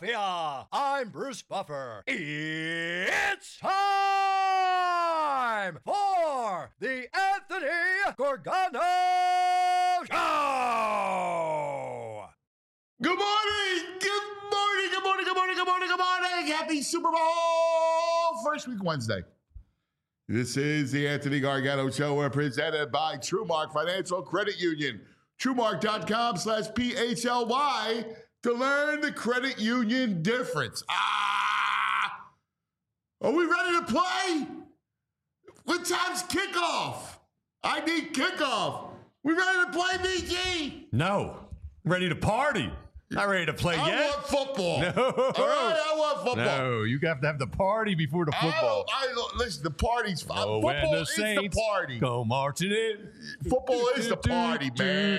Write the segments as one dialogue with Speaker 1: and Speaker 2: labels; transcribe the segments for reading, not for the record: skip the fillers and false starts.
Speaker 1: Philadelphia. I'm Bruce Buffer. It's time for the Anthony Gorgano Show.
Speaker 2: Good morning. Good morning. Good morning. Good morning. Good morning. Good morning. Happy Super Bowl first week Wednesday. This is the Anthony Gargano Show. We're presented by TrueMark Financial Credit Union. TrueMark.com/PHLY to learn the credit union difference. Are we ready to play? What time's kickoff? I need kickoff. We ready to play, BG?
Speaker 3: No. Ready to party. Not ready to play yet.
Speaker 2: I want football.
Speaker 3: No.
Speaker 2: All right, I want football.
Speaker 3: No, you have to have the party before the football.
Speaker 2: Listen, the party's fine. Football is the party.
Speaker 3: Go marching in.
Speaker 2: Football is the party, man.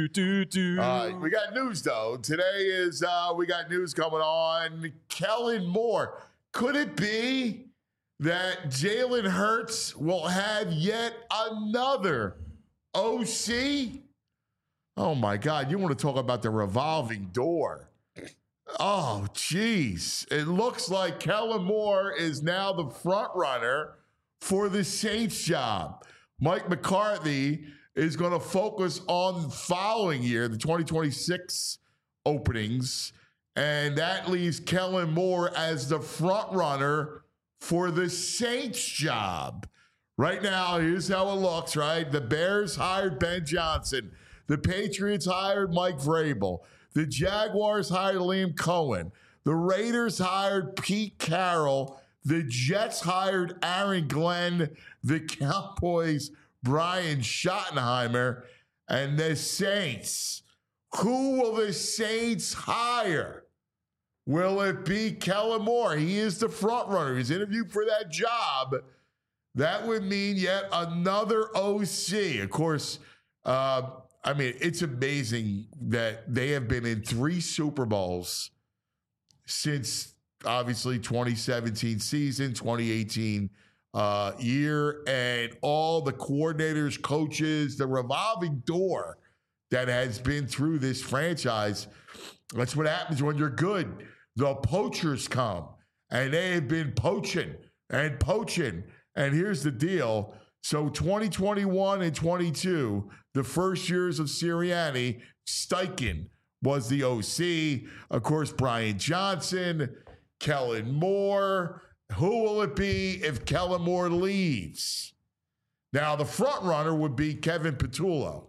Speaker 2: We got news, though. Today is, we got news coming on. Kellen Moore. Could it be that Jalen Hurts will have yet another OC? Oh, my God. You want to talk about the revolving door. Oh, geez. It looks like Kellen Moore is now the front runner for the Saints job. Mike McCarthy is going to focus on the following year, the 2026 openings, and that leaves Kellen Moore as the front runner for the Saints job. Right now, here's how it looks, right? The Bears hired Ben Johnson. The Patriots hired Mike Vrabel. The Jaguars hired Liam Cohen. The Raiders hired Pete Carroll. The Jets hired Aaron Glenn. The Cowboys, Brian Schottenheimer. And the Saints. Who will the Saints hire? Will it be Kellen Moore? He is the front runner. He's interviewed for that job. That would mean yet another OC. Of course, it's amazing that they have been in 3 Super Bowls since, obviously, 2017 season, 2018 year, and all the coordinators, coaches, the revolving door that has been through this franchise. That's what happens when you're good. The poachers come, and they have been poaching and poaching. And here's the deal. So 2021 and 22, the first years of Sirianni, Steichen was the OC. Of course, Brian Johnson, Kellen Moore. Who will it be if Kellen Moore leaves? Now, the front runner would be Kevin Patullo.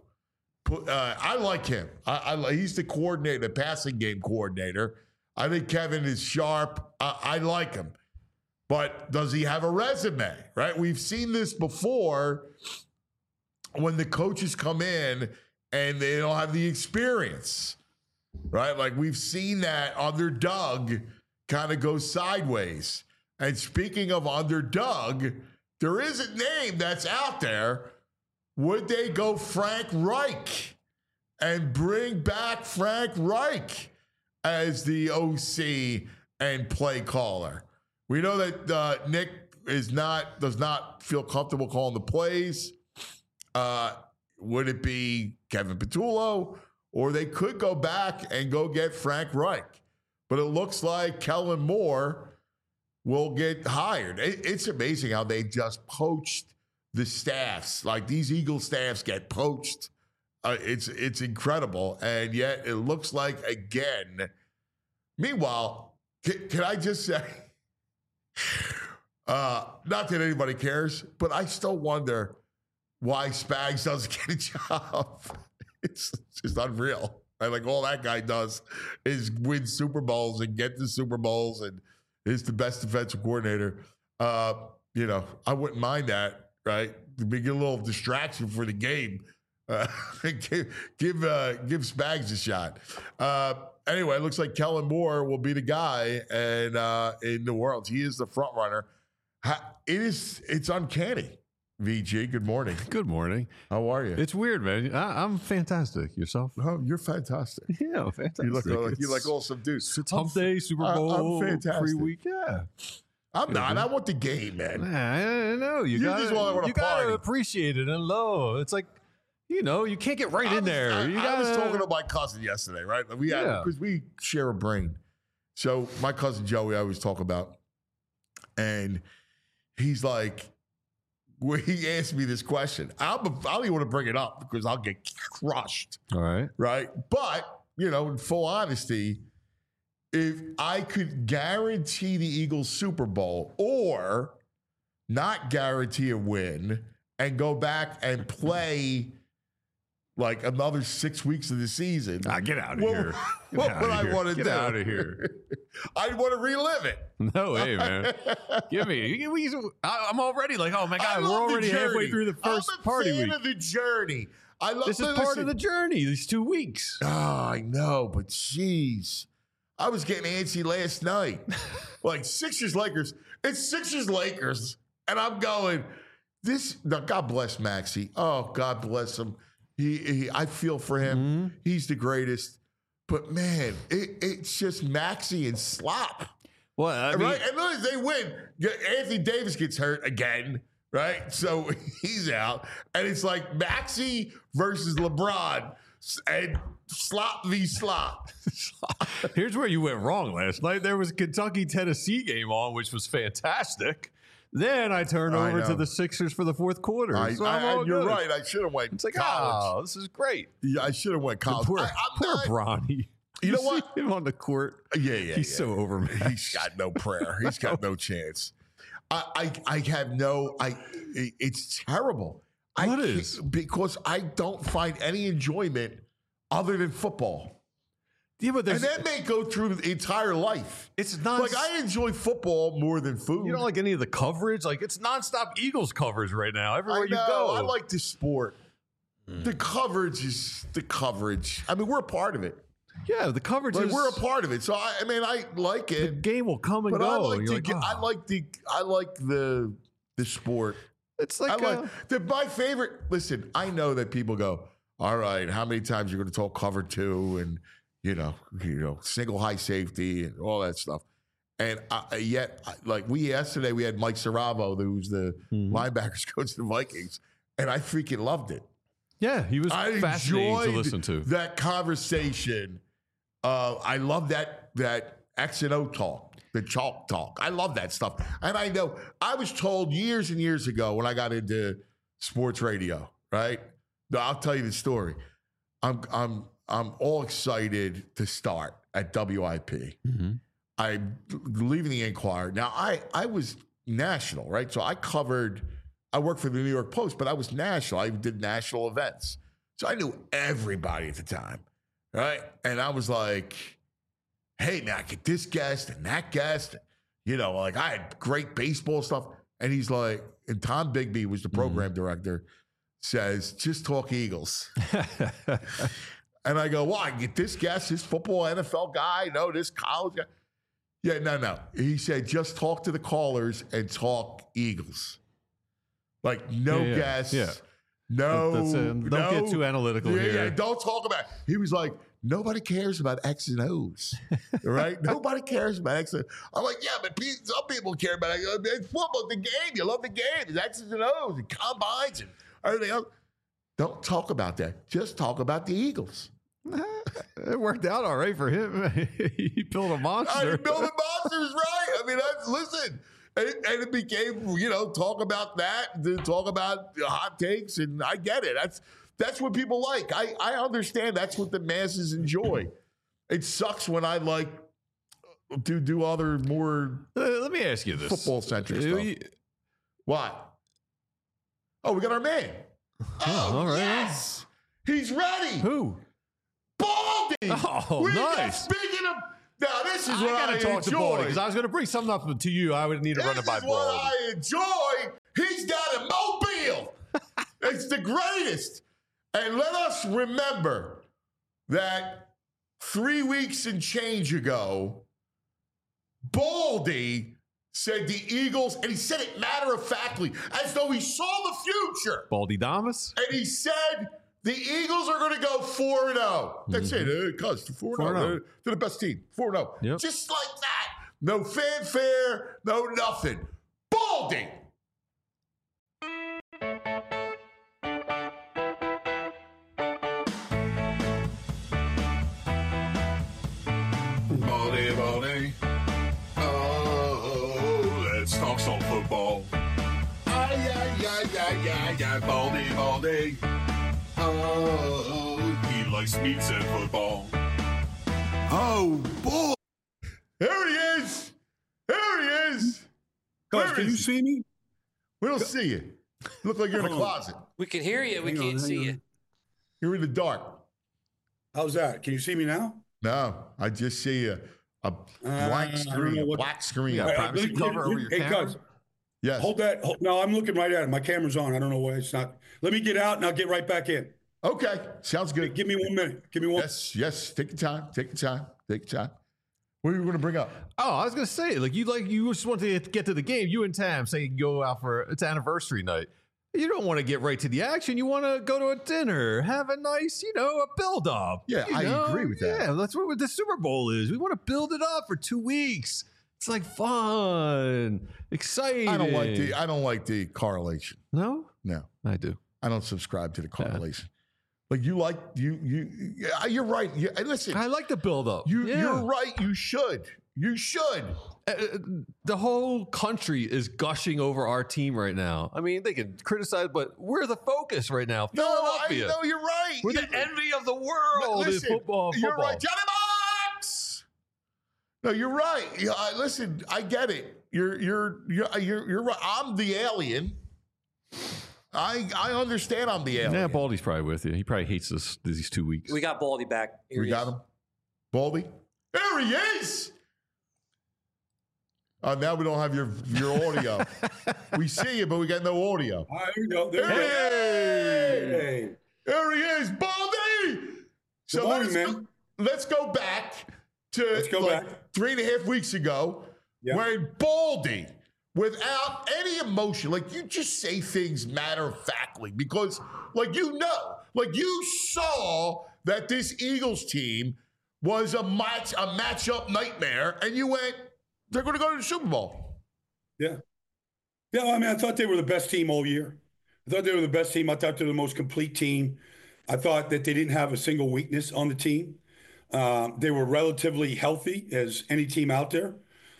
Speaker 2: I like him. He's the coordinator, the passing game coordinator. I think Kevin is sharp. I like him. But does he have a resume, right? We've seen this before when the coaches come in and they don't have the experience, right? Like we've seen that under Doug kind of go sideways. And speaking of under Doug, there is a name that's out there. Would they go Frank Reich and bring back Frank Reich as the OC and play caller? We know that Nick does not feel comfortable calling the plays. Would it be Kevin Patullo? Or they could go back and go get Frank Reich. But it looks like Kellen Moore will get hired. It's amazing how they just poached the staffs. Like these Eagle staffs get poached. It's incredible. And yet it looks like, again, meanwhile, can I just say, not that anybody cares, but I still wonder why Spags doesn't get a job. It's just unreal. Right? Like all that guy does is win Super Bowls and get to Super Bowls and is the best defensive coordinator. I wouldn't mind that, right? To get a little distraction for the game. Give Spags a shot. Anyway, it looks like Kellen Moore will be the guy, and in New Orleans, he is the front runner. It's uncanny. VG, good morning.
Speaker 3: Good morning.
Speaker 2: How are you?
Speaker 3: It's weird, man. I'm fantastic. Yourself?
Speaker 2: Oh, you're fantastic.
Speaker 3: Yeah, fantastic.
Speaker 2: You like all some dudes.
Speaker 3: It's hump day, Super Bowl,
Speaker 2: I'm fantastic.
Speaker 3: free week. Yeah.
Speaker 2: I'm not. I want the game, man.
Speaker 3: I know. You gotta appreciate it and low. It's like, you can't get right in there.
Speaker 2: I was talking to my cousin yesterday, right? Because we share a brain. So my cousin Joey, I always talk about, and he's like, well, he asked me this question. I don't even want to bring it up because I'll get crushed.
Speaker 3: All right.
Speaker 2: Right. But, in full honesty, if I could guarantee the Eagles Super Bowl or not guarantee a win and go back and play like another 6 weeks of the season.
Speaker 3: Get out of here.
Speaker 2: What would I want to do?
Speaker 3: Get out of here.
Speaker 2: I'd want to relive it.
Speaker 3: No way, man. I'm already like, oh my God, we're already halfway through the first party week.
Speaker 2: I'm a fan of the journey.
Speaker 3: This is part of the journey, these 2 weeks.
Speaker 2: Oh, I know, but jeez. I was getting antsy last night. Like Sixers-Lakers. It's Sixers-Lakers. And I'm going, God bless Maxey. Oh, God bless him. I feel for him. Mm-hmm. He's the greatest. But, man, it's just Maxey and slop.
Speaker 3: Well, I mean,
Speaker 2: right? And look, they win. Anthony Davis gets hurt again, right? So he's out. And it's like Maxey versus LeBron and slop v slop.
Speaker 3: Here's where you went wrong last night. There was a Kentucky-Tennessee game on, which was fantastic. Then I turned over to the Sixers for the fourth quarter.
Speaker 2: You're right. I should have went
Speaker 3: it's like,
Speaker 2: college.
Speaker 3: Oh, this is great.
Speaker 2: Yeah, I should have went college.
Speaker 3: Poor Bronny.
Speaker 2: You know what?
Speaker 3: See him on the court.
Speaker 2: Yeah.
Speaker 3: He's so overmatched.
Speaker 2: He's got no prayer. He's got no chance. I have no. It's terrible.
Speaker 3: What is?
Speaker 2: Because I don't find any enjoyment other than football.
Speaker 3: Yeah, but
Speaker 2: and that may go through the entire life.
Speaker 3: It's not
Speaker 2: like I enjoy football more than food.
Speaker 3: You don't like any of the coverage? Like it's nonstop Eagles coverage right now. Everywhere you go.
Speaker 2: I like the sport. The coverage is the coverage. I mean, we're a part of it.
Speaker 3: Yeah, the coverage is.
Speaker 2: We're a part of it. So I like it.
Speaker 3: The game will come and go.
Speaker 2: I like the sport.
Speaker 3: It's like
Speaker 2: my favorite. Listen, I know that people go, all right, how many times you're going to talk cover two and single high safety and all that stuff. And yesterday we had Mike Saravo, who's the linebackers coach of the Vikings, and I freaking loved it.
Speaker 3: Yeah, he was fascinating to listen to.
Speaker 2: That conversation. I love that X and O talk, the chalk talk. I love that stuff. And I know I was told years and years ago when I got into sports radio, right? I'll tell you the story. I'm all excited to start at WIP. Mm-hmm. I'm leaving the Inquirer. Now, I was national, right? So I worked for the New York Post, but I was national. I did national events. So I knew everybody at the time, right? And I was like, hey, man, I get this guest and that guest. I had great baseball stuff. And he's like, and Tom Bigby was the program director, says, just talk Eagles. And I go, well, I get this guest, this football NFL guy, this college guy. Yeah, no. He said, just talk to the callers and talk Eagles. Like, no guests. Yeah. Don't
Speaker 3: get too analytical here.
Speaker 2: Yeah, don't talk about it. He was like, nobody cares about X and O's, right? Nobody cares about X and O's. I'm like, yeah, but some people care about it. It's football, the game. You love the game. It's X's and O's and combines and everything else. Don't talk about that. Just talk about the Eagles.
Speaker 3: It worked out all right for him. He built a monster.
Speaker 2: Building monsters, right? I mean, listen. And it became, talk about that, talk about hot takes, and I get it. That's what people like. I understand that's what the masses enjoy. It sucks when I like to do other more
Speaker 3: let me ask you this.
Speaker 2: Football-centric stuff. What? Oh, we got our man. Oh, all right. Yes. He's ready.
Speaker 3: Who?
Speaker 2: Baldy.
Speaker 3: Oh, nice.
Speaker 2: Speaking of... Now, this is what I
Speaker 3: gotta talk to Baldy because I was going to bring something up to you. I would need to run it by Baldy.
Speaker 2: This is what I enjoy. He's got a mobile. It's the greatest. And let us remember that 3 weeks and change ago, Baldy said the Eagles, and he said it matter-of-factly, as though he saw the future.
Speaker 3: Baldy Damas?
Speaker 2: And he said... the Eagles are going to go 4-0. That's it. Cuz 4-0. They're the best team. 4-0.
Speaker 3: Yep.
Speaker 2: Just like that. No fanfare. No nothing. Baldy.
Speaker 1: Baldy, Baldy.
Speaker 4: talks on football. Baldy. Oh, he likes meats and football.
Speaker 2: Oh, boy. There he is.
Speaker 5: Coach, can you see me?
Speaker 2: We don't see you. You look like you're in a closet.
Speaker 6: We can hear you. We can't see you.
Speaker 2: You're in the dark.
Speaker 5: How's that? Can you see me now?
Speaker 2: No, I just see a blank screen. Black screen.
Speaker 3: Yeah, privacy cover over your camera.
Speaker 5: Cuz,
Speaker 2: Yes.
Speaker 5: hold that. No, I'm looking right at it. My camera's on. I don't know why it's not. Let me get out and I'll get right back in.
Speaker 2: Okay. Sounds good.
Speaker 5: Give me 1 minute. Give me one.
Speaker 2: Yes. Take your time. What are you going to bring up?
Speaker 3: Oh, I was gonna say, you just want to get to the game. You and Tam say you can go out for it's anniversary night. You don't want to get right to the action. You want to go to a dinner, have a nice, a build up.
Speaker 2: Yeah, I agree with that.
Speaker 3: Yeah, that's what the Super Bowl is. We want to build it up for 2 weeks. It's like fun, exciting.
Speaker 2: I don't like the correlation.
Speaker 3: No, I do.
Speaker 2: I don't subscribe to the correlation. Like you're right. Listen,
Speaker 3: I like the build up.
Speaker 2: You're right. You should.
Speaker 3: The whole country is gushing over our team right now. I mean, they can criticize, but we're the focus right now. Philadelphia.
Speaker 2: No, you're right.
Speaker 3: We're the envy of the world in football.
Speaker 2: You're right. Johnny Box! No, you're right. Listen, I get it. You're right. I'm the alien. I understand I'm the alien.
Speaker 3: Yeah, Baldy's probably with you. He probably hates us these 2 weeks.
Speaker 6: We got Baldy back.
Speaker 2: We got him. Baldy? There he is! Now we don't have your audio. We see you, but we got no audio.
Speaker 5: All right, here we go.
Speaker 2: Hey! There he is, Baldy! So let's go back to 3.5 weeks ago when Baldy, without any emotion, you just say things matter-of-factly because, you saw that this Eagles team was a matchup nightmare, and you went, they're going to go to the Super Bowl.
Speaker 5: Yeah. Yeah, I mean, I thought they were the best team all year. I thought they were the best team. I thought they were the most complete team. I thought that they didn't have a single weakness on the team. They were relatively healthy as any team out there.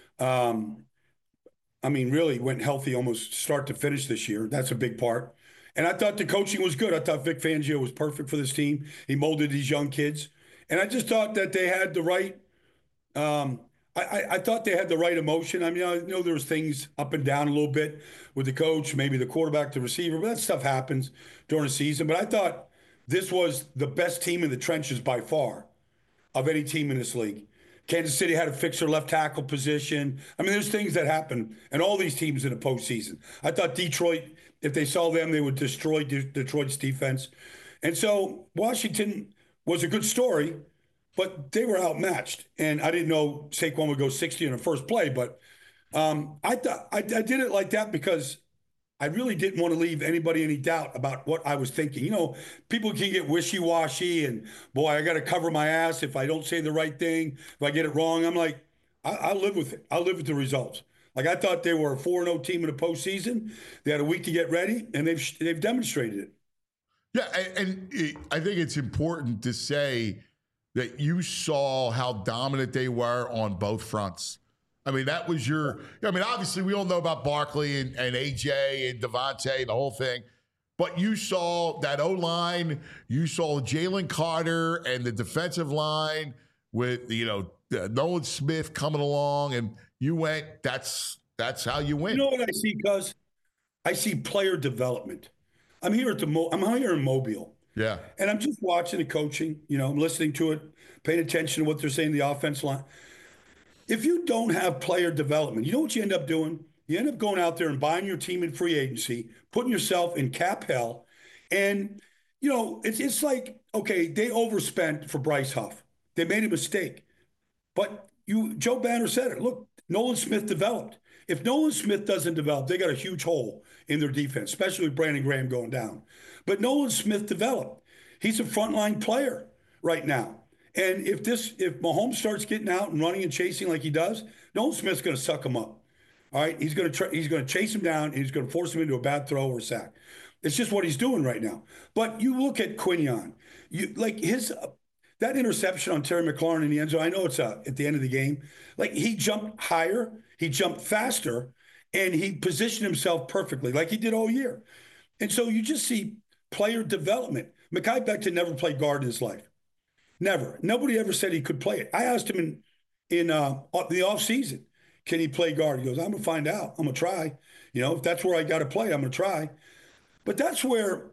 Speaker 5: Really went healthy almost start to finish this year. That's a big part. And I thought the coaching was good. I thought Vic Fangio was perfect for this team. He molded these young kids. And I just thought that they had the right I thought they had the right emotion. I mean, I know there was things up and down a little bit with the coach, maybe the quarterback, the receiver, but that stuff happens during the season. But I thought this was the best team in the trenches by far of any team in this league. Kansas City had to fix their left tackle position. I mean, there's things that happen, and all these teams in the postseason. I thought Detroit, if they saw them, they would destroy Detroit's defense. And so Washington was a good story, but they were outmatched. And I didn't know Saquon would go 60 in the first play, but I did it like that because I really didn't want to leave anybody any doubt about what I was thinking. People can get wishy-washy and, boy, I got to cover my ass if I don't say the right thing, if I get it wrong. I'm like, I live with it. I live with the results. I thought they were a 4-0 team in the postseason. They had a week to get ready, and they've demonstrated it.
Speaker 2: Yeah, and I think it's important to say that you saw how dominant they were on both fronts. I mean, that was obviously we all know about Barkley and AJ and Devontae and the whole thing, but you saw that O-line, you saw Jalen Carter and the defensive line with, Nolan Smith coming along, and you went, that's how you win.
Speaker 5: You know what I see, Cuz? I see player development. I'm here in Mobile.
Speaker 2: Yeah.
Speaker 5: And I'm just watching the coaching, I'm listening to it, paying attention to what they're saying in the offense line. If you don't have player development, you know what you end up doing? You end up going out there and buying your team in free agency, putting yourself in cap hell. And, it's like, okay, they overspent for Bryce Huff. They made a mistake. But Joe Banner said it. Look, Nolan Smith developed. If Nolan Smith doesn't develop, they got a huge hole in their defense, especially with Brandon Graham going down. But Nolan Smith developed. He's a frontline player right now. And if Mahomes starts getting out and running and chasing like he does, Nolan Smith's going to suck him up. All right, he's going to chase him down, and he's going to force him into a bad throw or a sack. It's just what he's doing right now. But you look at Quinion, that interception on Terry McLaurin in the end zone. I know it's at the end of the game. He jumped higher, he jumped faster, And he positioned himself perfectly, like he did all year. And so you just see player development. Mekhi Becton never played guard in his life. Never. Nobody ever said he could play it. I asked him in the offseason, can he play guard? He goes, I'm going to find out. I'm going to try. If that's where I got to play, I'm going to try. But that's where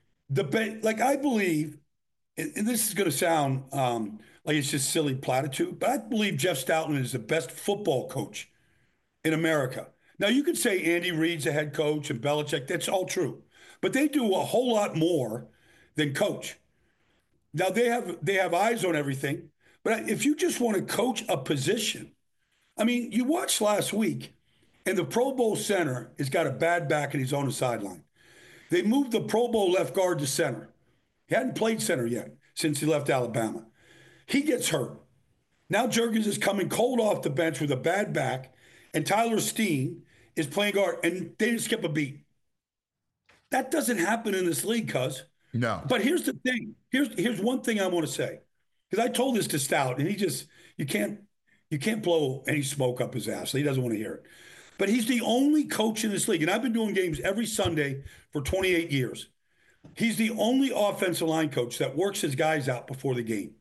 Speaker 5: I believe, and this is going to sound like it's just silly platitude, but I believe Jeff Stoutland is the best football coach in America. Now, you could say Andy Reid's a head coach and Belichick. That's all true. But they do a whole lot more than coach. Now, they have eyes on everything. But if you just want to coach a position, I mean, you watched last week, and the Pro Bowl center has got a bad back and he's on the sideline. They moved the Pro Bowl left guard to center. He hadn't played center yet since he left Alabama. He gets hurt. Now Jurgens is coming cold off the bench with a bad back, and Tyler Steen is playing guard, and they didn't skip a beat. That doesn't happen in this league, cuz.
Speaker 2: No.
Speaker 5: But here's the thing. Here's one thing I want to say. Because I told this to Stout, and you can't blow any smoke up his ass. He doesn't want to hear it. But he's the only coach in this league, and I've been doing games every Sunday for 28 years. He's the only offensive line coach that works his guys out before the game.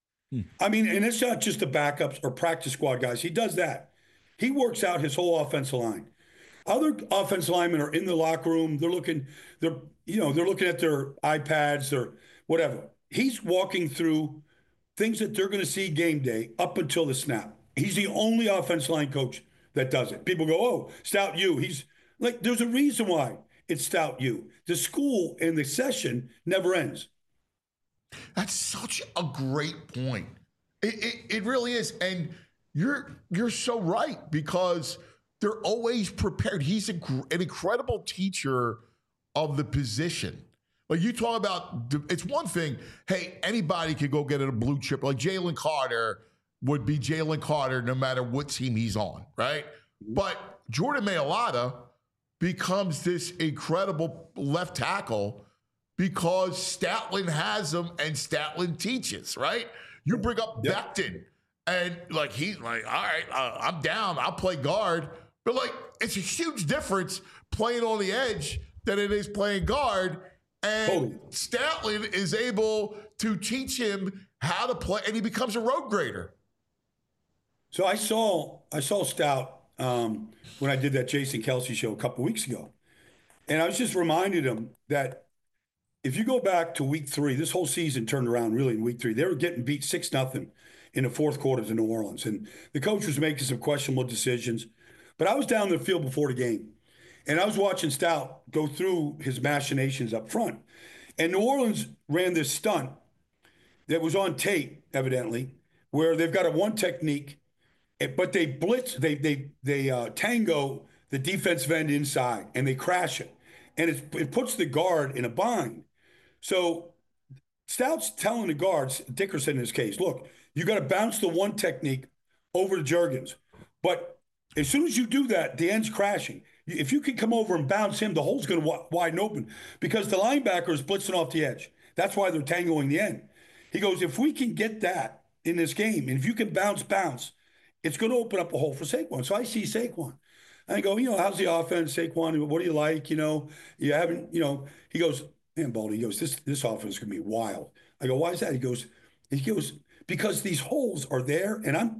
Speaker 5: I mean, and it's not just the backups or practice squad guys. He does that. He works out his whole offensive line. Other offensive linemen are in the locker room. They're looking at their iPads or whatever. He's walking through things that they're going to see game day up until the snap. He's the only offensive line coach that does it. People go, oh, Stout U. He's like, there's a reason why it's Stout U. The school and the session never ends.
Speaker 2: That's such a great point. It really is. And you're so right, because they're always prepared. He's an incredible teacher of the position. Like you talk about, it's one thing, hey, anybody can go get a blue chip. Like Jalen Carter would be Jalen Carter no matter what team he's on, right? But Jordan Mailata becomes this incredible left tackle because Stoutland has him and Stoutland teaches, right? You bring up Becton, and like he's like, all right, I'm down. I'll play guard. But like, it's a huge difference playing on the edge than it is playing guard. And Stoutland is able to teach him how to play, and he becomes a road grader.
Speaker 5: So I saw Stout when I did that Jason Kelsey show a couple weeks ago. And I was just reminding him that if you go back to week 3, this whole season turned around really in week 3. They were getting beat 6-0 in the fourth quarter to New Orleans. And the coach was making some questionable decisions. But I was down the field before the game. And I was watching Stout go through his machinations up front. And New Orleans ran this stunt that was on tape, evidently, where they've got a one technique, but they blitz, they tango the defensive end inside, and they crash it. And it puts the guard in a bind. So Stout's telling the guards, Dickerson in this case, look, you got to bounce the one technique over to Jurgens. But as soon as you do that, the end's crashing. If you can come over and bounce him, the hole's going to wide open because the linebacker is blitzing off the edge. That's why they're tangoing the end. He goes, if we can get that in this game, and if you can bounce, it's going to open up a hole for Saquon. So I see Saquon. And I go, how's the offense, Saquon? What do you like? You haven't, he goes, man, Baldy, he goes, this offense is going to be wild. I go, why is that? He goes, because these holes are there, and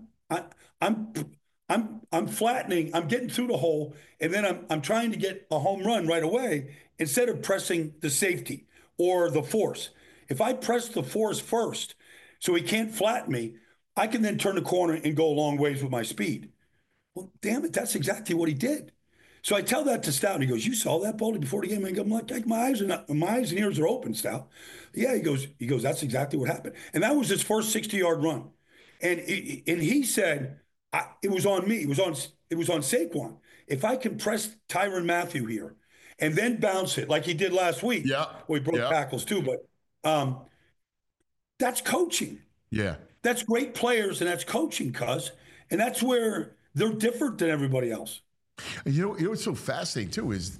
Speaker 5: I'm flattening, I'm getting through the hole, and then I'm trying to get a home run right away instead of pressing the safety or the force. If I press the force first so he can't flatten me, I can then turn the corner and go a long ways with my speed. Well, damn it, that's exactly what he did. So I tell that to Stout, and he goes, you saw that, Baldy, before the game? I go, my eyes and ears are open, Stout. Yeah, he goes, that's exactly what happened. And that was his first 60-yard run. And he said, it was on me. It was on Saquon. If I can press Tyrann Mathieu here and then bounce it like he did last week. Yeah. Well, he broke tackles too, but that's coaching.
Speaker 2: Yeah.
Speaker 5: That's great players, and that's coaching, cuz. And that's where they're different than everybody else.
Speaker 2: And what's so fascinating too is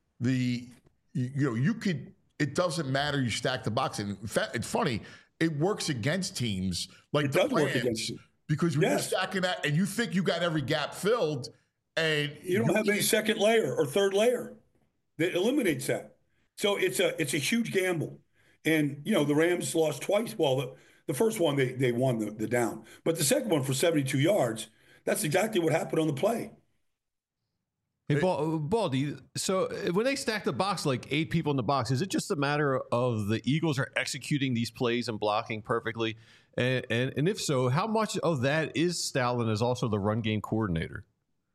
Speaker 2: it doesn't matter, you stack the box. And in fact, it's funny, it works against teams like
Speaker 5: it
Speaker 2: the
Speaker 5: does
Speaker 2: Rams,
Speaker 5: work against you.
Speaker 2: because when you're stacking that and you think you got every gap filled, And
Speaker 5: You don't have any second layer or third layer that eliminates that. So it's a huge gamble. And the Rams lost twice. Well, the first one they won the down, but the second one for 72 yards. That's exactly what happened on the play.
Speaker 3: Hey, Baldy, so when they stack the box like 8 people in the box, is it just a matter of the Eagles are executing these plays and blocking perfectly? And if so, how much of that is Stoutland as also the run game coordinator?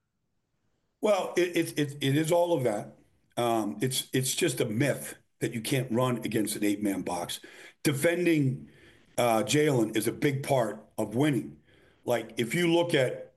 Speaker 5: Well, it is all of that. It's just a myth that you can't run against an 8-man box. Defending Jalen is a big part of winning. Like if you look at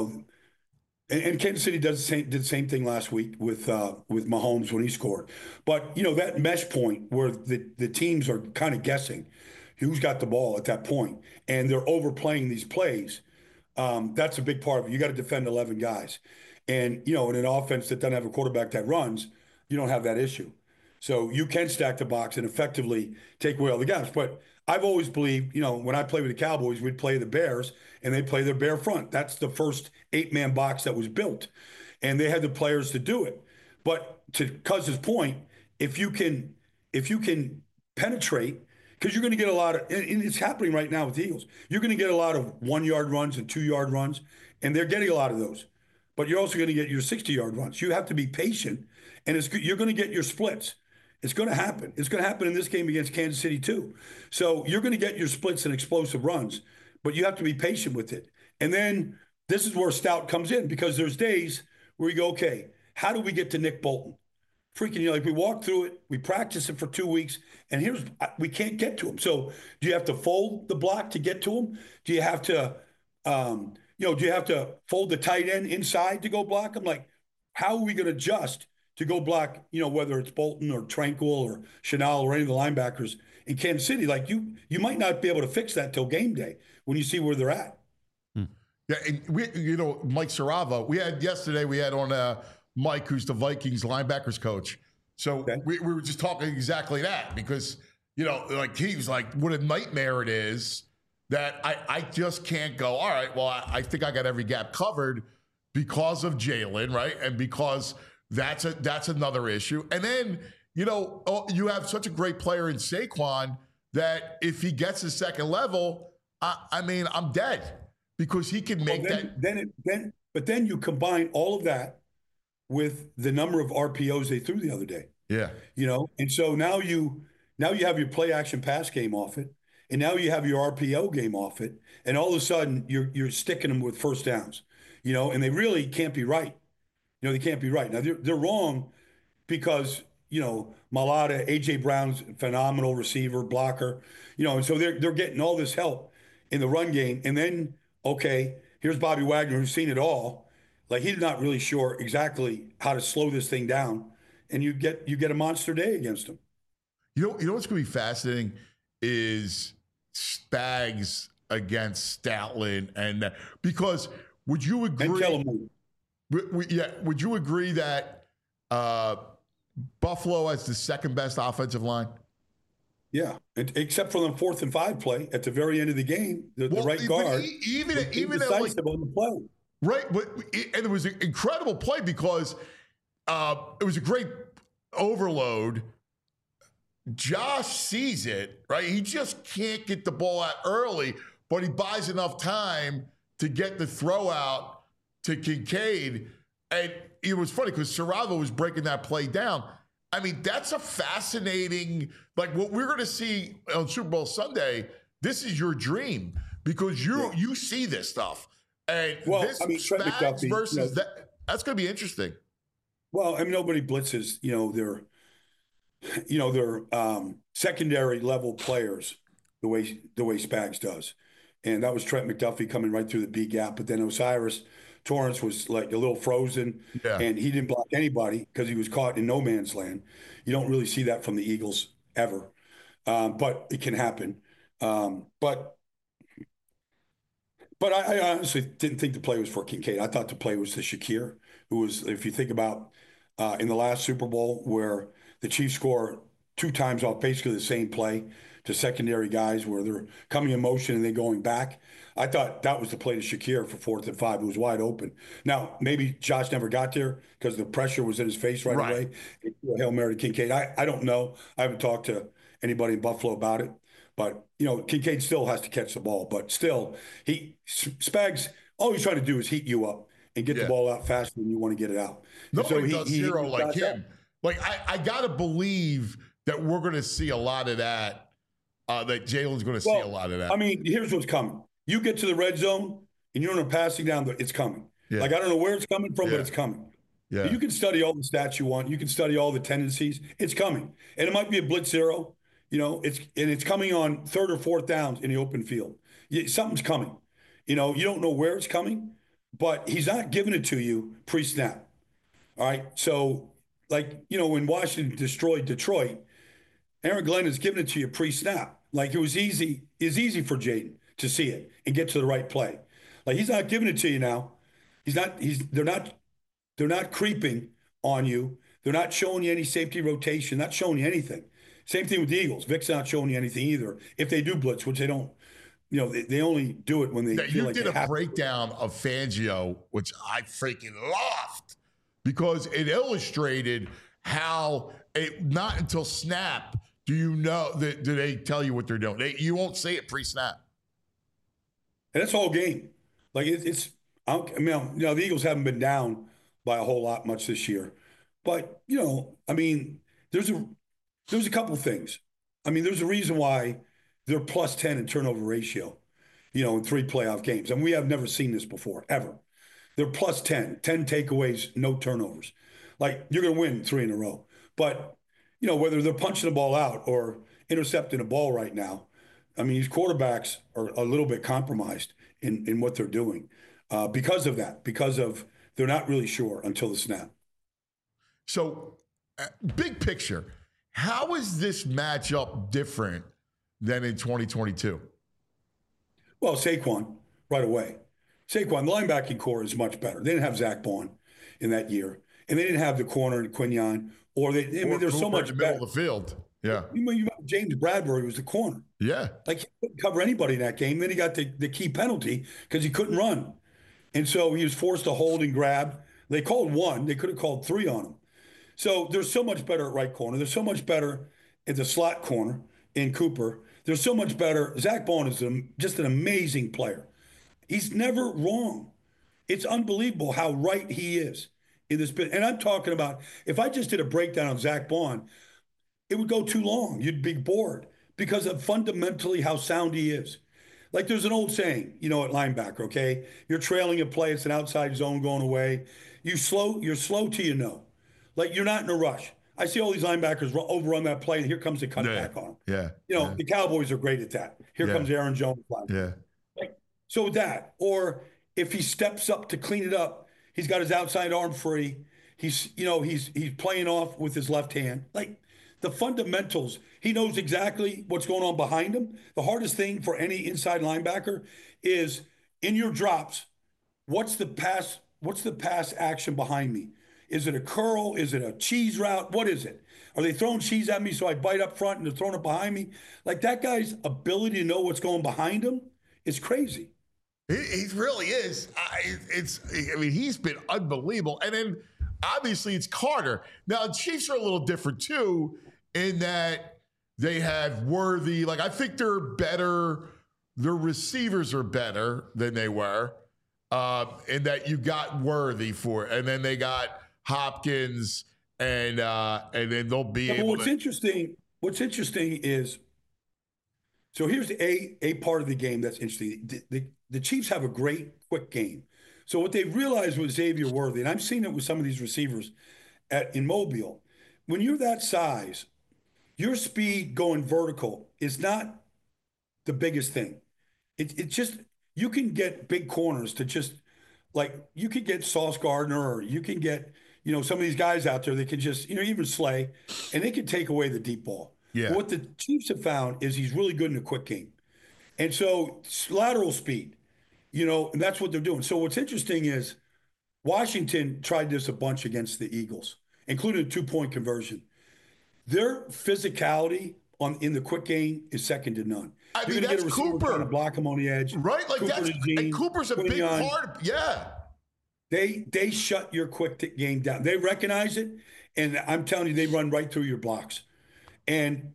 Speaker 5: and Kansas City did the same thing last week with Mahomes when he scored. But that mesh point where the teams are kind of guessing who's got the ball at that point, and they're overplaying these plays. That's a big part of it. You got to defend 11 guys. And, in an offense that doesn't have a quarterback that runs, you don't have that issue. So you can stack the box and effectively take away all the gaps. But I've always believed, when I played with the Cowboys, we'd play the Bears and they play their bear front. That's the first 8-man box that was built. And they had the players to do it. But to Cuz's point, if you can penetrate, because you're going to get a lot of, and it's happening right now with the Eagles, you're going to get a lot of 1-yard runs and 2-yard runs, and they're getting a lot of those. But you're also going to get your 60-yard runs. You have to be patient, and you're going to get your splits. It's going to happen. It's going to happen in this game against Kansas City too. So you're going to get your splits and explosive runs, but you have to be patient with it. And then this is where Stout comes in, because there's days where you go, okay, how do we get to Nick Bolton? Freaking, like we walk through it, we practice it for 2 weeks, and we can't get to him. So do you have to fold the block to get to him? Do you have to, do you have to fold the tight end inside to go block him? Like, how are we going to adjust to go block, whether it's Bolton or Tranquil or Chenal or any of the linebackers in Kansas City? Like you might not be able to fix that till game day when you see where they're at.
Speaker 2: Yeah, and Mike Sarava, we had on Mike, who's the Vikings linebackers coach. So okay. we were just talking exactly that, because, like he was like, what a nightmare it is that I just can't go, all right, well, I think I got every gap covered because of Jalen, right? And because that's another issue. And then, you have such a great player in Saquon that if he gets a second level, I'm dead, because he can make
Speaker 5: But then you combine all of that with the number of RPOs they threw the other day.
Speaker 2: Yeah.
Speaker 5: And so now you have your play action pass game off it, and now you have your RPO game off it, and all of a sudden you're sticking them with first downs, and they really can't be right. They can't be right. Now they're wrong because, Mailata, AJ Brown's phenomenal receiver, blocker, and so they're getting all this help in the run game. And then, okay, here's Bobby Wagner, who's seen it all. Like, he's not really sure exactly how to slow this thing down, and you get a monster day against him.
Speaker 2: You know what's going to be fascinating is Spags against Stoutland, and because would you agree?
Speaker 5: And Kellen
Speaker 2: would you agree that Buffalo has the second best offensive line?
Speaker 5: Yeah, except for the 4th and 5 play at the very end of the game, the right guard,
Speaker 2: even
Speaker 5: decisive on the play.
Speaker 2: Right, and it was an incredible play because it was a great overload. Josh sees it, right? He just can't get the ball out early, but he buys enough time to get the throw out to Kincaid. And it was funny because Sarava was breaking that play down. I mean, that's a fascinating, like what we're going to see on Super Bowl Sunday. This is your dream because you see this stuff. And this Spags versus that's going to be interesting.
Speaker 5: Well, nobody blitzes, their secondary level players the way Spags does. And that was Trent McDuffie coming right through the B gap. But then Osiris Torrance was like a little frozen, and he didn't block anybody because he was caught in no man's land. You don't really see that from the Eagles ever, but it can happen. But I honestly didn't think the play was for Kincaid. I thought the play was to Shakir, who was, if you think about in the last Super Bowl where the Chiefs score 2 times off basically the same play to secondary guys where they're coming in motion and then going back. I thought that was the play to Shakir for 4th and 5. It was wide open. Now, maybe Josh never got there because the pressure was in his face right away. Hail Mary to Kincaid. I don't know. I haven't talked to anybody in Buffalo about it. But, Kincaid still has to catch the ball. But still, Spags, all he's trying to do is heat you up and get the ball out faster than you want to get it out.
Speaker 2: Nobody does zero like him. Like, I got to believe that we're going to see a lot of that, that Jalen's going to see a lot of that.
Speaker 5: I mean, here's what's coming. You get to the red zone, and you're in a passing down, it's coming.
Speaker 2: Yeah.
Speaker 5: Like, I don't know where it's coming from, but it's coming.
Speaker 2: Yeah.
Speaker 5: You can study all the stats you want. You can study all the tendencies. It's coming. And it might be a blitz zero. It's coming on 3rd or 4th downs in the open field. Something's coming. You don't know where it's coming, but he's not giving it to you pre-snap. All right? So, when Washington destroyed Detroit, Aaron Glenn is giving it to you pre-snap. Like, it was easy. It's easy for Jaden to see it and get to the right play. Like, he's not giving it to you now. They're not creeping on you. They're not showing you any safety rotation, not showing you anything. Same thing with the Eagles. Vic's not showing you anything either. If they do blitz, which they don't, they only do it when they feel like they have to. You did a
Speaker 2: breakdown of Fangio, which I freaking loved, because it illustrated how not until snap do you know that do they tell you what they're doing. You won't see it pre-snap.
Speaker 5: And that's all game. Like the Eagles haven't been down by a whole lot much this year, but there's a couple of things. I mean, there's a reason why they're plus 10 in turnover ratio, in 3 playoff games. And we have never seen this before, ever. They're plus 10 takeaways, no turnovers. Like, you're going to win 3 in a row. But, whether they're punching the ball out or intercepting a ball right now, I mean, these quarterbacks are a little bit compromised in what they're doing because of that, because of they're not really sure until the snap.
Speaker 2: So, big picture, how is this matchup different than in 2022?
Speaker 5: Well, Saquon, right away. Saquon, the linebacking core is much better. They didn't have Zach Bond in that year, and they didn't have the corner in Quinyon, there's so much
Speaker 2: in the middle of the field. Yeah.
Speaker 5: James Bradbury was the corner.
Speaker 2: Yeah.
Speaker 5: Like, he couldn't cover anybody in that game. Then he got the key penalty because he couldn't run. And so he was forced to hold and grab. They called 1. They could have called 3 on him. So they're so much better at right corner. They're so much better at the slot corner in Cooper. They're so much better. Zach Bond is just an amazing player. He's never wrong. It's unbelievable how right he is in this bit. And I'm talking about, if I just did a breakdown of Zach Bond, it would go too long. You'd be bored because of fundamentally how sound he is. Like, there's an old saying, at linebacker, okay? You're trailing a play. It's an outside zone going away. You're slow till you know. Like, you're not in a rush. I see all these linebackers overrun that play, and here comes the cutback on them.
Speaker 2: Yeah.
Speaker 5: The Cowboys are great at that. Here comes Aaron Jones.
Speaker 2: Yeah.
Speaker 5: So with that, or if he steps up to clean it up, he's got his outside arm free. He's playing off with his left hand. Like, the fundamentals, he knows exactly what's going on behind him. The hardest thing for any inside linebacker is in your drops, what's the pass action behind me? Is it a curl? Is it a cheese route? What is it? Are they throwing cheese at me so I bite up front and they're throwing it behind me? Like, that guy's ability to know what's going behind him is crazy.
Speaker 2: He really is. He's been unbelievable. And then, obviously, it's Carter. Now, the Chiefs are a little different, too, in that they have Worthy. Like, I think they're better. Their receivers are better than they were. In that you got Worthy for it. And then they got Hopkins, and then they'll be able
Speaker 5: What's interesting is, so here's a part of the game that's interesting. The Chiefs have a great quick game. So what they realized with Xavier Worthy, and I've seen it with some of these receivers in Mobile, when you're that size, your speed going vertical is not the biggest thing. It's just, you can get big corners to just, like, you could get Sauce Gardner, or you can get, some of these guys out there that can just, even Slay, and they can take away the deep ball.
Speaker 2: Yeah.
Speaker 5: But what the Chiefs have found is he's really good in the quick game. And so lateral speed, and that's what they're doing. So what's interesting is Washington tried this a bunch against the Eagles, including a 2-point conversion. Their physicality in the quick game is second to none.
Speaker 2: I
Speaker 5: You're
Speaker 2: mean,
Speaker 5: gonna
Speaker 2: that's
Speaker 5: get a receiver
Speaker 2: Cooper.
Speaker 5: trying to block him on the edge.
Speaker 2: Right? Like and Cooper's a big part. Yeah.
Speaker 5: They shut your quick game down. They recognize it, and I'm telling you, they run right through your blocks. And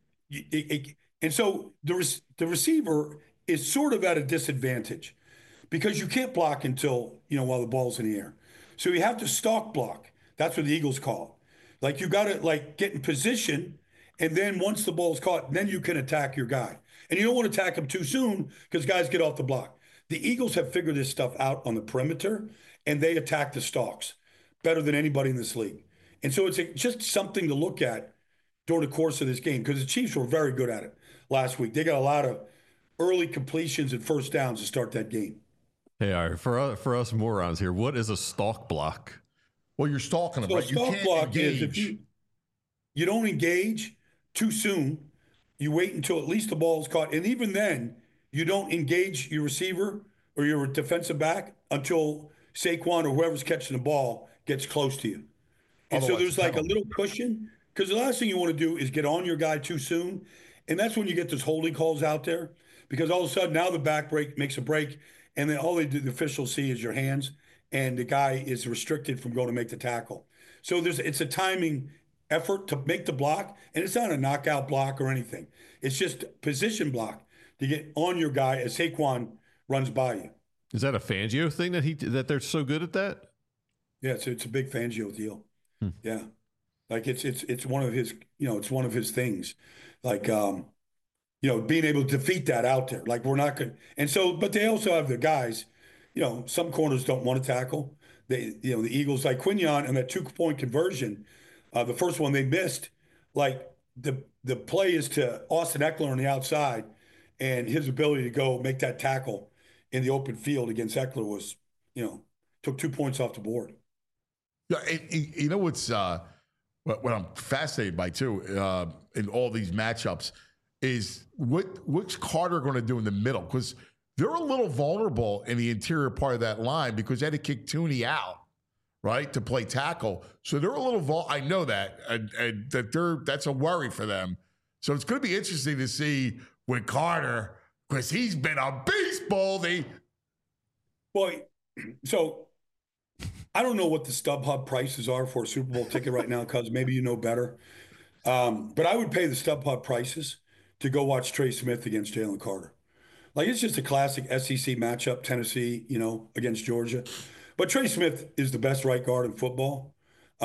Speaker 5: so the receiver is sort of at a disadvantage because you can't block until, while the ball's in the air. So you have to stalk block. That's what the Eagles call it. Like you got to get in position, and then once the ball's caught, then you can attack your guy. And you don't want to attack him too soon because guys get off the block. The Eagles have figured this stuff out on the perimeter, and they attack the stalks better than anybody in this league. And so it's just something to look at during the course of this game because the Chiefs were very good at it last week. They got a lot of early completions and first downs to start that game.
Speaker 3: Hey, all right, for us morons here, what is a stalk block?
Speaker 2: Well, you're stalking them,
Speaker 5: so
Speaker 2: right?
Speaker 5: You can't block engage. Is if you don't engage too soon, you wait until at least the ball is caught. And even then, you don't engage your receiver or your defensive back until Saquon or whoever's catching the ball gets close to you. And so there's a little cushion because the last thing you want to do is get on your guy too soon. And that's when you get those holding calls out there because all of a sudden now the back break makes a break and then all the officials see is your hands and the guy is restricted from going to make the tackle. So it's a timing effort to make the block, and it's not a knockout block or anything. It's just position block to get on your guy as Saquon runs by you.
Speaker 3: Is that a Fangio thing that they're so good at that?
Speaker 5: Yeah, it's a big Fangio deal. Yeah, like it's one of his it's one of his things, like being able to defeat that out there. Like we're not good, and so but they also have the guys. Some corners don't want to tackle. The Eagles like Quinion and that 2-point conversion. The first one they missed, like the play is to Austin Eckler on the outside, and his ability to go make that tackle in the open field against Eckler was, took 2 points off the board.
Speaker 2: Yeah, and what's what I'm fascinated by too in all these matchups is what's Carter going to do in the middle because they're a little vulnerable in the interior part of that line because they had to kick Tooney out. Right, to play tackle. So they're a little I know that, and that's a worry for them. So it's going to be interesting to see with Carter, because he's been a beast, Baldy.
Speaker 5: Boy, so I don't know what the StubHub prices are for a Super Bowl ticket right now, because maybe you know better. But I would pay the StubHub prices to go watch Trey Smith against Jalen Carter. Like, it's just a classic SEC matchup, Tennessee, against Georgia. But Trey Smith is the best right guard in football.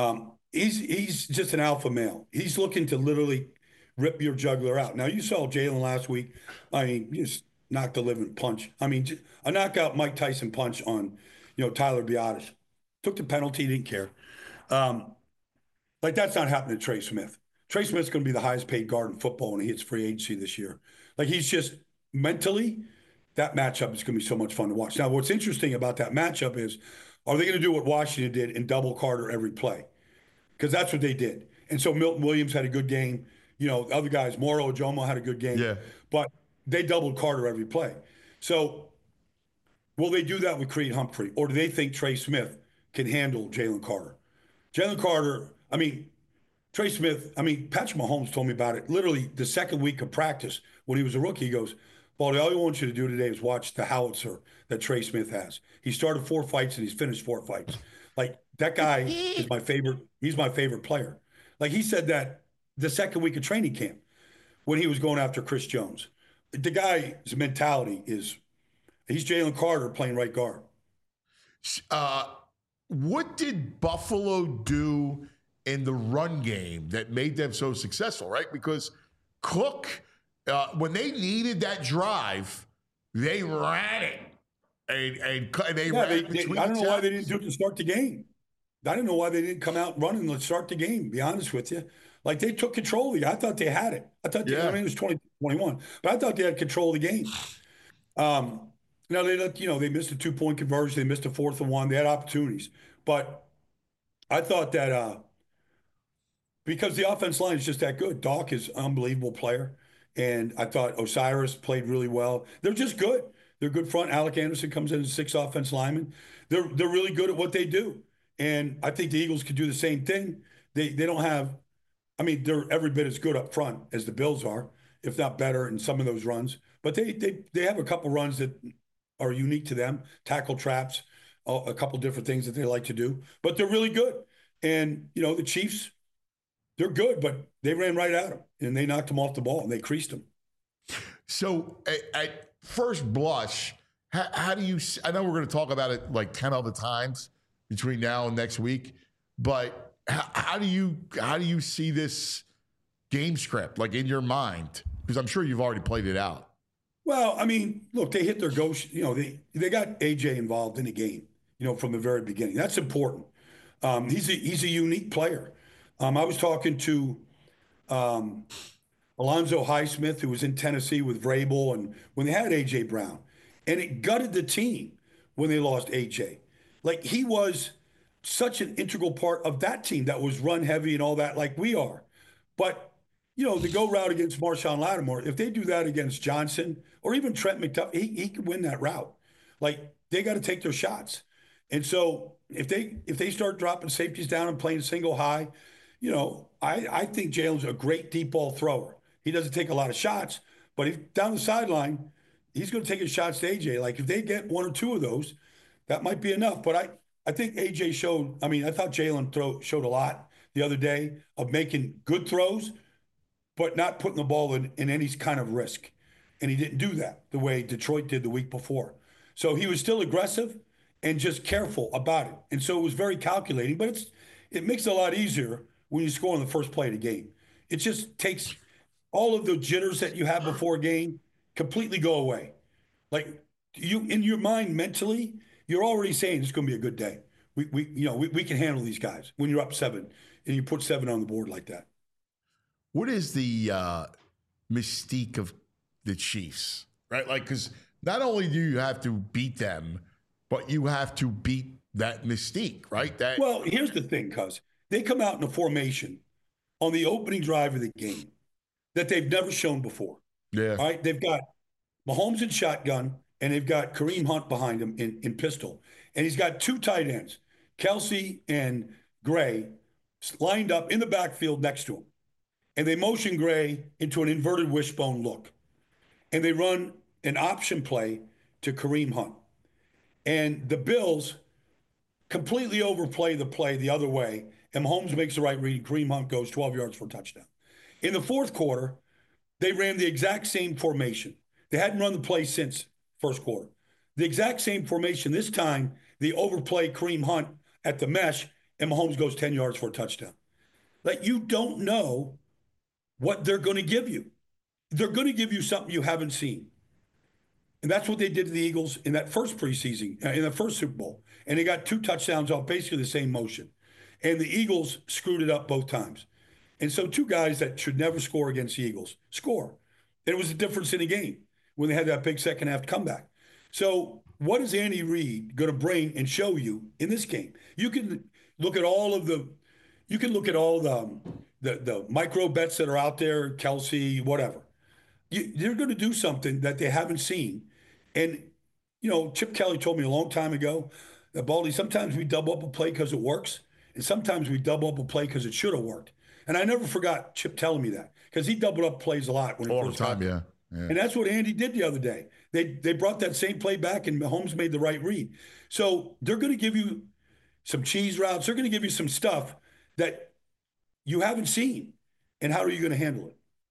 Speaker 5: He's just an alpha male. He's looking to literally rip your jugular out. Now, you saw Jalen last week. I mean, just knocked the living punch. I mean, a knockout Mike Tyson punch on, Tyler Biadasz. Took the penalty, didn't care. That's not happening to Trey Smith. Trey Smith's going to be the highest paid guard in football when he hits free agency this year. Like, he's just mentally, that matchup is going to be so much fun to watch. Now, what's interesting about that matchup is, are they going to do what Washington did and double Carter every play? Because that's what they did. And so Milton Williams had a good game. Other guys, Moro Ojomo had a good game.
Speaker 2: Yeah.
Speaker 5: But they doubled Carter every play. So will they do that with Creed Humphrey? Or do they think Trey Smith can handle Jalen Carter? Jalen Carter, Trey Smith, Patrick Mahomes told me about it literally the second week of practice when he was a rookie. He goes, Baldy, all I want you to do today is watch the howitzer that Trey Smith has. He started 4 fights and he's finished 4 fights. Like, that guy is my favorite. He's my favorite player. Like, he said that the second week of training camp when he was going after Chris Jones. The guy's mentality is, he's Jalen Carter playing right guard.
Speaker 2: What did Buffalo do in the run game that made them so successful, right? Because Cook, when they needed that drive, they ran it. And they ran it between
Speaker 5: I don't know why they didn't do it to start the game. I don't know why they didn't come out running to start the game, to be honest with you. Like, they took control of the game. I thought they had it. I thought it was 20-21, but I thought they had control of the game. Now, they missed a 2-point conversion. They missed a 4th and 1. They had opportunities. But I thought that because the offense line is just that good. Doc is an unbelievable player. And I thought Osiris played really well. They're just good. They're good front. Alec Anderson comes in as 6 offense linemen. They're really good at what they do. And I think the Eagles could do the same thing. They don't have I mean, they're every bit as good up front as the Bills are, if not better in some of those runs. But they have a couple runs that are unique to them, tackle traps, a couple different things that they like to do. But they're really good. And, the Chiefs, they're good, but they ran right at them, and they knocked them off the ball, and they creased them.
Speaker 2: So at first blush, how do you – I know we're going to talk about it like 10 other times between now and next week, but how do you see this game script, like in your mind? Because I'm sure you've already played it out.
Speaker 5: Well, I mean, look, they hit their go. They got AJ involved in the game, from the very beginning. That's important. He's a unique player. I was talking to Alonzo Highsmith, who was in Tennessee with Vrabel, and when they had AJ Brown, and it gutted the team when they lost AJ. Like, he was such an integral part of that team that was run heavy and all that, like we are. But the go route against Marshawn Lattimore, if they do that against Johnson or even Trent McDuffie, he could win that route. Like, they got to take their shots. And so if they start dropping safeties down and playing single high, I think Jalen's a great deep ball thrower. He doesn't take a lot of shots, but if down the sideline, he's going to take his shots to AJ. Like, if they get one or two of those, that might be enough. But I think AJ showed, I thought Jalen showed a lot the other day of making good throws, but not putting the ball in any kind of risk. And he didn't do that the way Detroit did the week before. So he was still aggressive and just careful about it. And so it was very calculating, but it makes it a lot easier when you score on the first play of the game. It just takes all of the jitters that you have before a game completely go away. Like, you, in your mind mentally, you're already saying it's going to be a good day. We can handle these guys when you're up 7 and you put 7 on the board like that.
Speaker 2: What is the mystique of the Chiefs, right? Like, because not only do you have to beat them, but you have to beat that mystique, right?
Speaker 5: Well, here's the thing, cuz they come out in a formation on the opening drive of the game that they've never shown before.
Speaker 2: Yeah.
Speaker 5: All right. They've got Mahomes in shotgun, and they've got Kareem Hunt behind him in pistol. And he's got 2 tight ends, Kelsey and Gray, lined up in the backfield next to him. And they motion Gray into an inverted wishbone look. And they run an option play to Kareem Hunt. And the Bills completely overplay the play the other way. And Mahomes makes the right read. Kareem Hunt goes 12 yards for a touchdown. In the fourth quarter, they ran the exact same formation. They hadn't run the play since first quarter. The exact same formation. This time, they overplay Kareem Hunt at the mesh, and Mahomes goes 10 yards for a touchdown. Like, you don't know what they're going to give you. They're going to give you something you haven't seen. And that's what they did to the Eagles in that first preseason, in the first Super Bowl. And they got 2 touchdowns off basically the same motion. And the Eagles screwed it up both times. And so 2 guys that should never score against the Eagles score. And it was the difference in the game when they had that big second half comeback. So what is Andy Reid going to bring and show you in this game? You can look at all the micro bets that are out there, Kelsey, whatever. They're going to do something that they haven't seen. And, Chip Kelly told me a long time ago that, Baldy, sometimes we double up a play because it works, and sometimes we double up a play because it should have worked. And I never forgot Chip telling me that, because he doubled up plays a lot when he first got there. Yeah. And that's what Andy did the other day. They brought that same play back, and Mahomes made the right read. So they're going to give you some cheese routes. They're going to give you some stuff that you haven't seen. And how are you going to handle it?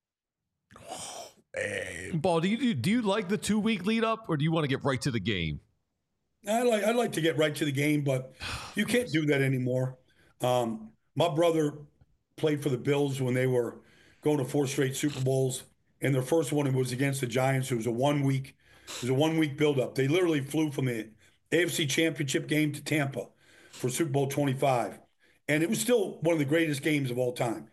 Speaker 3: Ball, do you like the 2-week lead up, or do you want to get right to the game?
Speaker 5: I like to get right to the game, but you can't do that anymore. My brother played for the Bills when they were going to 4 straight Super Bowls, and their first one was against the Giants. It was a 1-week buildup. They literally flew from the AFC Championship game to Tampa for Super Bowl 25, and it was still one of the greatest games of all time.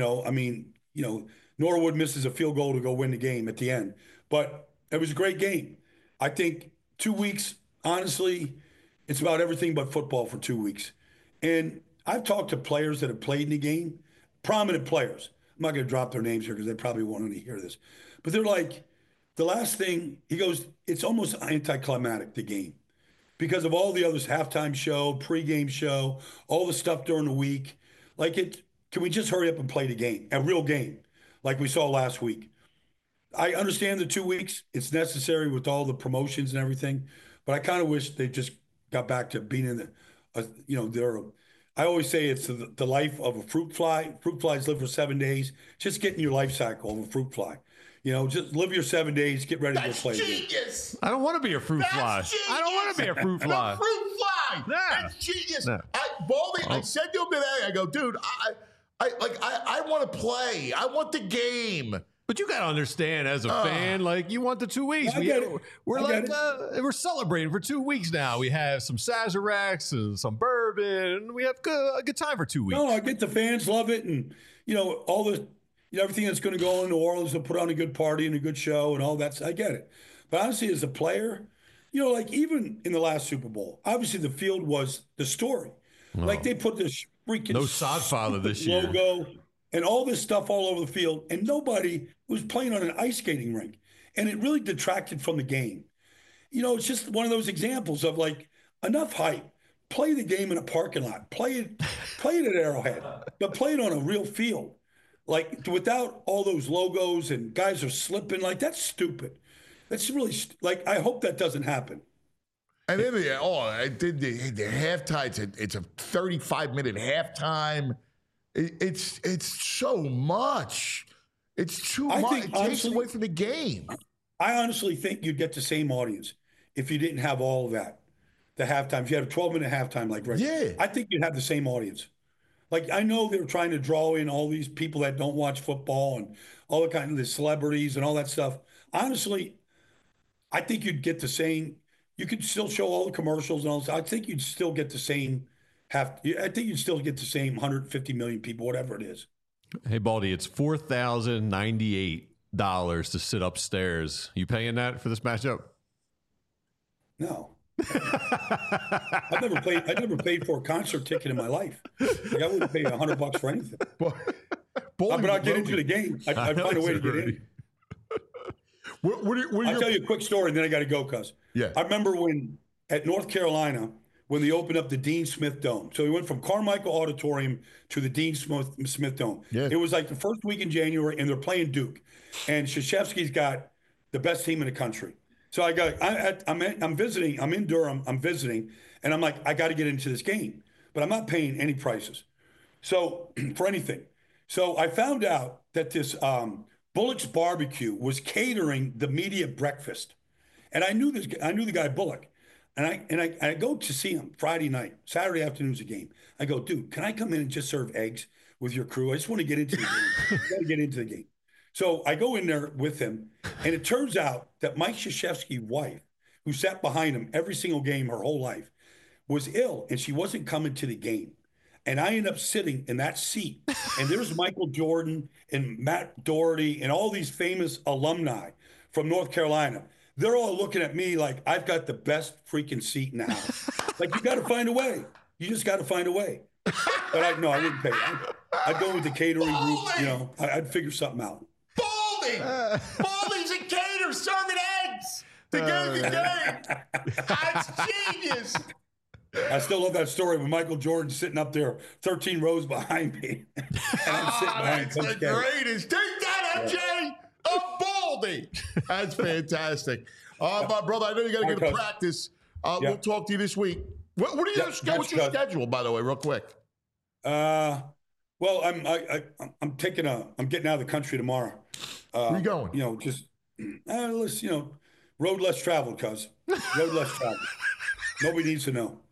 Speaker 5: Norwood misses a field goal to go win the game at the end, but it was a great game. I think 2 weeks, honestly, it's about everything but football for 2 weeks. And I've talked to players that have played in the game, prominent players. I'm not going to drop their names here because they probably won't hear this. But they're like, the last thing, he goes, it's almost anticlimactic, the game, because of all the others, halftime show, pregame show, all the stuff during the week. Like, can we just hurry up and play the game, a real game, like we saw last week? I understand the 2 weeks. It's necessary with all the promotions and everything, but I kind of wish they just got back to being in the, I always say it's the life of a fruit fly. Fruit flies live for 7 days. Just get in your life cycle of a fruit fly. Just live your 7 days, get ready to go play.
Speaker 2: Genius.
Speaker 3: I don't want to be a fruit fly.
Speaker 2: Genius.
Speaker 3: I don't want to be a fruit fly.
Speaker 2: A fruit fly.
Speaker 3: Yeah.
Speaker 2: That's genius.
Speaker 3: No.
Speaker 2: Baldy, I said to him today, I go, dude, I want to play. I want the game.
Speaker 3: But you got to understand, as a fan, like, you want the 2 weeks. We're celebrating for 2 weeks now. We have some Sazeracs and some bourbon, and we have a good time for 2 weeks.
Speaker 5: No, I get the fans love it, and all the everything that's going to go on in New Orleans to put on a good party and a good show and all that. I get it, but honestly, as a player, like even in the last Super Bowl, obviously the field was the story. Oh. Like they put this freaking
Speaker 3: no Sodfather this year
Speaker 5: logo and all this stuff all over the field, and nobody was playing on an ice skating rink. And it really detracted from the game. It's just one of those examples of like, enough hype. Play the game in a parking lot. Play it at Arrowhead, but play it on a real field. Like, without all those logos and guys are slipping, like, that's stupid. That's really, I hope that doesn't happen.
Speaker 2: And then I did the halftime. It's a 35-minute halftime. It's so much. It's too much. It takes away from the game.
Speaker 5: I honestly think you'd get the same audience if you didn't have all of that. The halftime. If you had a 12-minute halftime like right.
Speaker 2: Yeah.
Speaker 5: I think you'd have the same audience. Like, I know they're trying to draw in all these people that don't watch football and all the kind of the celebrities and all that stuff. Honestly, I think you'd get the same. You could still show all the commercials and all this. I think you'd still get the same. I think you'd still get the same 150 million people, whatever it is.
Speaker 3: Hey, Baldy, it's $4,098 to sit upstairs. You paying that for this matchup?
Speaker 5: No. I never paid for a concert ticket in my life. Like, I wouldn't pay $100 for anything. But I'd get into the game. I'd find a way to get in. I'll tell you a quick story, and then I got to go, cuz.
Speaker 2: Yeah.
Speaker 5: I remember when at North Carolina, when they opened up the Dean Smith Dome. So we went from Carmichael Auditorium to the Dean Smith Dome. Yeah. It was like the first week in January, and they're playing Duke. And Krzyzewski's got the best team in the country. So I'm visiting. I'm in Durham. I'm visiting, and I'm like, I got to get into this game, but I'm not paying any prices, so for anything. So I found out that this Bullock's Barbecue was catering the media breakfast, and I knew the guy Bullock, and I go to see him Friday night, Saturday afternoon's a game. I go, dude, can I come in and just serve eggs with your crew? I just want to get into the game. I got to get into the game. So I go in there with him, and it turns out that Mike Krzyzewski's wife, who sat behind him every single game her whole life, was ill, and she wasn't coming to the game. And I end up sitting in that seat, and there's Michael Jordan and Matt Doherty and all these famous alumni from North Carolina. They're all looking at me like I've got the best freaking seat in the house. Like, you got to find a way. You just got to find a way. But I wouldn't pay. I'd go with the catering group. I'd figure something out.
Speaker 2: Baldy's a caterer serving eggs to get the game. That's genius.
Speaker 5: I still love that story with Michael Jordan sitting up there 13 rows behind me. And I'm sitting behind
Speaker 2: that's the greatest. Take that, MJ. Baldy. That's fantastic. My brother, I know you got to get to practice. We'll talk to you this week. What are you? What's your schedule, by the way, real quick?
Speaker 5: Well, I'm getting out of the country tomorrow.
Speaker 2: Where you going?
Speaker 5: Just road less traveled, cuz. Road less traveled. Nobody needs to know.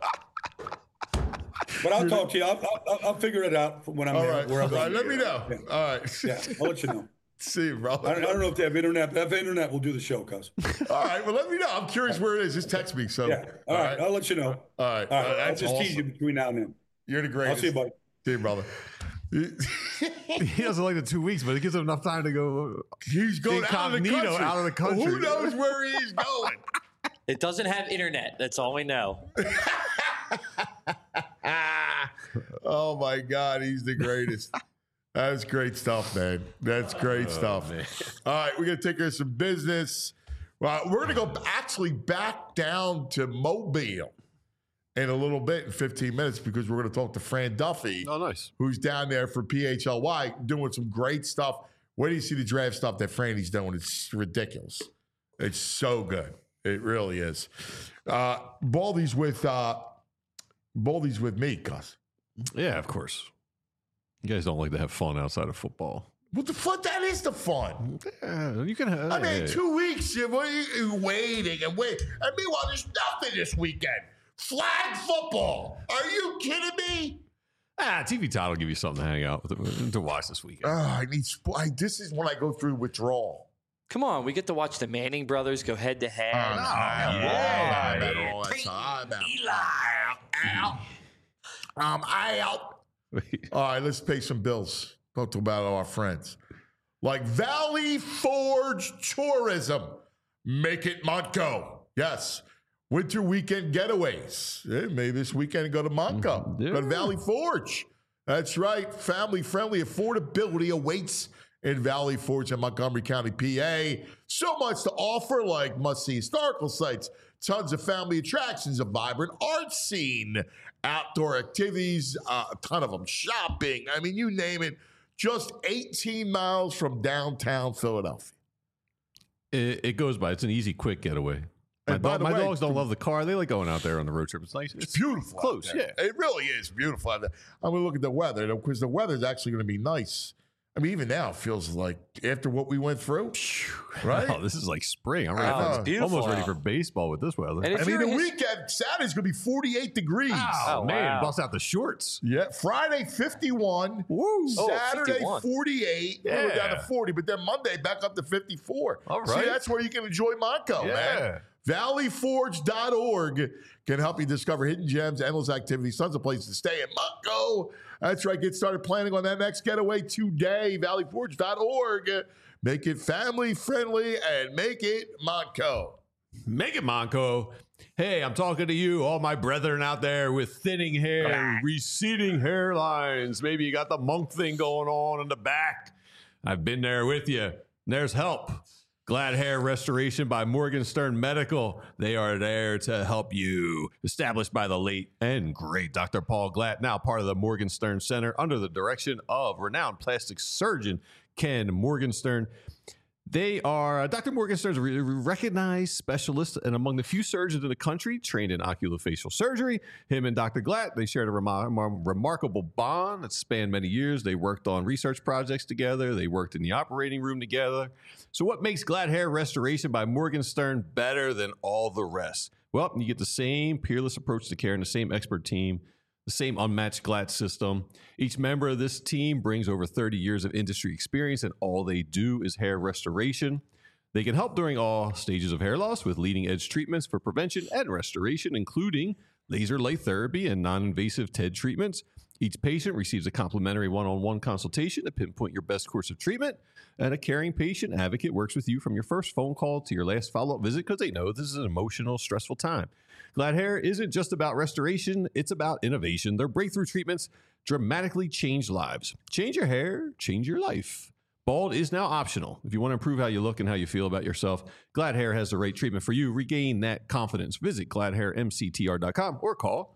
Speaker 5: But I'll talk to you. I'll figure it out when I'm there.
Speaker 2: Right. Where I'm right. Let me know.
Speaker 5: Yeah.
Speaker 2: All right.
Speaker 5: Yeah, I'll let you know.
Speaker 2: See you, bro.
Speaker 5: I don't know if they have internet, but if they have internet, we'll do the show, cuz.
Speaker 2: All right. Well, let me know. I'm curious where it is. Just text me. So.
Speaker 5: Yeah. All right. I'll let you know.
Speaker 2: All right.
Speaker 5: I'll just tease you between now and then.
Speaker 2: You're the greatest.
Speaker 5: I'll see you, buddy.
Speaker 2: See you, brother.
Speaker 3: He doesn't like the 2 weeks, but it gives him enough time to go.
Speaker 2: He's going out of the country. Who knows where he's going?
Speaker 6: It doesn't have internet. That's all we know.
Speaker 2: Oh my God, he's the greatest. That's great stuff, man. That's great stuff. Man. All right, we're gonna take care of some business. We're gonna go actually back down to Mobile in a little bit, in 15 minutes, because we're going to talk to Fran Duffy,
Speaker 3: Oh, nice.
Speaker 2: who's down there for PHLY doing some great stuff. Where do you see the draft stuff that Franny's doing? It's ridiculous. It's so good. It really is. Baldy's with me, Gus.
Speaker 3: Yeah, of course. You guys don't like to have fun outside of football.
Speaker 2: What the fuck? That is the fun.
Speaker 3: Yeah, you can have.
Speaker 2: I mean, 2 weeks, you're waiting and wait. And meanwhile, there's nothing this weekend. Flag football. Are you kidding me?
Speaker 3: TV Time will give you something to hang out with, to watch this weekend.
Speaker 2: I need this is when I go through withdrawal.
Speaker 6: Come on, we get to watch the Manning brothers go head to head.
Speaker 2: I'm out. All right, let's pay some bills. Talk about our friends. Like Valley Forge Tourism. Make it Montco. Yes. Winter weekend getaways. Yeah, maybe this weekend go to Montco.
Speaker 3: Yeah.
Speaker 2: Go to Valley Forge. That's right. Family-friendly affordability awaits in Valley Forge in Montgomery County, PA. So much to offer, like must-see historical sites, tons of family attractions, a vibrant art scene, outdoor activities, a ton of them, shopping. I mean, you name it. Just 18 miles from downtown Philadelphia.
Speaker 3: It goes by. It's an easy, quick getaway. My dogs don't love the car. They like going out there on the road trip. It's nice.
Speaker 2: It's beautiful.
Speaker 3: Close, yeah.
Speaker 2: It really is beautiful out there. I'm going to look at the weather because the weather is actually going to be nice. I mean, even now it feels like after what we went through, right?
Speaker 3: Oh, this is like spring. I'm ready
Speaker 2: it's
Speaker 6: beautiful
Speaker 3: almost ready
Speaker 6: out.
Speaker 3: for baseball with this weather.
Speaker 6: And
Speaker 2: I mean, the weekend, Saturday's going to be 48 degrees.
Speaker 3: Oh, man,
Speaker 6: wow.
Speaker 3: bust out the shorts.
Speaker 2: Yeah, Friday 51.
Speaker 3: Woo.
Speaker 2: Saturday
Speaker 6: 51.
Speaker 2: 48. We'll go down to
Speaker 3: Yeah.
Speaker 2: 40, but then Monday back up to 54.
Speaker 3: All
Speaker 2: See,
Speaker 3: right.
Speaker 2: that's where you can enjoy Montco,
Speaker 3: Yeah.
Speaker 2: man. ValleyForge.org can help you discover hidden gems, endless activities, tons of places to stay in Montco. That's right. Get started planning on that next getaway today. ValleyForge.org. Make it family friendly and make it Montco.
Speaker 3: Make it, Monco. Hey, I'm talking to you, all my brethren out there with thinning hair, receding hairlines. Maybe you got the monk thing going on in the back. I've been there with you. There's help. Glad Hair Restoration by Morgenstern Medical. They are there to help you. Established by the late and great Dr. Paul Glatt, now part of the Morgenstern Center under the direction of renowned plastic surgeon Ken Morgenstern. They are Dr. Morgenstern's recognized specialist and among the few surgeons in the country trained in oculofacial surgery. Him and Dr. Glatt, they shared a remarkable bond that spanned many years. They worked on research projects together. They worked in the operating room together. So what makes Glad Hair Restoration by Morgenstern better than all the rest? Well, you get the same peerless approach to care and the same expert team, the same unmatched Glatt system. Each member of this team brings over 30 years of industry experience, and all they do is hair restoration. They can help during all stages of hair loss with leading-edge treatments for prevention and restoration, including laser light therapy and non-invasive TED treatments. Each patient receives a complimentary one-on-one consultation to pinpoint your best course of treatment, and a caring patient advocate works with you from your first phone call to your last follow-up visit because they know this is an emotional, stressful time. Glad Hair isn't just about restoration, it's about innovation. Their breakthrough treatments dramatically change lives. Change your hair, change your life. Bald is now optional. If you want to improve how you look and how you feel about yourself, Glad Hair has the right treatment for you. Regain that confidence. Visit gladhairmctr.com or call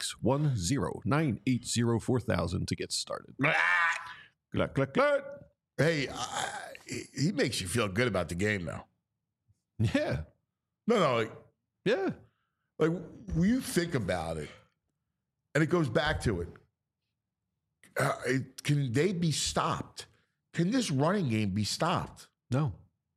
Speaker 3: 610-980-4000 to get started. Glad.
Speaker 2: Hey, he makes you feel good about the game now.
Speaker 3: Yeah.
Speaker 2: No,
Speaker 3: Yeah.
Speaker 2: like when you think about it, and it goes back to it, can they be stopped? Can this running game be stopped?
Speaker 3: No,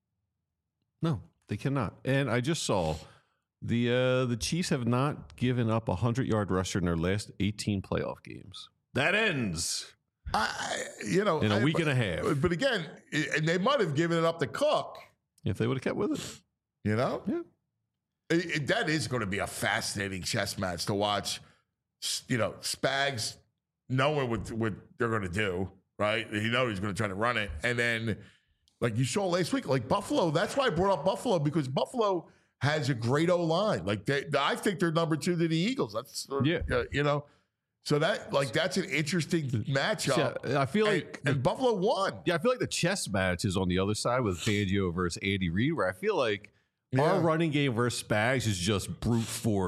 Speaker 3: they cannot. And I just saw the Chiefs have not given up a 100-yard rusher in their last 18 playoff games. That ends in a week and a half.
Speaker 2: But again, and they might have given it up to Cook.
Speaker 3: If they would have kept with it.
Speaker 2: You know?
Speaker 3: Yeah.
Speaker 2: That is going to be a fascinating chess match to watch. You know, Spags knowing what they're going to do, right? He knows he's going to try to run it. And then, like you saw last week, like Buffalo, that's why I brought up Buffalo, because Buffalo has a great O-line. Like, I think they're number 2 to the Eagles. That's, you know. So that's an interesting matchup.
Speaker 3: Yeah, I feel like
Speaker 2: and Buffalo won.
Speaker 3: Yeah, I feel like the chess match is on the other side with Fangio versus Andy Reid, where I feel like our running game versus Spags is just brute force.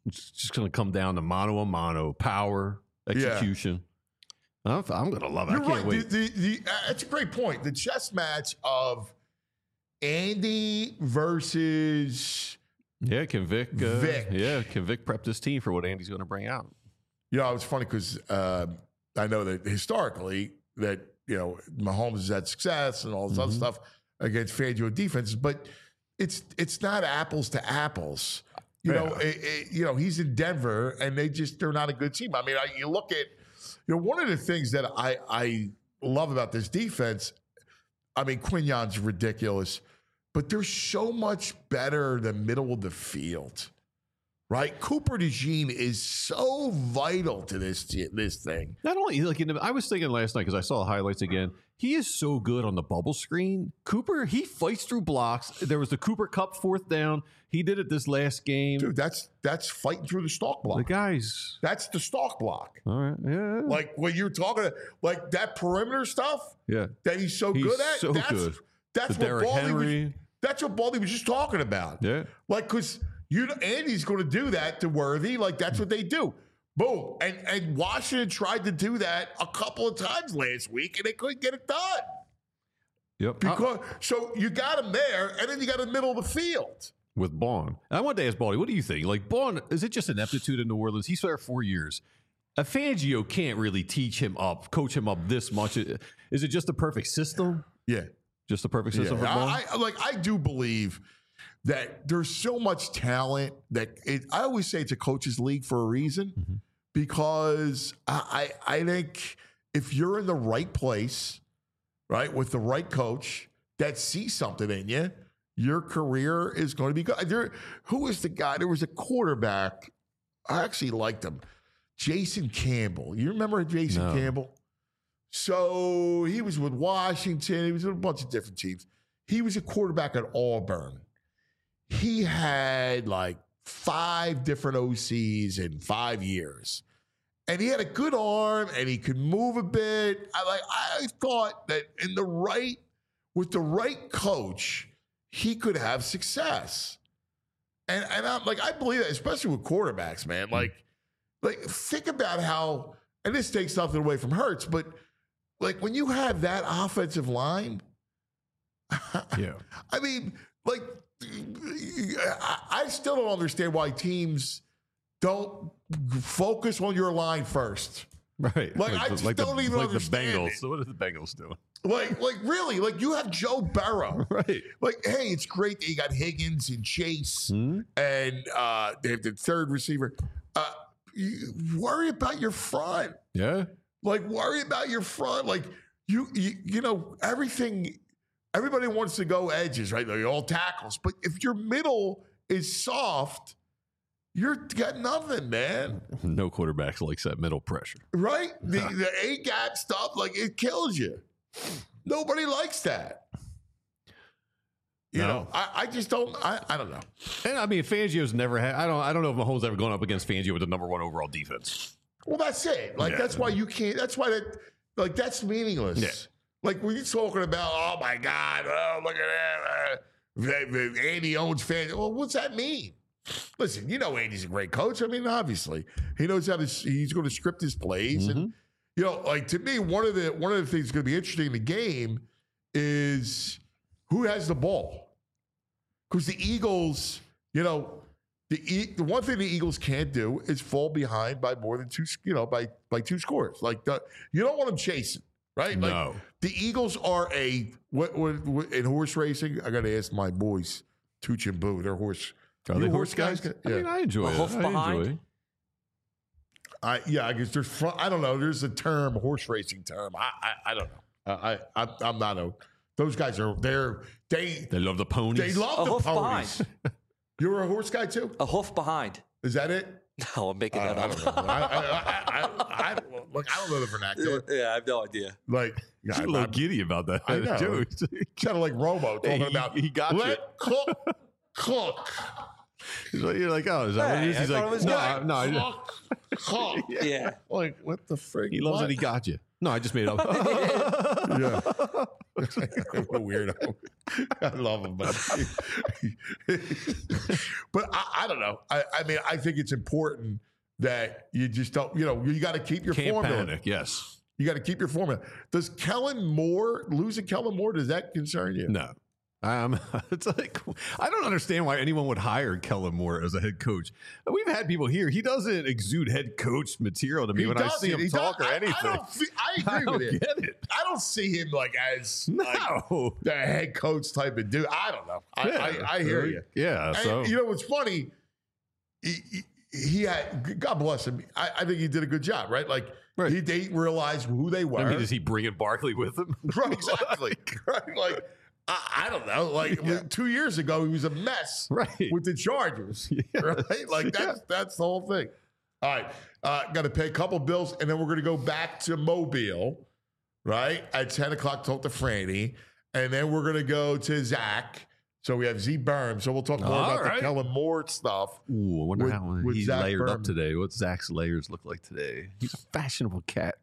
Speaker 3: It's just going to come down to mano a mano, power, execution. I'm going to love it.
Speaker 2: You're
Speaker 3: I can't
Speaker 2: right.
Speaker 3: wait.
Speaker 2: That's a great point. The chess match of Andy versus
Speaker 3: Can Vic?
Speaker 2: Vic.
Speaker 3: Can Vic prep this team for what Andy's going to bring out?
Speaker 2: It's funny because I know that historically that Mahomes has had success and all this other stuff against Fangio defenses, but it's not apples to apples. He's in Denver and they're not a good team. I mean, you look at one of the things that I love about this defense. I mean, Quignon's ridiculous, but they're so much better than middle of the field. Right, Cooper DeJean is so vital to this thing.
Speaker 3: Not only I was thinking last night because I saw the highlights again. He is so good on the bubble screen. Cooper, he fights through blocks. There was the Cooper Cup 4th down. He did it this last game.
Speaker 2: Dude, that's fighting through the stalk block. That's the stalk block.
Speaker 3: All right, yeah.
Speaker 2: Like when you're talking like that perimeter stuff.
Speaker 3: Yeah,
Speaker 2: that he's so good at.
Speaker 3: So good.
Speaker 2: That's what Baldy that's what Baldy was just talking about.
Speaker 3: Yeah,
Speaker 2: like because. Andy's going to do that to Worthy. Like, that's what they do. Boom. And Washington tried to do that a couple of times last week, and they couldn't get it done.
Speaker 3: Yep.
Speaker 2: So you got him there, and then you got the middle of the field.
Speaker 3: With Baun. I wanted to ask Baldy, what do you think? Like, Baun, is it just ineptitude in New Orleans? He's there 4 years. A Fangio can't really coach him up this much. Is it just the perfect system?
Speaker 2: Yeah.
Speaker 3: Just the perfect system for Baun?
Speaker 2: I do believe that there's so much talent that I always say it's a coach's league for a reason, because I think if you're in the right place, right, with the right coach that sees something in you, your career is going to be good. Who was the guy? There was a quarterback. I actually liked him. Jason Campbell. You remember Jason Campbell? So he was with Washington. He was with a bunch of different teams. He was a quarterback at Auburn. He had like 5 different OCs in 5 years. And he had a good arm and he could move a bit. I thought that with the right coach, he could have success. And I'm like, I believe that, especially with quarterbacks, man. Like think about how, and this takes nothing away from Hurts, but like when you have that offensive line,
Speaker 3: yeah.
Speaker 2: I mean, like, I still don't understand why teams don't focus on your line first.
Speaker 3: Right.
Speaker 2: Like I just don't even understand
Speaker 3: the Bengals.
Speaker 2: it.
Speaker 3: So what are the Bengals doing?
Speaker 2: Like really, like you have Joe Burrow.
Speaker 3: Right.
Speaker 2: Like, hey, it's great that you got Higgins and Chase and they have the third receiver. You worry about your front.
Speaker 3: Yeah.
Speaker 2: Like worry about your front. Like you know, everybody wants to go edges, right? Like all tackles. But if your middle is soft, you're got nothing, man.
Speaker 3: No quarterbacks likes that middle pressure.
Speaker 2: Right? The A-gap stuff, like it kills you. Nobody likes that. You know, I just don't. I don't know.
Speaker 3: And I mean, Fangio's never had. I don't know if Mahomes ever gone up against Fangio with the number 1 overall defense.
Speaker 2: Well, that's it. Like that's why you can't. That's why that's meaningless.
Speaker 3: Yeah.
Speaker 2: Like when you're talking about, oh my God, oh look at that, Andy owns Fangio. Well, what's that mean? Listen, you know Andy's a great coach. I mean, obviously he knows how to. He's going to script his plays, and you know, like to me, one of the things that's going to be interesting in the game is who has the ball. Because the Eagles, you know, the one thing the Eagles can't do is fall behind by more than 2, you know, by 2 scores. Like you don't want them chasing, right? Like,
Speaker 3: no.
Speaker 2: The Eagles are what in horse racing. I got to ask my boys, Tooch and Boo. They're horse.
Speaker 3: Are they horse guys? I mean, I enjoy it.
Speaker 6: Hoof behind.
Speaker 2: I guess there's front. I don't know. There's a term, horse racing term. I don't know. I'm not a. Those guys are they
Speaker 3: love the ponies.
Speaker 2: They love the ponies.
Speaker 6: Behind.
Speaker 2: You're a horse guy too?
Speaker 6: A hoof behind.
Speaker 2: Is that it?
Speaker 6: No, I'm making that
Speaker 2: I
Speaker 6: up.
Speaker 2: don't know. I don't know the vernacular.
Speaker 6: Yeah, I have no idea.
Speaker 2: Like,
Speaker 3: He's a little giddy about that.
Speaker 2: I know.
Speaker 3: Too.
Speaker 2: Kind of like Robo talking about.
Speaker 3: He got
Speaker 2: let cook.
Speaker 3: You're like, oh, is that what it is? He's like, no.
Speaker 2: Cook.
Speaker 6: Yeah.
Speaker 2: Like, what the frig?
Speaker 3: He loves that he got you. No, I just made it up.
Speaker 2: Yeah. What a weirdo. I love him, but but I don't know. I mean, I think it's important that you just don't. You got to keep your
Speaker 3: Can't
Speaker 2: formula.
Speaker 3: panic. Yes.
Speaker 2: You got to keep your formula. Does losing Kellen Moore, does that concern you?
Speaker 3: No. It's like I don't understand why anyone would hire Kellen Moore as a head coach. We've had people here. He doesn't exude head coach material to me when I see him talk or anything.
Speaker 2: I agree with you.
Speaker 3: Get it.
Speaker 2: I don't see him like as
Speaker 3: No.
Speaker 2: the head coach type of dude. I don't know. I hear you.
Speaker 3: Yeah. So
Speaker 2: And, you know what's funny? He had, God bless him. I think he did a good job, right? Like
Speaker 3: Right.
Speaker 2: they realized who they were.
Speaker 3: I mean, does he bring in Barkley with him?
Speaker 2: Right, exactly. Right? Like I don't know. Like 2 years ago, he was a mess.
Speaker 3: Right.
Speaker 2: With the Chargers. Right? Like that's the whole thing. All right. Got to pay a couple bills, and then we're going to go back to Mobile, right? At 10 o'clock, talk to Franny. And then we're going to go to Zach. So we have Z Berm. So we'll talk more about the Kellen Moore stuff.
Speaker 3: Ooh, I wonder
Speaker 2: With-
Speaker 3: how
Speaker 2: with
Speaker 3: he's
Speaker 2: Zach
Speaker 3: layered up
Speaker 2: Berman.
Speaker 3: today. What Zach's layers look like today? He's a fashionable cat.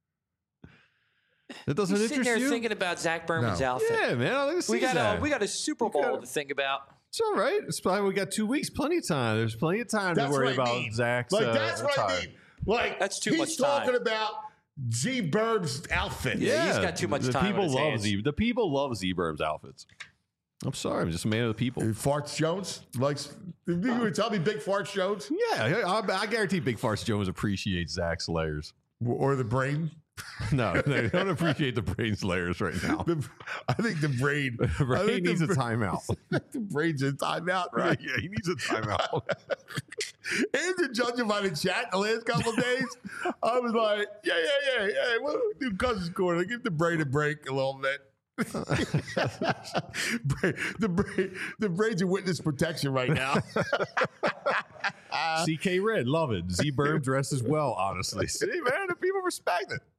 Speaker 3: That doesn't
Speaker 6: He's sitting
Speaker 3: interest
Speaker 6: there
Speaker 3: you?
Speaker 6: thinking about Zach Berman's
Speaker 2: No.
Speaker 6: outfit.
Speaker 3: Yeah, man. I like to
Speaker 6: We
Speaker 3: see Zach.
Speaker 6: got a Super Bowl to think about.
Speaker 3: It's all right. It's probably we got 2 weeks, plenty of time. There's plenty of time
Speaker 2: That's
Speaker 3: to worry
Speaker 2: what I
Speaker 3: about
Speaker 2: mean.
Speaker 3: Zach's.
Speaker 2: Like, that's what I
Speaker 3: attire.
Speaker 2: mean. Like,
Speaker 6: That's too
Speaker 2: he's
Speaker 6: much time.
Speaker 2: talking about Z Berm's outfit.
Speaker 6: Yeah, he's got too much
Speaker 3: the
Speaker 6: time
Speaker 3: People
Speaker 6: on his
Speaker 3: love
Speaker 6: hands.
Speaker 3: The people love Z-Berm's outfits. I'm sorry, I'm just a man of the people.
Speaker 2: Farts Jones likes. You would tell me Big Farts Jones
Speaker 3: Yeah, I guarantee Big Farts Jones appreciates Zach's layers.
Speaker 2: or the brain.
Speaker 3: No, they don't appreciate the brain's layers right now.
Speaker 2: I think the brain.
Speaker 3: The brain
Speaker 2: I think
Speaker 3: needs a
Speaker 2: the
Speaker 3: timeout.
Speaker 2: The brain's in timeout, right?
Speaker 3: Yeah, he needs a timeout.
Speaker 2: And to judging by the chat the last couple of days, I was like, yeah. We'll do Cousins Corner. Give the brain a break a little bit. The brain's in witness protection right now.
Speaker 3: CK Red, love it. Z-Berm dresses well, honestly. See, man, the people respect it.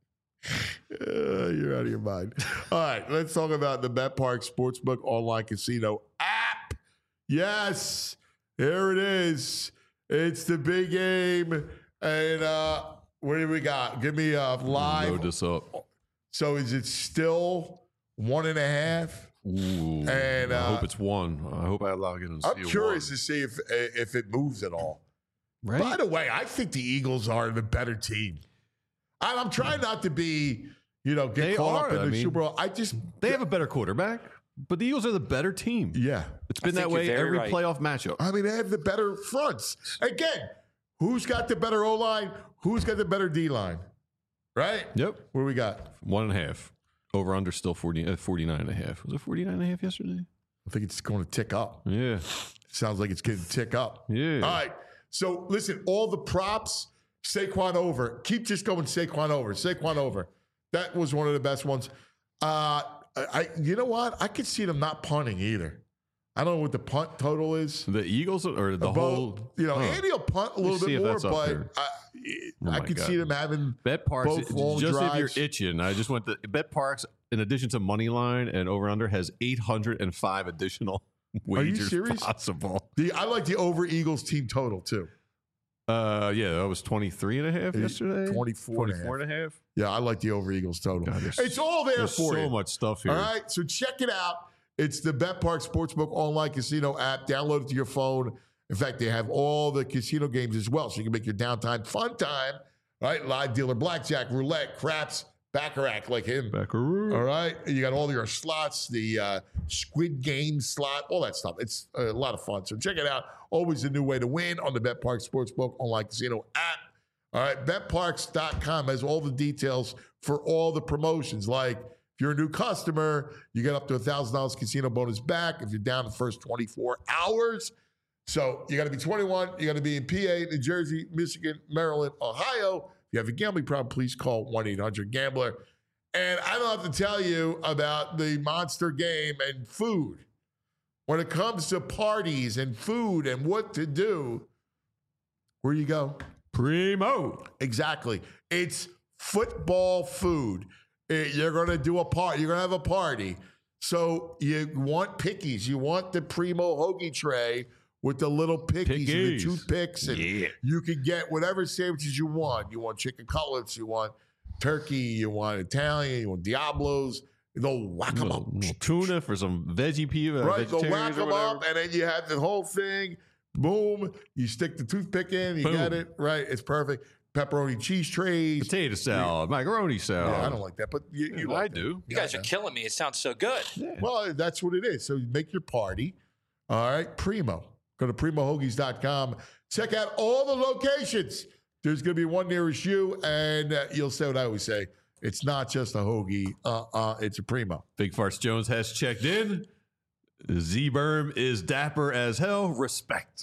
Speaker 2: You're out of your mind. All right, let's talk about the BetPark Sportsbook online casino app. Yes, here it is. It's the big game. And what do we got? Give me a live.
Speaker 3: Load this up.
Speaker 2: So is it still 1.5?
Speaker 3: Ooh,
Speaker 2: And,
Speaker 3: I hope it's 1. I hope I log in and see
Speaker 2: I'm curious
Speaker 3: a
Speaker 2: to see if it moves at all.
Speaker 3: 1. Right?
Speaker 2: By the way, I think the Eagles are the better team. I'm trying not to be, get
Speaker 3: They
Speaker 2: caught up
Speaker 3: are.
Speaker 2: in
Speaker 3: I
Speaker 2: the
Speaker 3: mean,
Speaker 2: Super Bowl.
Speaker 3: They have a better quarterback, but the Eagles are the better team.
Speaker 2: Yeah.
Speaker 3: It's been
Speaker 6: I
Speaker 3: that
Speaker 6: think
Speaker 3: way
Speaker 6: you're very
Speaker 3: every
Speaker 6: right.
Speaker 3: playoff matchup.
Speaker 2: I mean, they have the better fronts. Again, who's got the better O-line? Who's got the better D-line? Right?
Speaker 3: Yep.
Speaker 2: What do we got?
Speaker 3: 1.5. Over under still 49.5. Was it 49.5 yesterday?
Speaker 2: I think it's going to tick up.
Speaker 3: Yeah.
Speaker 2: Sounds like it's going to tick up.
Speaker 3: Yeah.
Speaker 2: All right. So, listen, all the props, Saquon over. Keep just going Saquon over. Saquon over. That was one of the best ones. You know what? I could see them not punting either. I don't know what the punt total is.
Speaker 3: The Eagles or the whole.
Speaker 2: Andy will punt a little
Speaker 3: see
Speaker 2: bit
Speaker 3: if
Speaker 2: more,
Speaker 3: that's up
Speaker 2: but
Speaker 3: there.
Speaker 2: I
Speaker 3: my
Speaker 2: could
Speaker 3: God.
Speaker 2: see them having
Speaker 3: Bet Parks,
Speaker 2: both long
Speaker 3: just
Speaker 2: drives.
Speaker 3: if you're itching, I just went to Bet Parks, in addition to money line and over under, has 805 additional wagers
Speaker 2: serious?
Speaker 3: possible.
Speaker 2: I like the over Eagles team total too.
Speaker 3: Yeah, that was 23.5 yesterday.
Speaker 2: 24.5. Yeah, I like the over Eagles total.
Speaker 3: God, there's-
Speaker 2: It's all there
Speaker 3: There's
Speaker 2: for
Speaker 3: so
Speaker 2: you.
Speaker 3: much stuff here.
Speaker 2: All right, so check it out. It's the BetPark Sportsbook online casino app. Download it to your phone. In fact, they have all the casino games as well, so you can make your downtime fun time. Right, live dealer, blackjack, roulette, craps, baccarat, like him.
Speaker 3: Backaroo.
Speaker 2: All right, you got all your slots, the Squid Game slot, all that stuff. It's a lot of fun. So check it out. Always a new way to win on the BetPark Sportsbook online casino app. All right, betparks.com has all the details for all the promotions. Like if you're a new customer, you get up to $1,000 casino bonus back if you're down the first 24 hours. So you got to be 21. You got to be in PA, New Jersey, Michigan, Maryland, Ohio. If you have a gambling problem, please call 1-800-GAMBLER. And I don't have to tell you about the Monster game and food. When it comes to parties and food and what to do, where you go?
Speaker 3: Primo.
Speaker 2: Exactly. It's football food. You're going to do a party. You're going to have a party. So you want pickies. You want the Primo hoagie tray with the little pickies and the
Speaker 3: Pickies.
Speaker 2: toothpicks. And you can get whatever sandwiches you want. You want chicken cutlets. You want turkey. You want Italian. You want Diablos. They'll whack them up.
Speaker 3: Tuna for some veggie people.
Speaker 2: Right, they'll whack them up, and then you have the whole thing. Boom, you stick the toothpick in, you get it. Right, it's perfect. Pepperoni cheese trays.
Speaker 3: Potato salad, macaroni salad.
Speaker 2: Yeah, I don't like that, but you like
Speaker 3: I
Speaker 2: that.
Speaker 3: do.
Speaker 6: You guys are killing me. It sounds so good.
Speaker 3: Yeah.
Speaker 2: Well, that's what it is. So you make your party. All right, Primo. Go to primohoagies.com. Check out all the locations. There's going to be one nearest you, and you'll say what I always say. It's not just a hoagie. It's a Primo.
Speaker 3: Big Farts Jones has checked in. Z-Berm is dapper as hell. Respect.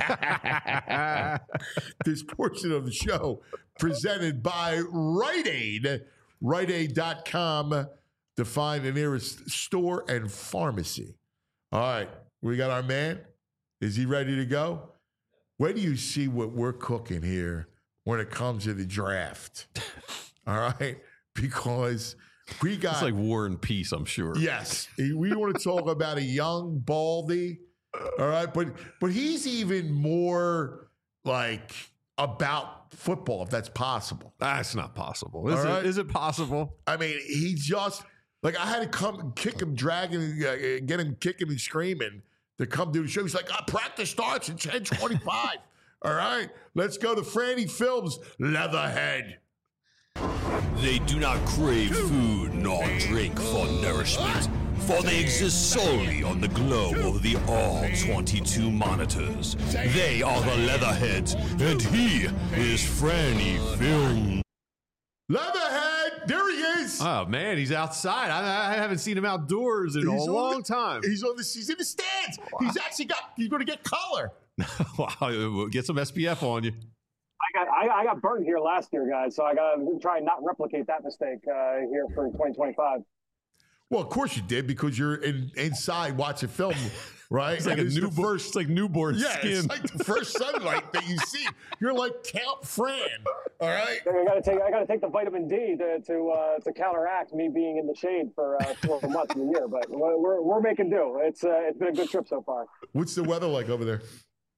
Speaker 2: This portion of the show presented by Rite Aid. RiteAid.com to find the nearest store and pharmacy. All right, we got our man. Is he ready to go? Where do you see what we're cooking here when it comes to the draft? All right, because we got...
Speaker 3: It's like War and Peace, I'm sure.
Speaker 2: Yes. We want to talk about a young Baldy. All right. But he's even more like about football, if that's possible.
Speaker 3: That's not possible. Is it possible?
Speaker 2: I mean, he just like I had to come kick him, drag him, get him kicking and screaming to come do the show. He's like, practice starts at 10:25. All right. Let's go to Franny Films, Leatherhead.
Speaker 7: They do not crave food nor drink for nourishment, for they exist solely on the glow of the all-22 monitors. They are the Leatherheads, and he is Franny Film.
Speaker 2: Leatherhead, there he is.
Speaker 3: Oh, man, he's outside. I haven't seen him outdoors in a long time.
Speaker 2: He's in the stands. He's going to get color.
Speaker 3: Wow, get some SPF on you.
Speaker 8: I got burned here last year, guys, so I got to try and not replicate that mistake here for 2025.
Speaker 2: Well, of course you did, because you're inside watching film, right?
Speaker 3: It's like it's like newborn skin.
Speaker 2: It's like the first sunlight that you see. You're like Count Fran, all right?
Speaker 8: I got to take the vitamin D to counteract me being in the shade for 4 months of the year, but we're making do. It's been a good trip so far.
Speaker 2: What's the weather like over there?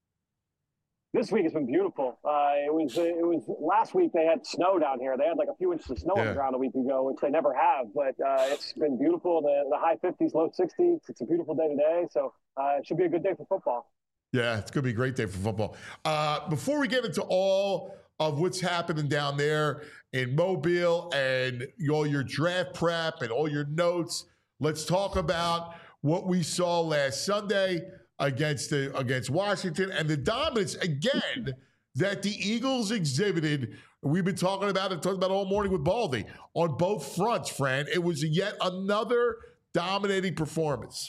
Speaker 8: This week has been beautiful. It was last week they had snow down here. They had like a few inches of snow on the ground a week ago, which they never have. But it's been beautiful. The high 50s, low 60s. It's a beautiful day today. So it should be a good day for football.
Speaker 2: Yeah, it's going to be a great day for football. Before we get into all of what's happening down there in Mobile and all your draft prep and all your notes, let's talk about what we saw last Sunday against Washington and the dominance again that the Eagles exhibited. We've been talking about it all morning with Baldy on both fronts, Fran. It was yet another dominating performance.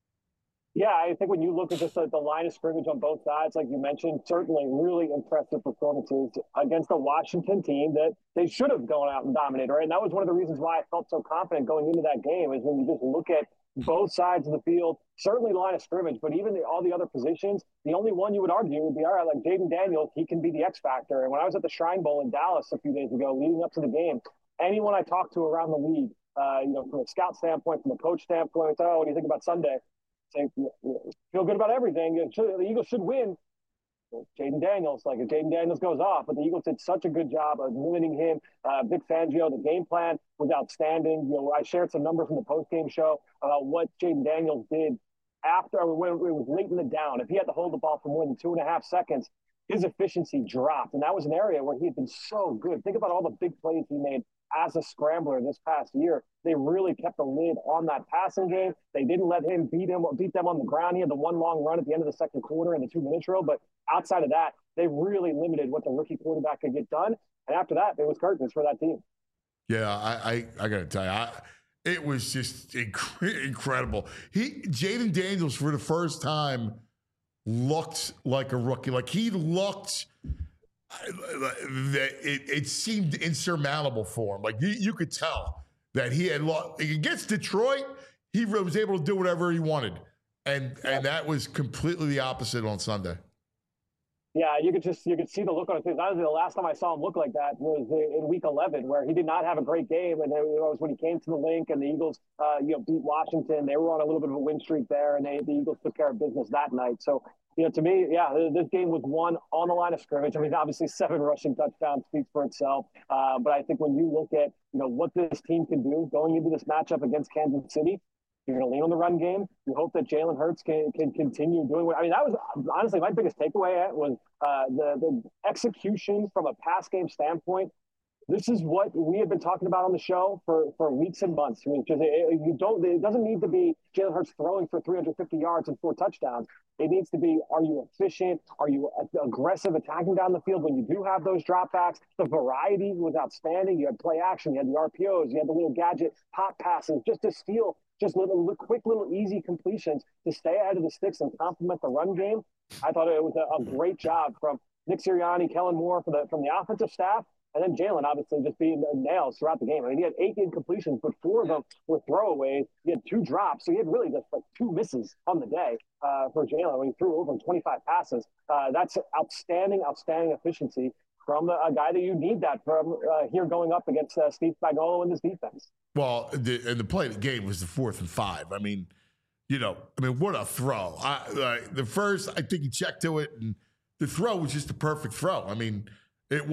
Speaker 8: Yeah, I think when you look at just the line of scrimmage on both sides, like you mentioned, certainly really impressive performances against a Washington team that they should have gone out and dominated, right? And that was one of the reasons why I felt so confident going into that game, is when you just look at both sides of the field, certainly the line of scrimmage, but even all the other positions, the only one you would argue would be, all right, like Jaden Daniels, he can be the X factor. And when I was at the Shrine Bowl in Dallas a few days ago, leading up to the game, anyone I talked to around the league, from a scout standpoint, from a coach standpoint, what do you think about Sunday? Say, feel good about everything. The Eagles should win. Jaden Daniels, if Jaden Daniels goes off, but the Eagles did such a good job of limiting him. Vic Fangio, the game plan was outstanding. I shared some numbers from the post-game show about what Jaden Daniels did when it was late in the down. If he had to hold the ball for more than 2.5 seconds, his efficiency dropped. And that was an area where he had been so good. Think about all the big plays he made as a scrambler this past year. They really kept a lid on that passing game. They didn't let him beat them on the ground. He had the one long run at the end of the second quarter in the 2-minute drill. But outside of that, they really limited what the rookie quarterback could get done. And after that, it was curtains for that team.
Speaker 2: Yeah, I got to tell you, it was just incredible. Jaden Daniels, for the first time, looked like a rookie. Like he looked that it seemed insurmountable for him. Like you could tell that he had lost. Against Detroit, he was able to do whatever he wanted. And that was completely the opposite on Sunday.
Speaker 8: Yeah, you could see the look on his face. Honestly, the last time I saw him look like that was in Week 11, where he did not have a great game, and it was when he came to the link and the Eagles, beat Washington. They were on a little bit of a win streak there, and the Eagles took care of business that night. So, to me, this game was won on the line of scrimmage. I mean, obviously, 7 rushing touchdowns speaks for itself. But I think when you look at what this team can do going into this matchup against Kansas City, you're going to lean on the run game. You hope that Jalen Hurts can continue doing what – I mean, that was honestly my biggest takeaway was the execution from a pass game standpoint. This is what we have been talking about on the show for weeks and months. I mean, it doesn't need to be Jalen Hurts throwing for 350 yards and 4 touchdowns. It needs to be, are you efficient? Are you aggressive attacking down the field when you do have those dropbacks? The variety was outstanding. You had play action. You had the RPOs. You had the little gadget pop passes just to steal just quick little easy completions to stay ahead of the sticks and complement the run game. I thought it was a great job from Nick Sirianni, Kellen Moore from the offensive staff, and then Jalen obviously just being nails throughout the game. I mean, he had 8 incompletions, but 4 of them were throwaways. He had 2 drops, so he had really just 2 misses on the day for Jalen when he threw over 25 passes. That's outstanding efficiency from a guy that you need that from here going up against Steve Spagnuolo and this defense.
Speaker 2: Well, the play of the game was the 4th and 5. I mean, what a throw. The first, I think he checked to it, and the throw was just a perfect throw. I mean, and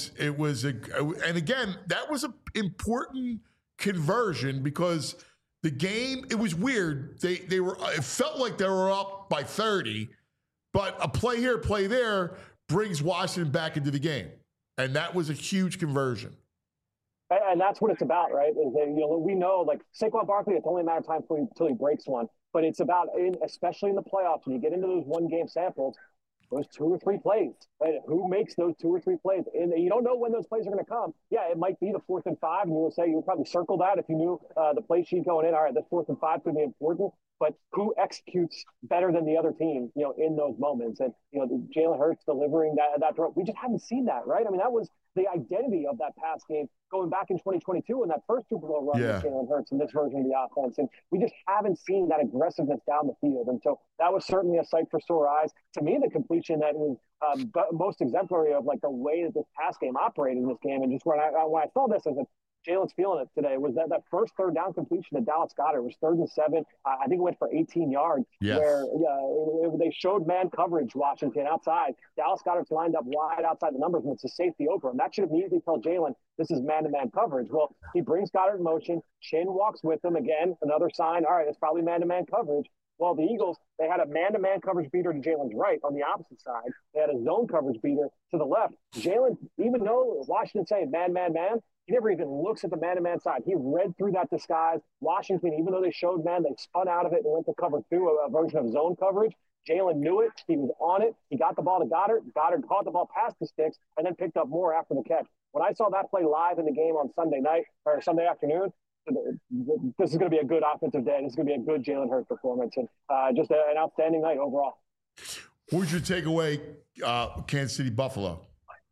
Speaker 2: again, that was an important conversion because the game, it was weird. It felt like they were up by 30, but a play here, play there brings Washington back into the game. And that was a huge conversion.
Speaker 8: And that's what it's about, right? Is that, we know, like Saquon Barkley, it's only a matter of time until he breaks one. But it's about, especially in the playoffs, when you get into those one-game samples, those 2 or 3 plays. Right? Who makes those 2 or 3 plays? And you don't know when those plays are going to come. Yeah, it might be the 4th and 5, and you would probably circle that if you knew the play sheet going in. All right, the 4th and 5 could be important. But who executes better than the other team, in those moments? And, Jalen Hurts delivering that throw. We just haven't seen that, right? I mean, that was the identity of that pass game going back in 2022 in that first Super Bowl run with Jalen Hurts and this version of the offense. And we just haven't seen that aggressiveness down the field. And so that was certainly a sight for sore eyes. To me, the completion that was most exemplary of like the way that this pass game operated in this game. And just when I saw this, I said, Jalen's feeling it today, was that first 3rd down completion to Dallas Goedert was 3rd and 7. I think it went for 18 yards.
Speaker 2: Yes.
Speaker 8: Where they showed man coverage, Washington outside. Dallas Goedert's lined up wide outside the numbers, and it's a safety over him. That should immediately tell Jalen this is man-to-man coverage. Well, he brings Goedert in motion. Chin walks with him again. Another sign. All right, it's probably man-to-man coverage. Well, the Eagles, they had a man-to-man coverage beater to Jalen's right on the opposite side. They had a zone coverage beater to the left. Jalen, even though Washington saying man, he never even looks at the man-to-man side. He read through that disguise. Washington, even though they showed man, they spun out of it and went to cover 2, a version of zone coverage. Jalen knew it. He was on it. He got the ball to Goedert. Goedert caught the ball past the sticks and then picked up more after the catch. When I saw that play live in the game on Sunday night or Sunday afternoon, this is going to be a good offensive day. This is going to be a good Jalen Hurts performance and just an outstanding night overall.
Speaker 2: What would you take away Kansas City Buffalo?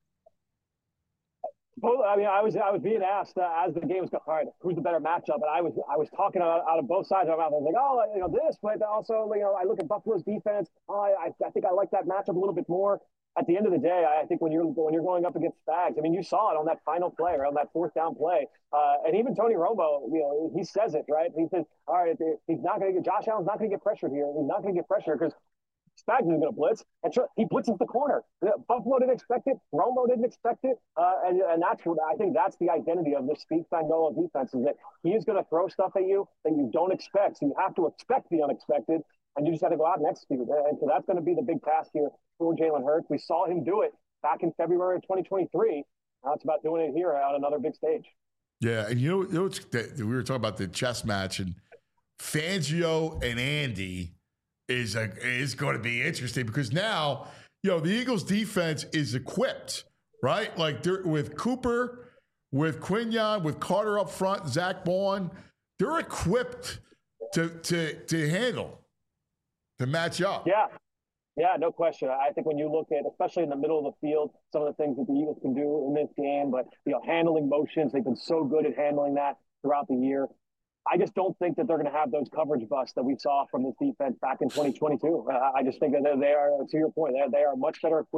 Speaker 8: Well, I mean, I was being asked as the game was going, all right, who's the better matchup? And I was talking out of both sides of my mouth. I was like, this, but also, I look at Buffalo's defense. I think I like that matchup a little bit more. At the end of the day, I think when you're going up against Spags, I mean, you saw it on that final play or on that 4th down play. And even Tony Romo, he says it, right? He says, all right, Josh Allen's not going to get pressured here. He's not going to get pressure because Spags is going to blitz, and he blitzes the corner. Buffalo didn't expect it. Romo didn't expect it, and that's what I think. That's the identity of this Steve Spagnuolo defense is that he is going to throw stuff at you that you don't expect. So you have to expect the unexpected, and you just have to go out and execute. And so that's going to be the big task here for Jalen Hurts. We saw him do it back in February of 2023. Now it's about doing it here on another big stage.
Speaker 2: Yeah, and we were talking about the chess match, and Fangio and Andy is going to be interesting because now, the Eagles defense is equipped, right? Like with Cooper, with Quinyon, with Carter up front, Zach Bond, they're equipped to handle, to match up.
Speaker 8: Yeah, no question. I think when you look at, especially in the middle of the field, some of the things that the Eagles can do in this game, but handling motions, they've been so good at handling that throughout the year. I just don't think that they're going to have those coverage busts that we saw from this defense back in 2022. I just think that they are, to your point, they are much better equipped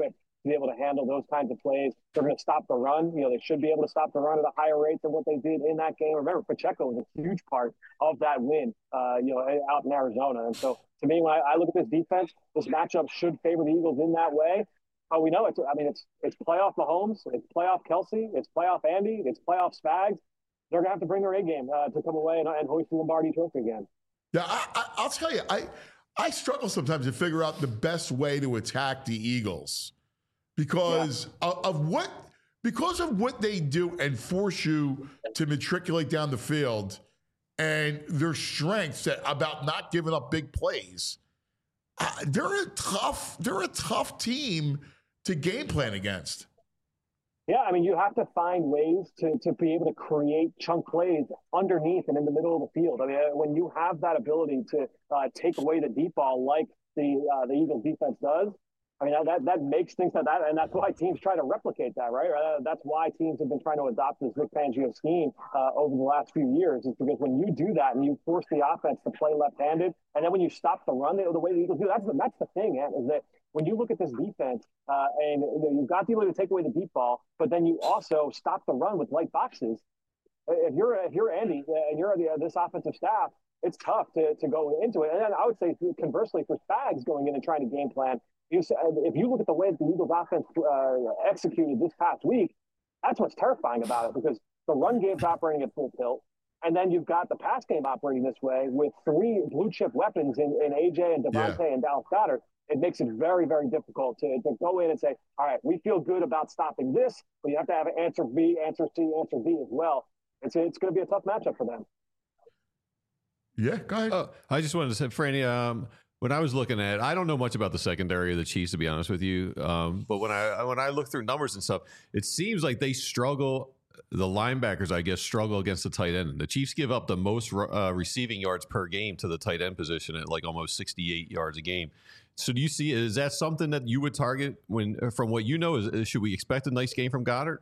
Speaker 8: to be able to handle those kinds of plays. They're going to stop the run. They should be able to stop the run at a higher rate than what they did in that game. Remember, Pacheco was a huge part of that win, out in Arizona. And so, to me, when I look at this defense, this matchup should favor the Eagles in that way. We know it's playoff Mahomes, it's playoff Kelsey, it's playoff Andy, it's playoff Spags. They're going to have to bring their A game to come away and hoist the Lombardi Trophy again.
Speaker 2: Yeah, I'll tell you, I struggle sometimes to figure out the best way to attack the Eagles because of what they do and force you to matriculate down the field and their strengths about not giving up big plays. They're a tough team to game plan against.
Speaker 8: Yeah, you have to find ways to be able to create chunk plays underneath and in the middle of the field. When you have that ability to take away the deep ball like the Eagles defense does, that makes things like that, and that's why teams try to replicate that, right? That's why teams have been trying to adopt this Vic Fangio scheme over the last few years, is because when you do that and you force the offense to play left-handed, and then when you stop the run the way the Eagles do, that's the thing, is that when you look at this defense and you've got the ability to take away the deep ball, but then you also stop the run with light boxes. If you're Andy and you're this offensive staff, it's tough to go into it. And then I would say conversely for Spags going in and trying to game plan, if you look at the way the Eagles offense executed this past week, that's what's terrifying about it, because the run game's operating at full tilt. And then you've got the pass game operating this way with three blue chip weapons in AJ and Devontae and Dallas Goedert. It makes it very, very difficult to go in and say, all right, we feel good about stopping this, but you have to have an answer B, answer C, answer D as well. It's going to be a tough matchup for them.
Speaker 2: Yeah, go ahead.
Speaker 3: I just wanted to say, Franny, when I was looking at, I don't know much about the secondary of the Chiefs, to be honest with you. But when I look through numbers and stuff, it seems like they struggle. The linebackers, I guess, struggle against the tight end. The Chiefs give up the most receiving yards per game to the tight end position at like almost 68 yards a game. So do you see, is that something that you would target from what you know, should we expect a nice game from Goddard?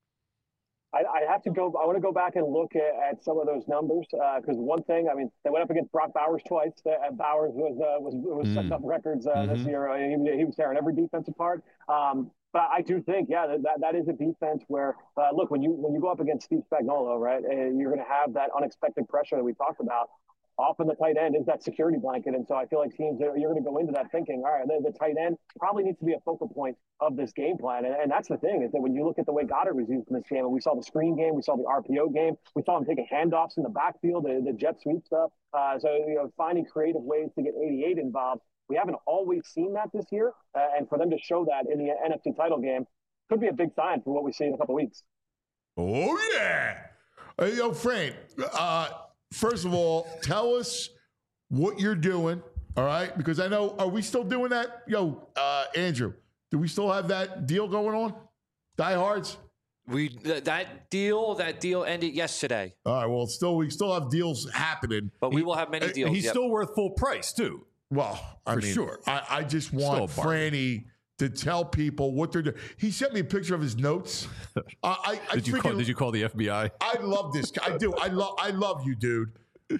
Speaker 8: I have to go. I want to go back and look at some of those numbers because one thing, they went up against Brock Bowers twice. Bowers was setting up records this year. He was tearing every defense apart. But I do think, that is a defense where, look, when you go up against Steve Spagnuolo, right, you're going to have that unexpected pressure that we talked about. Often the tight end is that security blanket. And so I feel like teams, you're going to go into that thinking, all right, the tight end probably needs to be a focal point of this game plan. And that's the thing, is that when you look at the way Goddard was used in this game, and we saw the screen game, we saw the RPO game, we saw him taking handoffs in the backfield, the jet sweep stuff. So, finding creative ways to get 88 involved. We haven't always seen that this year. And for them to show that in the NFC title game could be a big sign for what we see in a couple of weeks.
Speaker 2: Oh, yeah. Yo, Frank, first of all, tell us what you're doing, all right? Because I know, are we still doing that? Yo, Andrew, do we still have that deal going on? Diehards?
Speaker 6: That deal ended yesterday.
Speaker 2: All right, well, we still have deals happening.
Speaker 6: But we will have many deals.
Speaker 3: He's still worth full price, too.
Speaker 2: Well, I mean, sure. I just want Franny to tell people what they're doing. He sent me a picture of his notes.
Speaker 3: Did you call the FBI?
Speaker 2: I love this. I do. I love you, dude.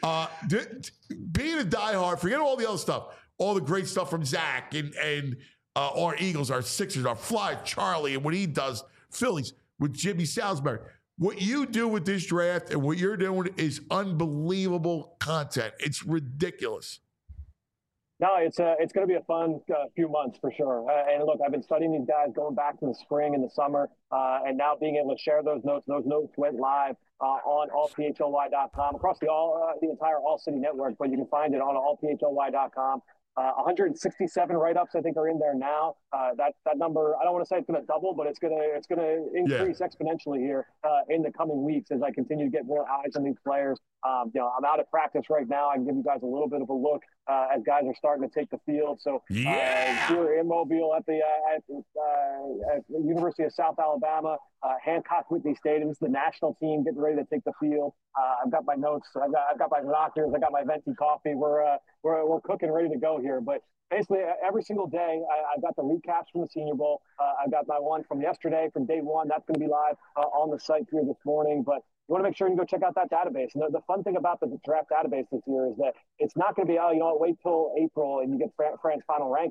Speaker 2: Being a diehard, forget all the other stuff, all the great stuff from Zach and our Eagles, our Sixers, our Fly, Charlie, and what he does, Phillies, with Jimmy Salisbury. What you do with this draft and what you're doing is unbelievable content. It's ridiculous.
Speaker 8: No, it's going to be a fun few months for sure. And look, I've been studying these guys going back to the spring and the summer, and now being able to share those notes. Those notes went live on allphly.com across the entire All City network, but you can find it on allphly.com. 167 write-ups, I think, are in there now. That number, I don't want to say it's going to double, but it's going to increase exponentially here in the coming weeks as I continue to get more eyes on these players. I'm out of practice right now. I can give you guys a little bit of a look as guys are starting to take the field. So here in Mobile at the University of South Alabama, Hancock Whitney Stadium, this is the national team getting ready to take the field. I've got my notes. I've got my doctors. I got my venti coffee. We're cooking, ready to go here. But basically, every single day, I've got the recaps from the Senior Bowl. I've got my one from yesterday, from day one. That's going to be live on the site here this morning. But you want to make sure you go check out that database. And the fun thing about the draft database this year is that it's not going to be, wait till April and you get Fran's final rankings.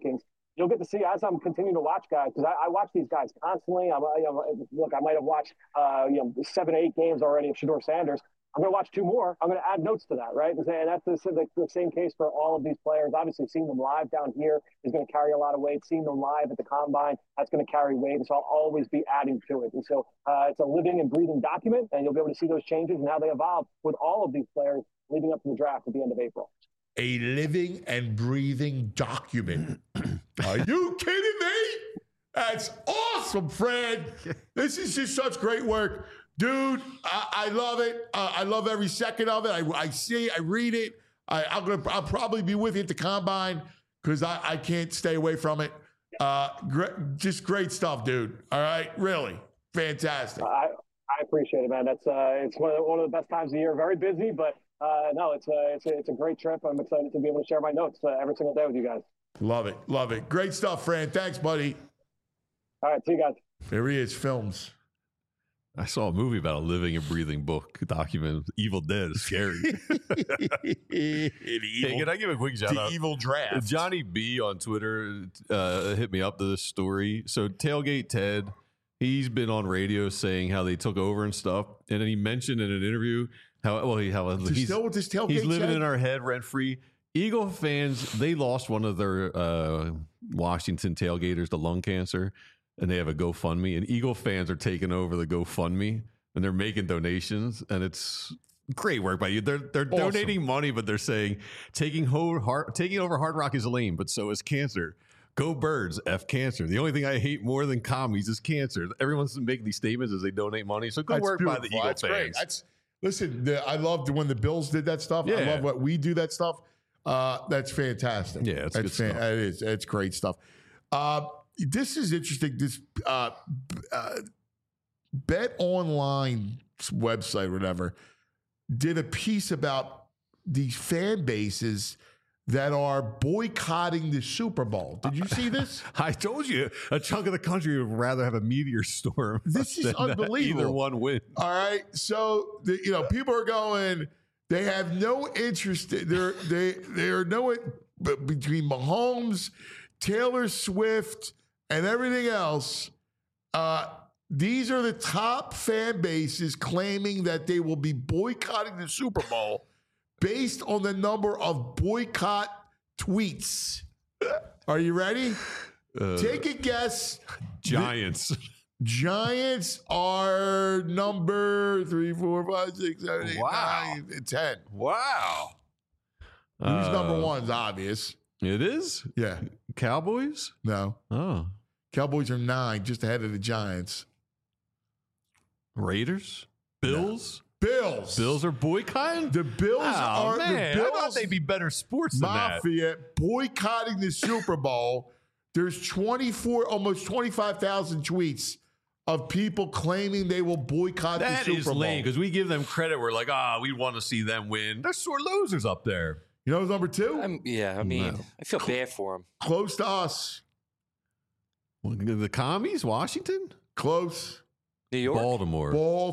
Speaker 8: you'll get to see as I'm continuing to watch guys, because I watch these guys constantly. Look, I might have watched 7 or 8 games already of Shedeur Sanders. I'm going to watch 2 more. I'm going to add notes to that, right? And that's the same case for all of these players. Obviously, seeing them live down here is going to carry a lot of weight. Seeing them live at the combine, that's going to carry weight. And so I'll always be adding to it. And so it's a living and breathing document, and you'll be able to see those changes and how they evolve with all of these players leading up to the draft at the end of April.
Speaker 2: A living and breathing document. Are you kidding me? That's awesome, Fred. This is just such great work. Dude, I love it. I love every second of it. I see it. I read it. I'll probably be with you at the combine because I can't stay away from it. Just great stuff, dude. All right? Really. Fantastic.
Speaker 8: I appreciate it, man. That's it's one of the best times of the year. Very busy, but no, it's a great trip. I'm excited to be able to share my notes every single day with you guys.
Speaker 2: Love it. Love it. Great stuff, Fran. Thanks, buddy.
Speaker 8: All right. See you guys.
Speaker 2: There he is, films.
Speaker 3: I saw a movie about a living and breathing book document. Evil Dead is scary. Hey, can I give a quick shout out?
Speaker 2: Evil Draft.
Speaker 3: Johnny B on Twitter hit me up to this story. So Tailgate Ted, he's been on radio saying how they took over and stuff, and then he mentioned in an interview he's
Speaker 2: still with this Tailgate.
Speaker 3: He's living
Speaker 2: Ted?
Speaker 3: in our head rent free. Eagle fans, they lost one of their Washington tailgaters to lung cancer. And they have a GoFundMe, and Eagle fans are taking over the GoFundMe, and they're making donations, and it's great work by you. They're awesome. Donating money, but they're saying taking over Hard Rock is lame, but so is cancer. Go Birds, F cancer. The only thing I hate more than commies is cancer. Everyone's making these statements as they donate money. So good work by the Eagle fans.
Speaker 2: Great. Listen, I loved when the Bills did that stuff.
Speaker 3: Yeah.
Speaker 2: I love what we do that stuff. That's fantastic.
Speaker 3: Yeah, it's good stuff.
Speaker 2: It is. It's great stuff. This is interesting. This Bet Online website, or whatever, did a piece about these fan bases that are boycotting the Super Bowl. Did you see this?
Speaker 3: I told you, a chunk of the country would rather have a meteor storm.
Speaker 2: This is unbelievable.
Speaker 3: Either one win.
Speaker 2: All right. So, people are going, they have no interest. They are no between Mahomes, Taylor Swift, and everything else. These are the top fan bases claiming that they will be boycotting the Super Bowl based on the number of boycott tweets. Are you ready? Take a guess.
Speaker 3: Giants.
Speaker 2: Giants are number 3, 4, 5, 6, 7, 8,
Speaker 3: Wow.
Speaker 2: 9, 10.
Speaker 3: Wow.
Speaker 2: Who's number one is obvious.
Speaker 3: It is?
Speaker 2: Yeah.
Speaker 3: Cowboys?
Speaker 2: No.
Speaker 3: Oh.
Speaker 2: Cowboys are 9, just ahead of the Giants.
Speaker 3: Raiders? Bills?
Speaker 2: Bills.
Speaker 3: Bills are boycotting?
Speaker 2: The Bills are
Speaker 3: man.
Speaker 2: the
Speaker 3: I thought
Speaker 2: Bills
Speaker 3: they'd be better sports than that.
Speaker 2: Mafia boycotting the Super Bowl. There's almost 25,000 tweets of people claiming they will boycott the Super Bowl.
Speaker 3: That is lame because we give them credit. We're like, we want to see them win. They're sore losers up there.
Speaker 2: You know who's number 2?
Speaker 6: I feel bad for them.
Speaker 2: Close to us.
Speaker 3: The commies? Washington?
Speaker 2: Close.
Speaker 6: New York?
Speaker 3: Baltimore.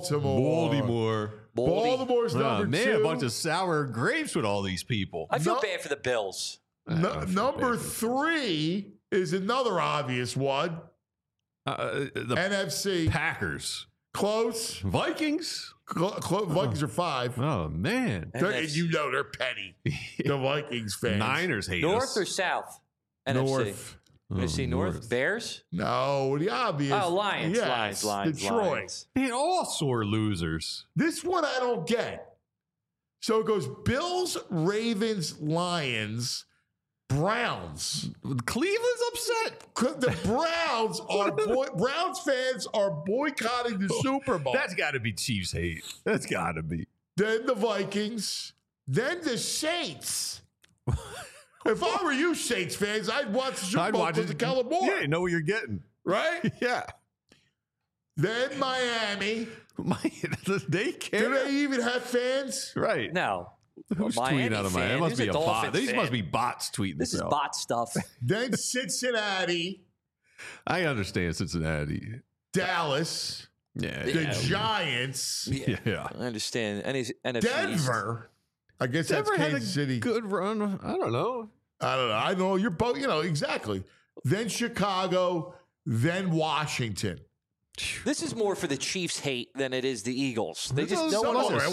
Speaker 2: Baltimore's number 2.
Speaker 3: A bunch of sour grapes with all these people.
Speaker 6: I feel bad for the Bills.
Speaker 2: Number 3 is another obvious one.
Speaker 3: The
Speaker 2: NFC.
Speaker 3: Packers.
Speaker 2: Close.
Speaker 3: Vikings.
Speaker 2: Vikings are 5.
Speaker 3: Oh, man.
Speaker 2: They're petty. The Vikings fans.
Speaker 3: Niners hate
Speaker 6: North
Speaker 3: us.
Speaker 6: or South?
Speaker 2: North.
Speaker 6: NFC North. Bears?
Speaker 2: No, the obvious.
Speaker 6: Oh, Lions.
Speaker 2: Yes,
Speaker 6: Lions.
Speaker 2: Detroit.
Speaker 6: Lions.
Speaker 3: Man, all sore losers.
Speaker 2: This one I don't get. So it goes Bills, Ravens, Lions, Browns.
Speaker 3: Cleveland's upset.
Speaker 2: The Browns Browns fans are boycotting the Super Bowl.
Speaker 3: That's got to be Chiefs hate. That's got to be.
Speaker 2: Then the Vikings. Then the Saints. If I were you, Saints fans, I'd watch the Super Bowl because of Kellen Moore.
Speaker 3: Yeah, you know what you're getting.
Speaker 2: Right?
Speaker 3: Yeah.
Speaker 2: Then Miami.
Speaker 3: They care.
Speaker 2: Do they even have fans?
Speaker 3: Right.
Speaker 6: No.
Speaker 3: Who's tweeting out of Miami? It must be a bot. These must be bots tweeting
Speaker 6: this. This is
Speaker 3: out.
Speaker 6: bot stuff.
Speaker 2: Then Cincinnati.
Speaker 3: I understand Cincinnati.
Speaker 2: Dallas.
Speaker 3: Yeah.
Speaker 2: The Giants.
Speaker 3: Yeah.
Speaker 6: I understand. NFC
Speaker 2: Denver. I guess
Speaker 3: Denver
Speaker 2: that's
Speaker 3: had
Speaker 2: Kansas
Speaker 3: a
Speaker 2: City.
Speaker 3: good run. I don't know.
Speaker 2: I know. You're both. Exactly. then Chicago, then Washington.
Speaker 6: This is more for the Chiefs hate than it is the Eagles. They just
Speaker 3: no one wants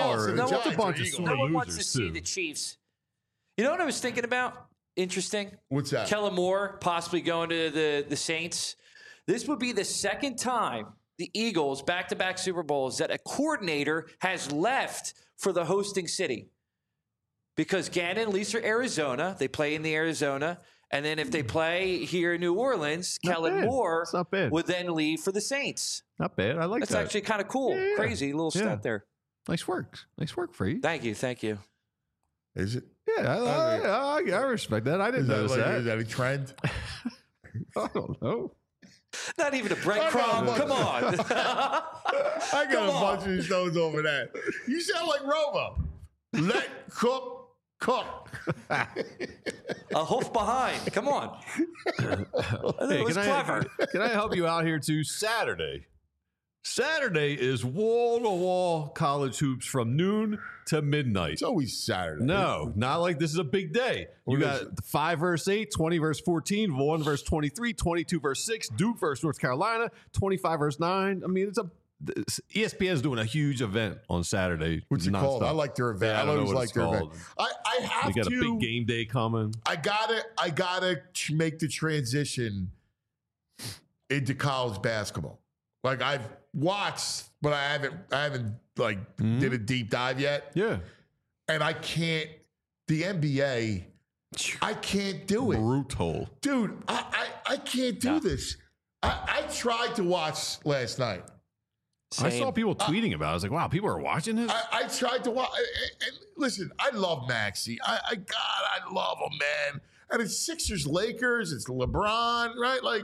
Speaker 6: to see the Chiefs. You know what I was thinking about? Interesting.
Speaker 2: What's that?
Speaker 6: Kellen Moore possibly going to the Saints. This would be the second time the Eagles, back-to-back Super Bowls, that a coordinator has left for the hosting city. Because Gannon leaves for Arizona. They play in the Arizona. And then if they play here in New Orleans, Kellen Moore would then leave for the Saints.
Speaker 3: Not bad. I like that.
Speaker 6: That's actually kind of cool. Yeah. Crazy little stat there.
Speaker 3: Nice work. Nice work for you.
Speaker 6: Thank you. Thank you.
Speaker 2: Is it?
Speaker 3: Yeah, I respect that. I didn't notice that.
Speaker 2: Is that a trend?
Speaker 3: I don't know.
Speaker 6: Not even a breadcrumb. Come on.
Speaker 2: I got a bunch of stones over that. You sound like Romo. Let cook.
Speaker 6: A hoof behind. Come on. It was clever.
Speaker 3: Can I help you out here too? Saturday is wall-to-wall college hoops from noon to midnight.
Speaker 2: It's always Saturday.
Speaker 3: No, not like this is a big day. You got 5 versus 8, 20 versus 14, 1 versus 23, 22 versus 6, Duke versus North Carolina, 25 versus 9. I mean, ESPN is doing a huge event on Saturday.
Speaker 2: What's it called? I like their event.
Speaker 3: Yeah,
Speaker 2: I always like their event. I have
Speaker 3: to. They got a big game day coming.
Speaker 2: I gotta make the transition into college basketball. Like I've watched, but I haven't did a deep dive yet.
Speaker 3: Yeah,
Speaker 2: and I can't. The NBA, I can't do it.
Speaker 3: Brutal,
Speaker 2: dude. I can't do this. I tried to watch last night.
Speaker 3: Same. I saw people tweeting about it. I was like, wow, people are watching this?
Speaker 2: I tried to watch. And listen, I love Maxey. I love him, man. And it's Sixers, Lakers. It's LeBron, right? Like,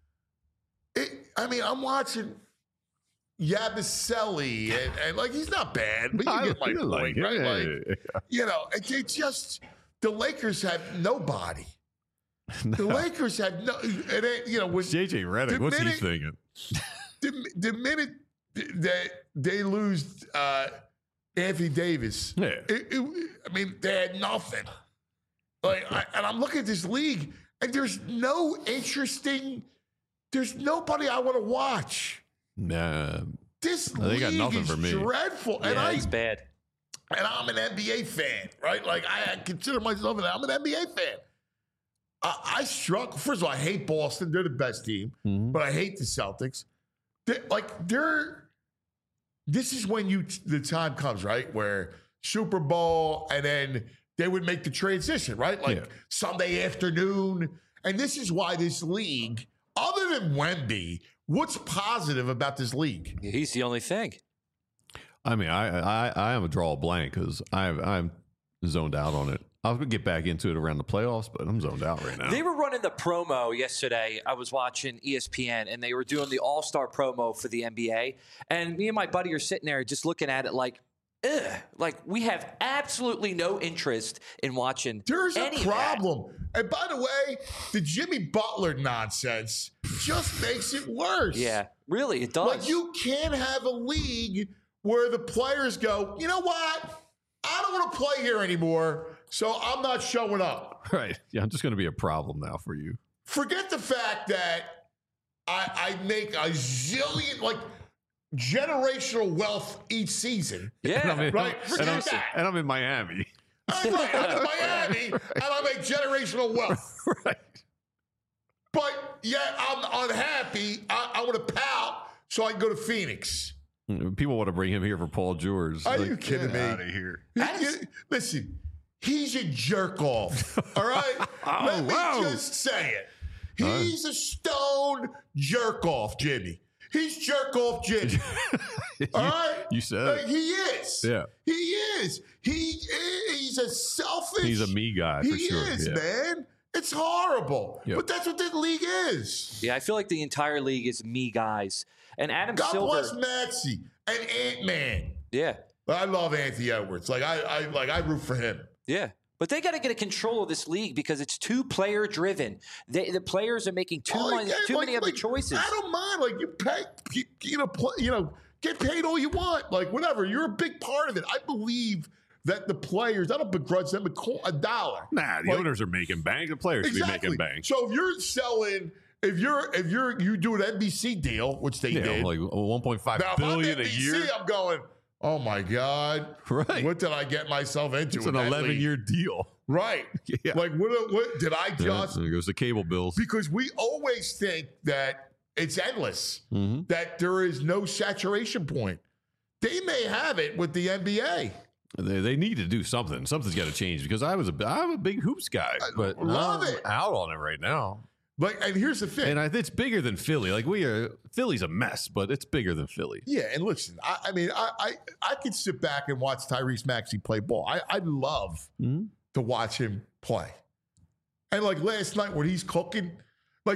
Speaker 2: I'm watching Yabusele. And like, he's not bad, but you get my point, right? Like, it's just, the Lakers have nobody. No. The Lakers have no, with
Speaker 3: JJ Redick, what's he thinking?
Speaker 2: The minute that they lose Anthony Davis, they had nothing. Like, and I'm looking at this league, and there's nobody I want to watch.
Speaker 3: Nah,
Speaker 2: this league is dreadful,
Speaker 6: yeah, it's bad.
Speaker 2: And I'm an NBA fan, right? Like I consider myself I'm an NBA fan. I struggle. First of all, I hate Boston; they're the best team, but I hate the Celtics. This is when the time comes, right, where Super Bowl, and then they would make the transition, right? Like Sunday afternoon. And this is why this league, other than Wemby, what's positive about this league?
Speaker 6: He's the only thing.
Speaker 3: I mean, I am a draw blank because I'm zoned out on it. I'll get back into it around the playoffs, but I'm zoned out right now.
Speaker 6: They were running the promo yesterday. I was watching ESPN, and they were doing the All-Star promo for the NBA. And me and my buddy are sitting there just looking at it like, ugh. Like, we have absolutely no interest in watching
Speaker 2: There's a problem. And by the way, the Jimmy Butler nonsense just makes it worse.
Speaker 6: Yeah, really, it does.
Speaker 2: Like, you can't have a league where the players go, you know what? I don't want to play here anymore, so I'm not showing up.
Speaker 3: Right. Yeah, I'm just going to be a problem now for you.
Speaker 2: Forget the fact that I make a zillion, like, generational wealth each season.
Speaker 6: Yeah.
Speaker 2: Right? Forget that.
Speaker 3: And I'm in Miami.
Speaker 2: I'm in Miami, and I make generational wealth.
Speaker 3: Right.
Speaker 2: But, yet, I'm unhappy. I want to pout so I can go to Phoenix.
Speaker 3: People want to bring him here for Paul George.
Speaker 2: Are you kidding me?
Speaker 3: Out of here.
Speaker 2: Listen, he's a jerk off. All right? Let me just say it. He's a stone jerk off, Jimmy. He's jerk off Jimmy. All right?
Speaker 3: You said it.
Speaker 2: He is.
Speaker 3: Yeah.
Speaker 2: He is. He's a selfish.
Speaker 3: He's a me guy for sure.
Speaker 2: He is, man. It's horrible. Yep. But that's what this league is.
Speaker 6: Yeah, I feel like the entire league is me guys. And Adam
Speaker 2: God
Speaker 6: Silver.
Speaker 2: bless Maxey and Ant-Man.
Speaker 6: Yeah.
Speaker 2: I love Anthony Edwards. I root for him.
Speaker 6: Yeah. But they got to get a control of this league because it's too player driven. The players are making too many other choices.
Speaker 2: I don't mind. Like, you pay, get paid all you want. Like, whatever. You're a big part of it. I believe that the players, I don't begrudge them a dollar.
Speaker 3: Nah, the owners are making bank. The players should be making bank.
Speaker 2: So if you're selling, if you do an NBC deal, which they did,
Speaker 3: like 1.5 billion a year.
Speaker 2: I'm going, oh my God,
Speaker 3: right?
Speaker 2: What did I get myself into?
Speaker 3: It's an 11-year deal,
Speaker 2: right? Yeah. Like what did I just?
Speaker 3: There goes the cable bills.
Speaker 2: Because we always think that it's endless, that there is no saturation point. They may have it with the NBA.
Speaker 3: They need to do something. Something's got to change because I'm a big hoops guy, but I'm out on it right now.
Speaker 2: Like, and here's the thing,
Speaker 3: and it's bigger than Philly. Like Philly's a mess, but it's bigger than Philly.
Speaker 2: Yeah, and listen, I mean, I could sit back and watch Tyrese Maxey play ball. I love to watch him play. And like last night when he's cooking, like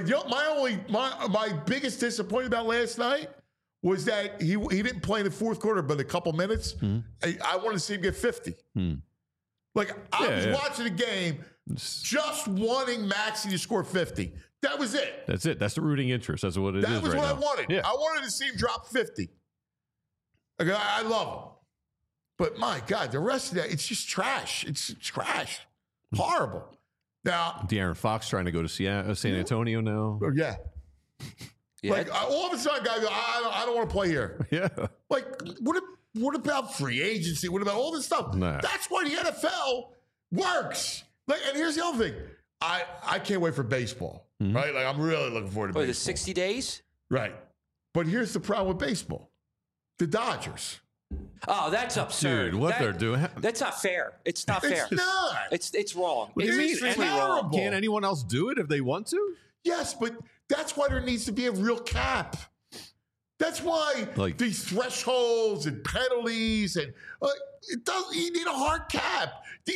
Speaker 2: my biggest disappointment about last night was that he didn't play in the fourth quarter, but a couple minutes. I wanted to see him get 50. Like I was watching the game, just wanting Maxey to score 50. That was it.
Speaker 3: That's it. That's the rooting interest. That's what it is right now.
Speaker 2: That was what I wanted.
Speaker 3: Yeah.
Speaker 2: I wanted to see him drop 50. Like, I love him. But my God, the rest of that, it's just trash. It's trash. Horrible. Now,
Speaker 3: De'Aaron Fox trying to go to San Antonio now.
Speaker 2: Yeah. Like all of a sudden, guys go, I don't want to play here.
Speaker 3: Yeah.
Speaker 2: Like, what about free agency? What about all this stuff?
Speaker 3: Nah.
Speaker 2: That's why the NFL works. Like, and here's the other thing. I can't wait for baseball. Right? Like, I'm really looking forward to baseball.
Speaker 6: The 60 days?
Speaker 2: Right. But here's the problem with baseball. The Dodgers.
Speaker 6: Oh, that's absurd.
Speaker 3: Dude, they're doing.
Speaker 6: That's not fair. It's not fair.
Speaker 2: It's not.
Speaker 6: It's wrong.
Speaker 3: What do you mean?
Speaker 6: It's wrong.
Speaker 3: Can't anyone else do it if they want to?
Speaker 2: Yes, but that's why there needs to be a real cap. That's why these thresholds and penalties and you need a hard cap. The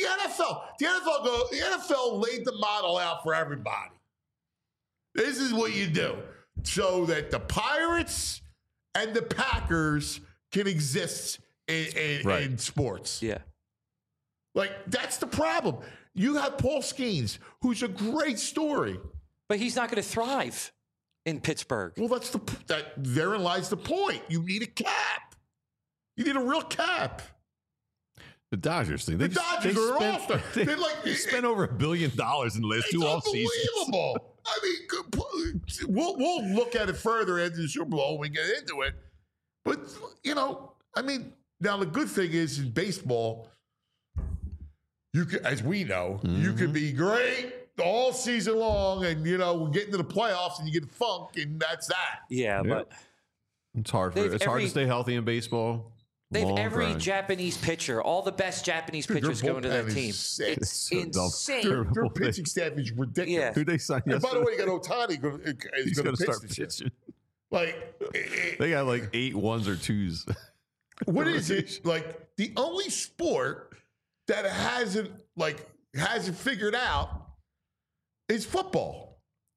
Speaker 2: NFL laid the model out for everybody. This is what you do so that the Pirates and the Packers can exist in sports.
Speaker 6: Yeah.
Speaker 2: Like, that's the problem. You have Paul Skeens, who's a great story.
Speaker 6: But he's not going to thrive in Pittsburgh.
Speaker 2: Well, therein lies the point. You need a cap. You need a real cap.
Speaker 3: The Dodgers thing.
Speaker 2: The Dodgers are an all-star.
Speaker 3: They spent over $1 billion in the last two off seasons.
Speaker 2: It's unbelievable. I mean, we'll look at it further after the Super Bowl when we get into it. But, I mean, now the good thing is in baseball, you can, as we know, you can be great all season long and, get into the playoffs and you get the funk and that's that.
Speaker 6: Yeah, but
Speaker 3: it's hard to stay healthy in baseball.
Speaker 6: They have every Japanese pitcher, all the best Japanese pitchers going to that team.
Speaker 2: It's
Speaker 6: insane.
Speaker 2: Their pitching staff is ridiculous.
Speaker 6: Yeah.
Speaker 3: Who they signed
Speaker 2: yesterday? By the way, you got Ohtani.
Speaker 3: He's going to start pitching. They got like 8 1s or 2s.
Speaker 2: What is it? Like the only sport that hasn't figured out is football.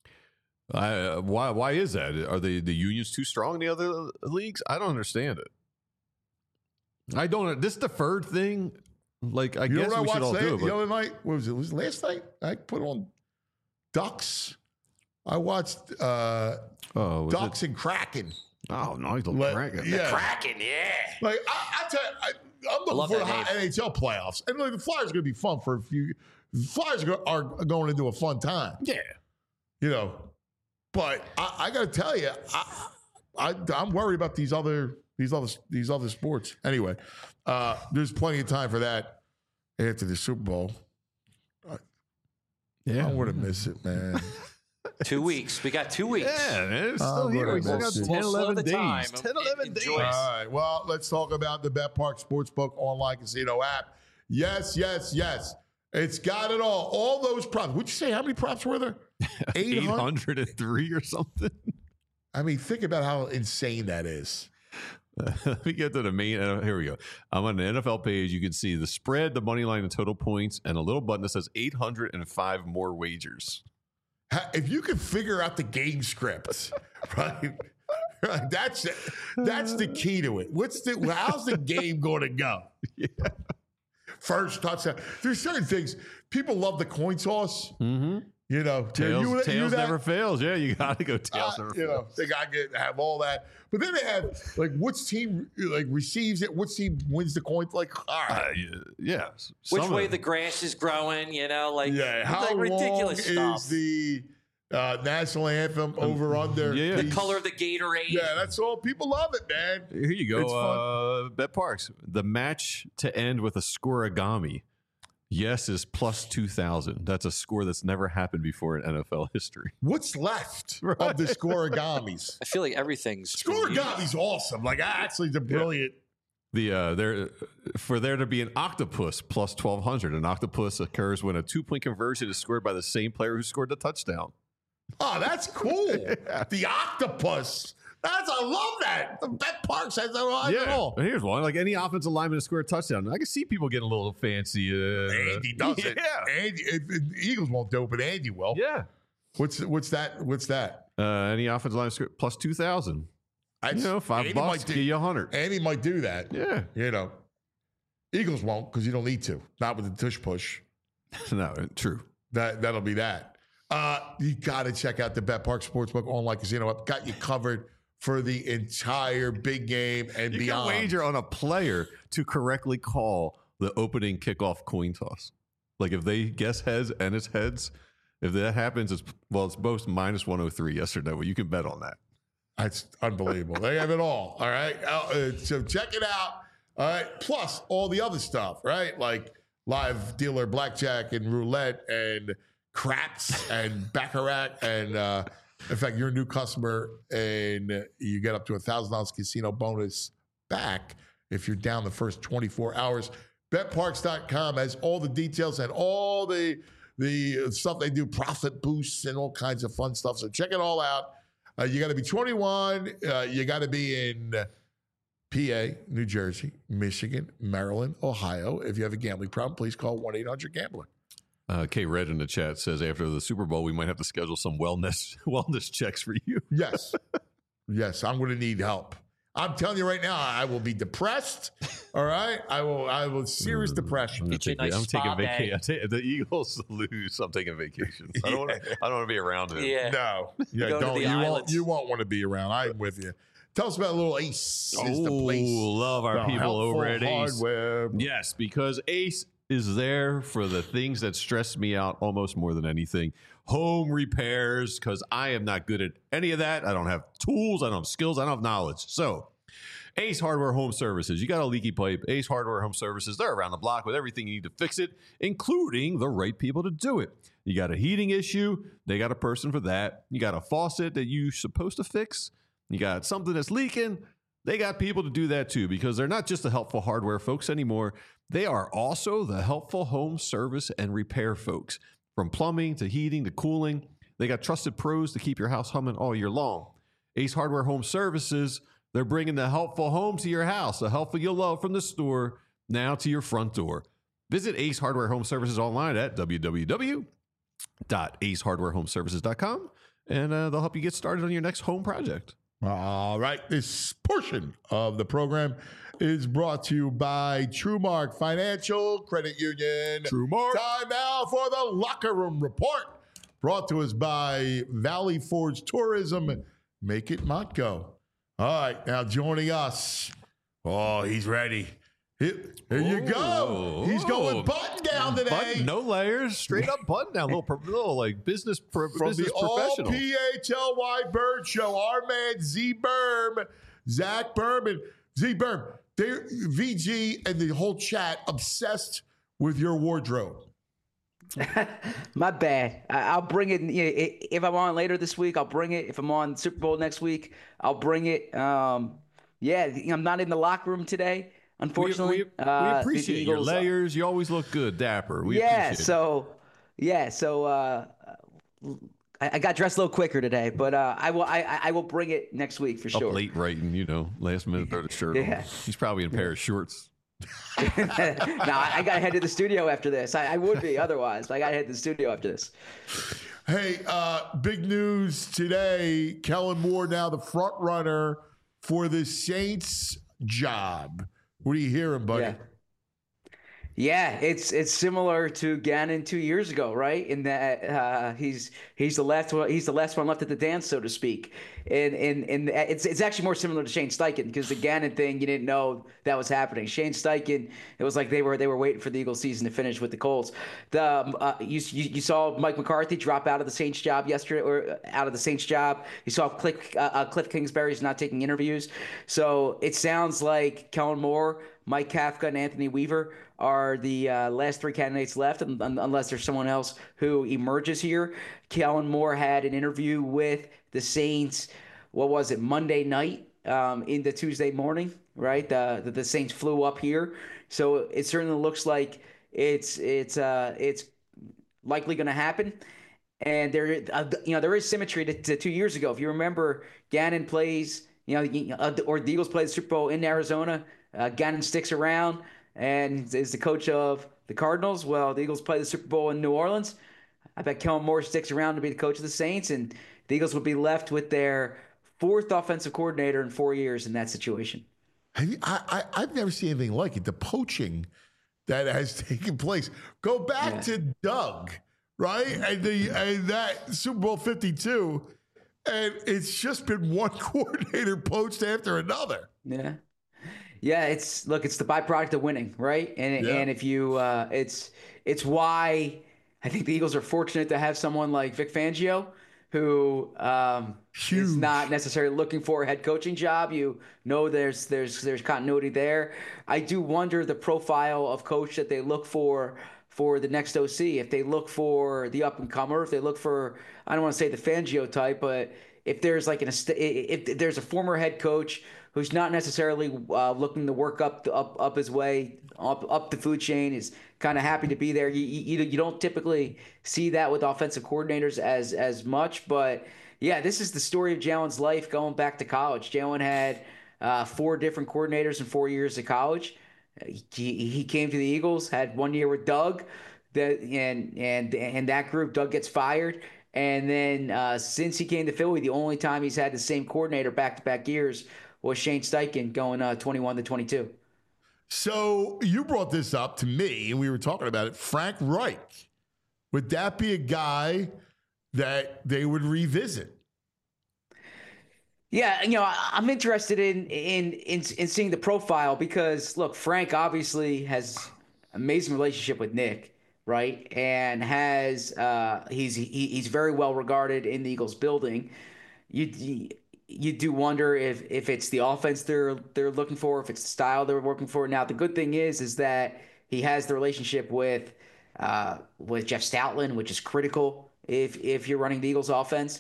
Speaker 3: Why is that? Are the unions too strong in the other leagues? I don't understand it. I don't. This deferred thing, like I guess we should all do it.
Speaker 2: The other night, what was it? Was it last night? I put on Ducks. I watched Ducks and Kraken.
Speaker 3: Oh, nice little Kraken.
Speaker 2: Yeah.
Speaker 6: Kraken, yeah.
Speaker 2: Like I tell you, I'm looking for the NHL playoffs, and the Flyers are going to be fun for a few. The Flyers are going into a fun time.
Speaker 3: Yeah,
Speaker 2: But I got to tell you, I'm worried about these other sports. Anyway, there's plenty of time for that after the Super Bowl. I want to miss it, man.
Speaker 6: 2 weeks. We got 2 weeks.
Speaker 3: Yeah, man. It's still here. We still got 10, 11 days. 10, 11 days.
Speaker 2: All right. Well, let's talk about the BetPark Sportsbook online casino app. Yes. It's got it all. All those props. Would you say how many props were there?
Speaker 3: 803 or something.
Speaker 2: I mean, think about how insane that is.
Speaker 3: Let me get to the main. Here we go. I'm on the NFL page. You can see the spread, the money line, and total points, and a little button that says 805 more wagers.
Speaker 2: If you can figure out the game script, right? That's the key to it. How's the game going to go?
Speaker 3: Yeah.
Speaker 2: First touchdown. There's certain things. People love the coin toss. You know,
Speaker 3: tails never fails. Yeah, you got to go tails never fails.
Speaker 2: You know, they got to have all that. But then they have like which team like receives it, which team wins the coin. Like, all right,
Speaker 3: yeah.
Speaker 6: Which way the grass is growing, you know, like
Speaker 2: how
Speaker 6: like ridiculous
Speaker 2: long
Speaker 6: stuff.
Speaker 2: is the national anthem over under?
Speaker 3: Yeah.
Speaker 6: The color of the Gatorade.
Speaker 2: Yeah, that's all. People love it, man.
Speaker 3: Here you go.
Speaker 2: It's fun.
Speaker 3: Bet Parks. The match to end with a scoreagami. Yes is plus 2,000. That's a score that's never happened before in NFL history.
Speaker 2: What's left of the scoreagamis?
Speaker 6: I feel like everything's
Speaker 2: Scoregami's awesome. Like, actually, the brilliant.
Speaker 3: For there to be an octopus plus 1,200. An octopus occurs when a 2-point conversion is scored by the same player who scored the touchdown.
Speaker 2: Oh, that's cool. The octopus. I love that. The Bet Parks has that at all.
Speaker 3: And here's one. Like any offensive lineman to score a touchdown. I can see people getting a little fancy.
Speaker 2: Andy does it.
Speaker 3: Yeah.
Speaker 2: Andy, the Eagles won't do it, but Andy will.
Speaker 3: Yeah.
Speaker 2: What's that?
Speaker 3: Any offensive line score plus 2,000. $5 give you 100.
Speaker 2: Andy might do that.
Speaker 3: Yeah.
Speaker 2: You know. Eagles won't because you don't need to. Not with the tush push.
Speaker 3: No, true.
Speaker 2: That'll be that. You got to check out the Bet Park Sportsbook online casino app. Got you covered for the entire big game and
Speaker 3: you
Speaker 2: beyond.
Speaker 3: You can wager on a player to correctly call the opening kickoff coin toss. Like if they guess heads and it's heads, if that happens, it's both minus 103 yes or no. You can bet on that.
Speaker 2: That's unbelievable. They have it all. All right. So check it out. All right. Plus all the other stuff, right? Like live dealer blackjack and roulette and craps and baccarat and in fact, you're a new customer and you get up to $1,000 casino bonus back if you're down the first 24 hours. BetParks.com has all the details and all the stuff they do, profit boosts and all kinds of fun stuff. So check it all out. You got to be 21. You got to be in PA, New Jersey, Michigan, Maryland, Ohio. If you have a gambling problem, please call 1-800-GAMBLER.
Speaker 3: K Red in the chat says after the Super Bowl, we might have to schedule some wellness checks for you.
Speaker 2: Yes. Yes, I'm going to need help. I'm telling you right now, I will be depressed. All right? I will serious depression.
Speaker 6: I'm taking vacation.
Speaker 3: The Eagles lose. I'm taking vacation. I don't want to be around him.
Speaker 6: Yeah.
Speaker 2: No. Yeah, you won't want to be around. I'm with you. Tell us about a little Ace. Is the place.
Speaker 3: Love our people over at Ace.
Speaker 2: Hardware.
Speaker 3: Yes, because Ace is there for the things that stress me out almost more than anything. Home repairs, because I am not good at any of that. I don't have tools. I don't have skills. I don't have knowledge. So Ace Hardware Home Services. You got a leaky pipe. Ace Hardware Home Services. They're around the block with everything you need to fix it, including the right people to do it. You got a heating issue. They got a person for that. You got a faucet that you're supposed to fix. You got something that's leaking. They got people to do that too, because they're not just the helpful hardware folks anymore. They are also the helpful home service and repair folks. From plumbing to heating to cooling, they got trusted pros to keep your house humming all year long. Ace Hardware Home Services, they're bringing the helpful home to your house, the helpful you'll love from the store, now to your front door. Visit Ace Hardware Home Services online at www.acehardwarehomeservices.com, and they'll help you get started on your next home project.
Speaker 2: All right. This portion of the program is brought to you by TrueMark Financial Credit Union.
Speaker 3: TrueMark.
Speaker 2: Time now for the Locker Room Report. Brought to us by Valley Forge Tourism. Make it Montgo. All right. Now joining us. Oh, he's ready. Here you go. He's going button down today.
Speaker 3: No layers, straight up button down. Little like business business professional.
Speaker 2: From the All-PHLY Bird Show, our man Z Berm, Zach Berman. Z Berm, VG and the whole chat obsessed with your wardrobe.
Speaker 9: My bad. I'll bring it. If I'm on later this week, I'll bring it. If I'm on Super Bowl next week, I'll bring it. I'm not in the locker room today. Unfortunately,
Speaker 3: we appreciate your layers. You always look good, dapper. Appreciate it.
Speaker 9: So I got dressed a little quicker today, but I will bring it next week for sure.
Speaker 3: Up late writing, last minute throw the shirt on. He's probably in a pair of shorts.
Speaker 9: No, I got to head to the studio after this. I would be otherwise, but I got to head to the studio after this.
Speaker 2: Hey, big news today. Kellen Moore now the front runner for the Saints job. What are you hearing, buddy?
Speaker 9: Yeah, it's similar to Gannon 2 years ago, right? In that he's the last one left at the dance, so to speak. And it's actually more similar to Shane Steichen, because the Gannon thing, you didn't know that was happening. Shane Steichen, it was like they were waiting for the Eagles season to finish with the Colts. You saw Mike McCarthy drop out of the Saints job yesterday, or out of the Saints job. You saw Cliff Kingsbury's not taking interviews. So it sounds like Kellen Moore, Mike Kafka, and Anthony Weaver are the last three candidates left, unless there's someone else who emerges here. Kellen Moore had an interview with the Saints, what was it, Monday night into Tuesday morning, right? The Saints flew up here. So it certainly looks like it's likely going to happen. And there is symmetry to 2 years ago. If you remember, Gannon plays, or the Eagles played the Super Bowl in Arizona. Gannon sticks around and is the coach of the Cardinals. Well, the Eagles play the Super Bowl in New Orleans. I bet Kellen Moore sticks around to be the coach of the Saints, and the Eagles would be left with their fourth offensive coordinator in 4 years in that situation.
Speaker 2: I've never seen anything like it. The poaching that has taken place. Go back to Doug, right? And that Super Bowl 52, and it's just been one coordinator poached after another.
Speaker 9: Yeah. Yeah, it's the byproduct of winning, right? And if you, it's why I think the Eagles are fortunate to have someone like Vic Fangio, who is not necessarily looking for a head coaching job. You know, there's continuity there. I do wonder the profile of coach that they look for the next OC. If they look for the up and comer, if they look for, I don't want to say the Fangio type, but if there's like if there's a former head coach who's not necessarily looking to work up his way up the food chain, is kind of happy to be there. You don't typically see that with offensive coordinators as much, but yeah, this is the story of Jalen's life going back to college. Jalen had 4 different coordinators in 4 years of college. He came to the Eagles, had 1 year with Doug, and that group, Doug gets fired. And then since he came to Philly, the only time he's had the same coordinator back-to-back years was Shane Steichen, going 21-22.
Speaker 2: So you brought this up to me, and we were talking about it. Frank Reich, would that be a guy that they would revisit?
Speaker 9: Yeah, I'm interested in seeing the profile, because look, Frank obviously has an amazing relationship with Nick, right? And has he's very well regarded in the Eagles building. You do wonder if it's the offense they're looking for, if it's the style they're working for. Now, the good thing is that he has the relationship with Jeff Stoutland, which is critical if you're running the Eagles offense.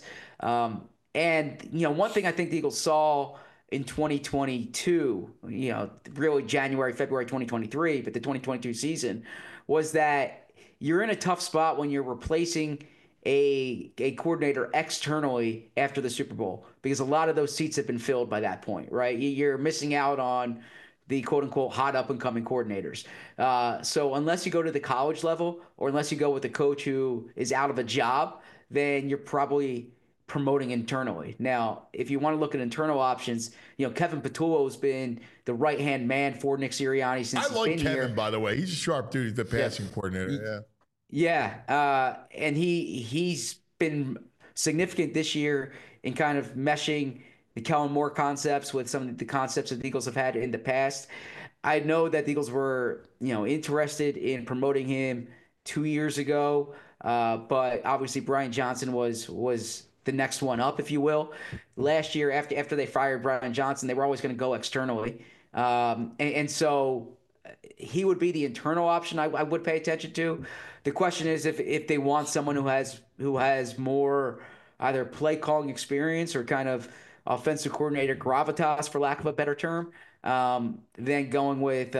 Speaker 9: And one thing I think the Eagles saw in 2022, really January, February 2023, but the 2022 season, was that you're in a tough spot when you're replacing a coordinator externally after the Super Bowl, because a lot of those seats have been filled by that point, right? You're missing out on the quote-unquote hot up-and-coming coordinators. So unless you go to the college level, or unless you go with a coach who is out of a job, then you're probably promoting internally. Now, if you want to look at internal options, Kevin Patullo has been the right-hand man for Nick Sirianni since he's been here. I like
Speaker 2: Kevin, by the way. He's a sharp dude, the passing coordinator,
Speaker 9: Yeah, and he's been significant this year in kind of meshing the Kellen Moore concepts with some of the concepts that the Eagles have had in the past. I know that the Eagles were, interested in promoting him 2 years ago, but obviously Brian Johnson was the next one up, if you will. Last year, after they fired Brian Johnson, they were always going to go externally, and so he would be the internal option I would pay attention to. The question is if they want someone who has more either play calling experience or kind of offensive coordinator gravitas, for lack of a better term, then going with.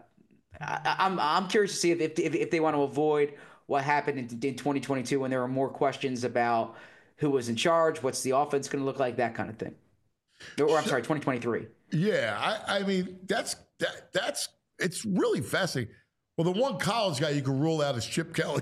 Speaker 9: I'm curious to see if they want to avoid what happened in 2022 when there were more questions about who was in charge, what's the offense going to look like, that kind of thing. Or I'm sorry, 2023.
Speaker 2: Yeah, I mean that's it's really fascinating. Well, the one college guy you can rule out is Chip Kelly.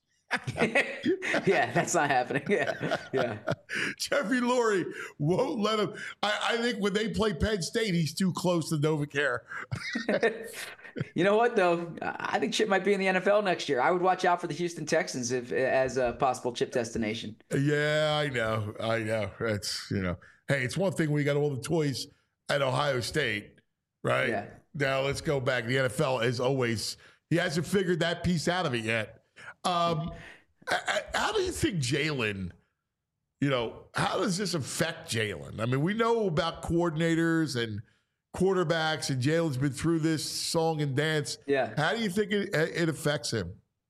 Speaker 9: Yeah, that's not happening. Yeah.
Speaker 2: Jeffrey Lurie won't let him. I think when they play Penn State, he's too close to Novacare.
Speaker 9: You know what, though? I think Chip might be in the NFL next year. I would watch out for the Houston Texans as a possible Chip destination.
Speaker 2: Yeah, I know. It's, hey, it's one thing when you got all the toys at Ohio State, right? Yeah. Now let's go back. The NFL, as always, he hasn't figured that piece out of it yet. How do you think Jalen, how does this affect Jalen? I mean, we know about coordinators and quarterbacks, and Jalen's been through this song and dance.
Speaker 9: Yeah.
Speaker 2: How do you think it affects him?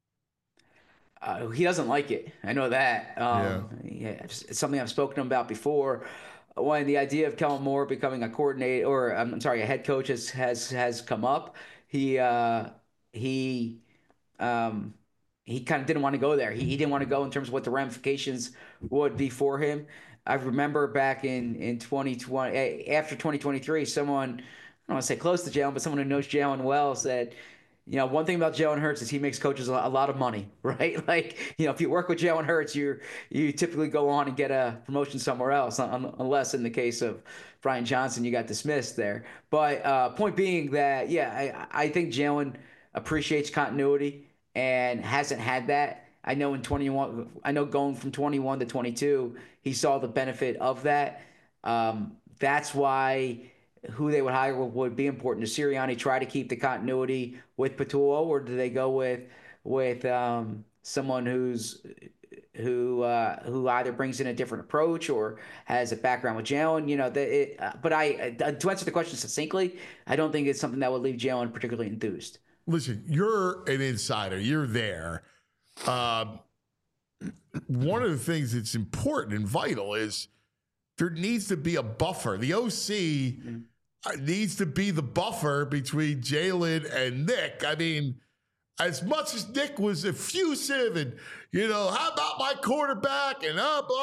Speaker 9: He doesn't like it. I know that. It's something I've spoken to him about before. When the idea of Kellen Moore becoming a coordinator, or a head coach has come up, he kind of didn't want to go there. He didn't want to go in terms of what the ramifications would be for him. I remember back in 2020, after 2023, someone, I don't want to say close to Jalen, but someone who knows Jalen well said, one thing about Jalen Hurts is he makes coaches a lot of money, right? Like, if you work with Jalen Hurts, you typically go on and get a promotion somewhere else, unless in the case of Brian Johnson, you got dismissed there. But point being that, I think Jalen appreciates continuity and hasn't had that. I know going from 21 to 22, he saw the benefit of that. That's why who they would hire would be important. Does Sirianni try to keep the continuity with Patullo, or do they go with someone who either brings in a different approach or has a background with Jalen? But to answer the question succinctly, I don't think it's something that would leave Jalen particularly enthused.
Speaker 2: Listen, you're an insider. You're there. One of the things that's important and vital is there needs to be a buffer. The OC needs to be the buffer between Jalen and Nick. I mean, as much as Nick was effusive and, how about my quarterback? And,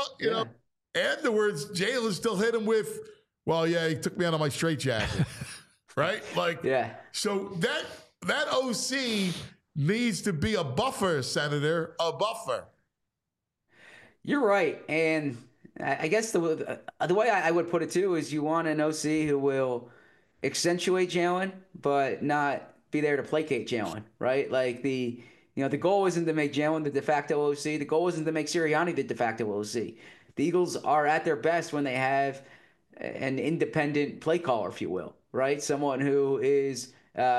Speaker 2: afterwards, Jalen still hit him with, well, yeah, he took me out of my straitjacket. Right? So that OC needs to be a buffer, Senator, a buffer.
Speaker 9: You're right. And I guess the way I would put it, too, is you want an OC who will accentuate Jalen, but not be there to placate Jalen, right? Like the goal isn't to make Jalen the de facto OC. The goal isn't to make Sirianni the de facto OC. The Eagles are at their best when they have an independent play caller, if you will, right? Someone who is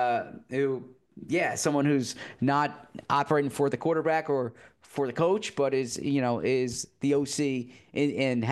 Speaker 9: someone who's not operating for the quarterback or for the coach, but is the OC and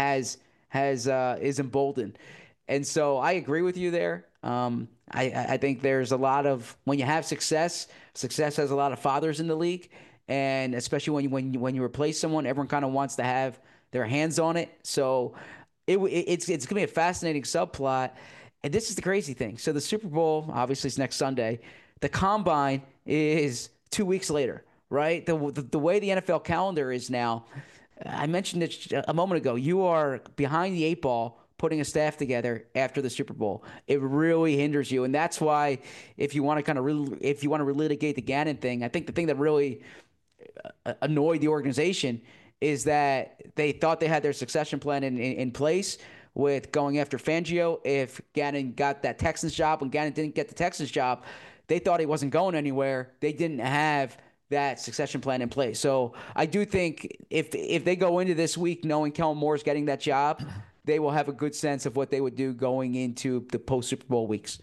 Speaker 9: is emboldened. And so I agree with you there. I think there's a lot of, when you have success has a lot of fathers in the league, and especially when you replace someone, everyone kind of wants to have their hands on it. So it's going to be a fascinating subplot. And this is the crazy thing. So the Super Bowl obviously is next Sunday. The Combine is 2 weeks later, right? The way the NFL calendar is now, I mentioned it a moment ago, you are behind the 8 ball putting a staff together after the Super Bowl. It really hinders you. And that's why if you want to relitigate the Gannon thing, I think the thing that really annoyed the organization is that they thought they had their succession plan in place with going after Fangio. If Gannon got that Texans job, when Gannon didn't get the Texans job, they thought he wasn't going anywhere. They didn't have that succession plan in place. So I do think if they go into this week knowing Kellen Moore's getting that job, they will have a good sense of what they would do going into the post-Super Bowl weeks.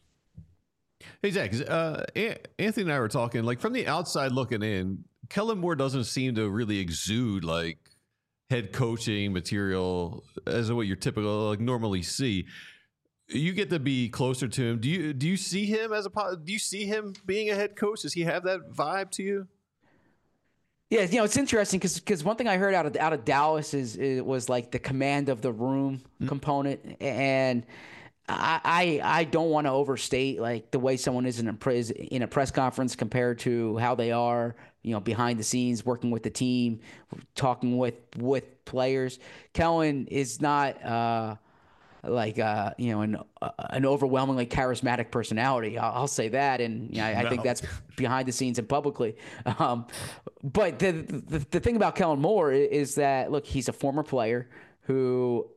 Speaker 3: Hey, Zach, Anthony and I were talking, like, from the outside looking in, Kellen Moore doesn't seem to really exude, like, head coaching material as what you're typical, like, normally see. You get to be closer to him. Do you see him do you see him being a head coach? Does he have that vibe to you?
Speaker 9: Yeah, it's interesting because one thing I heard out of Dallas was like the command of the room component, and I don't want to overstate like the way someone is in a press conference compared to how they are, behind the scenes, working with the team, talking with players. Kellen is not an overwhelmingly charismatic personality. I'll say that, and I think that's behind the scenes and publicly. But the thing about Kellen Moore is that, look, he's a former player who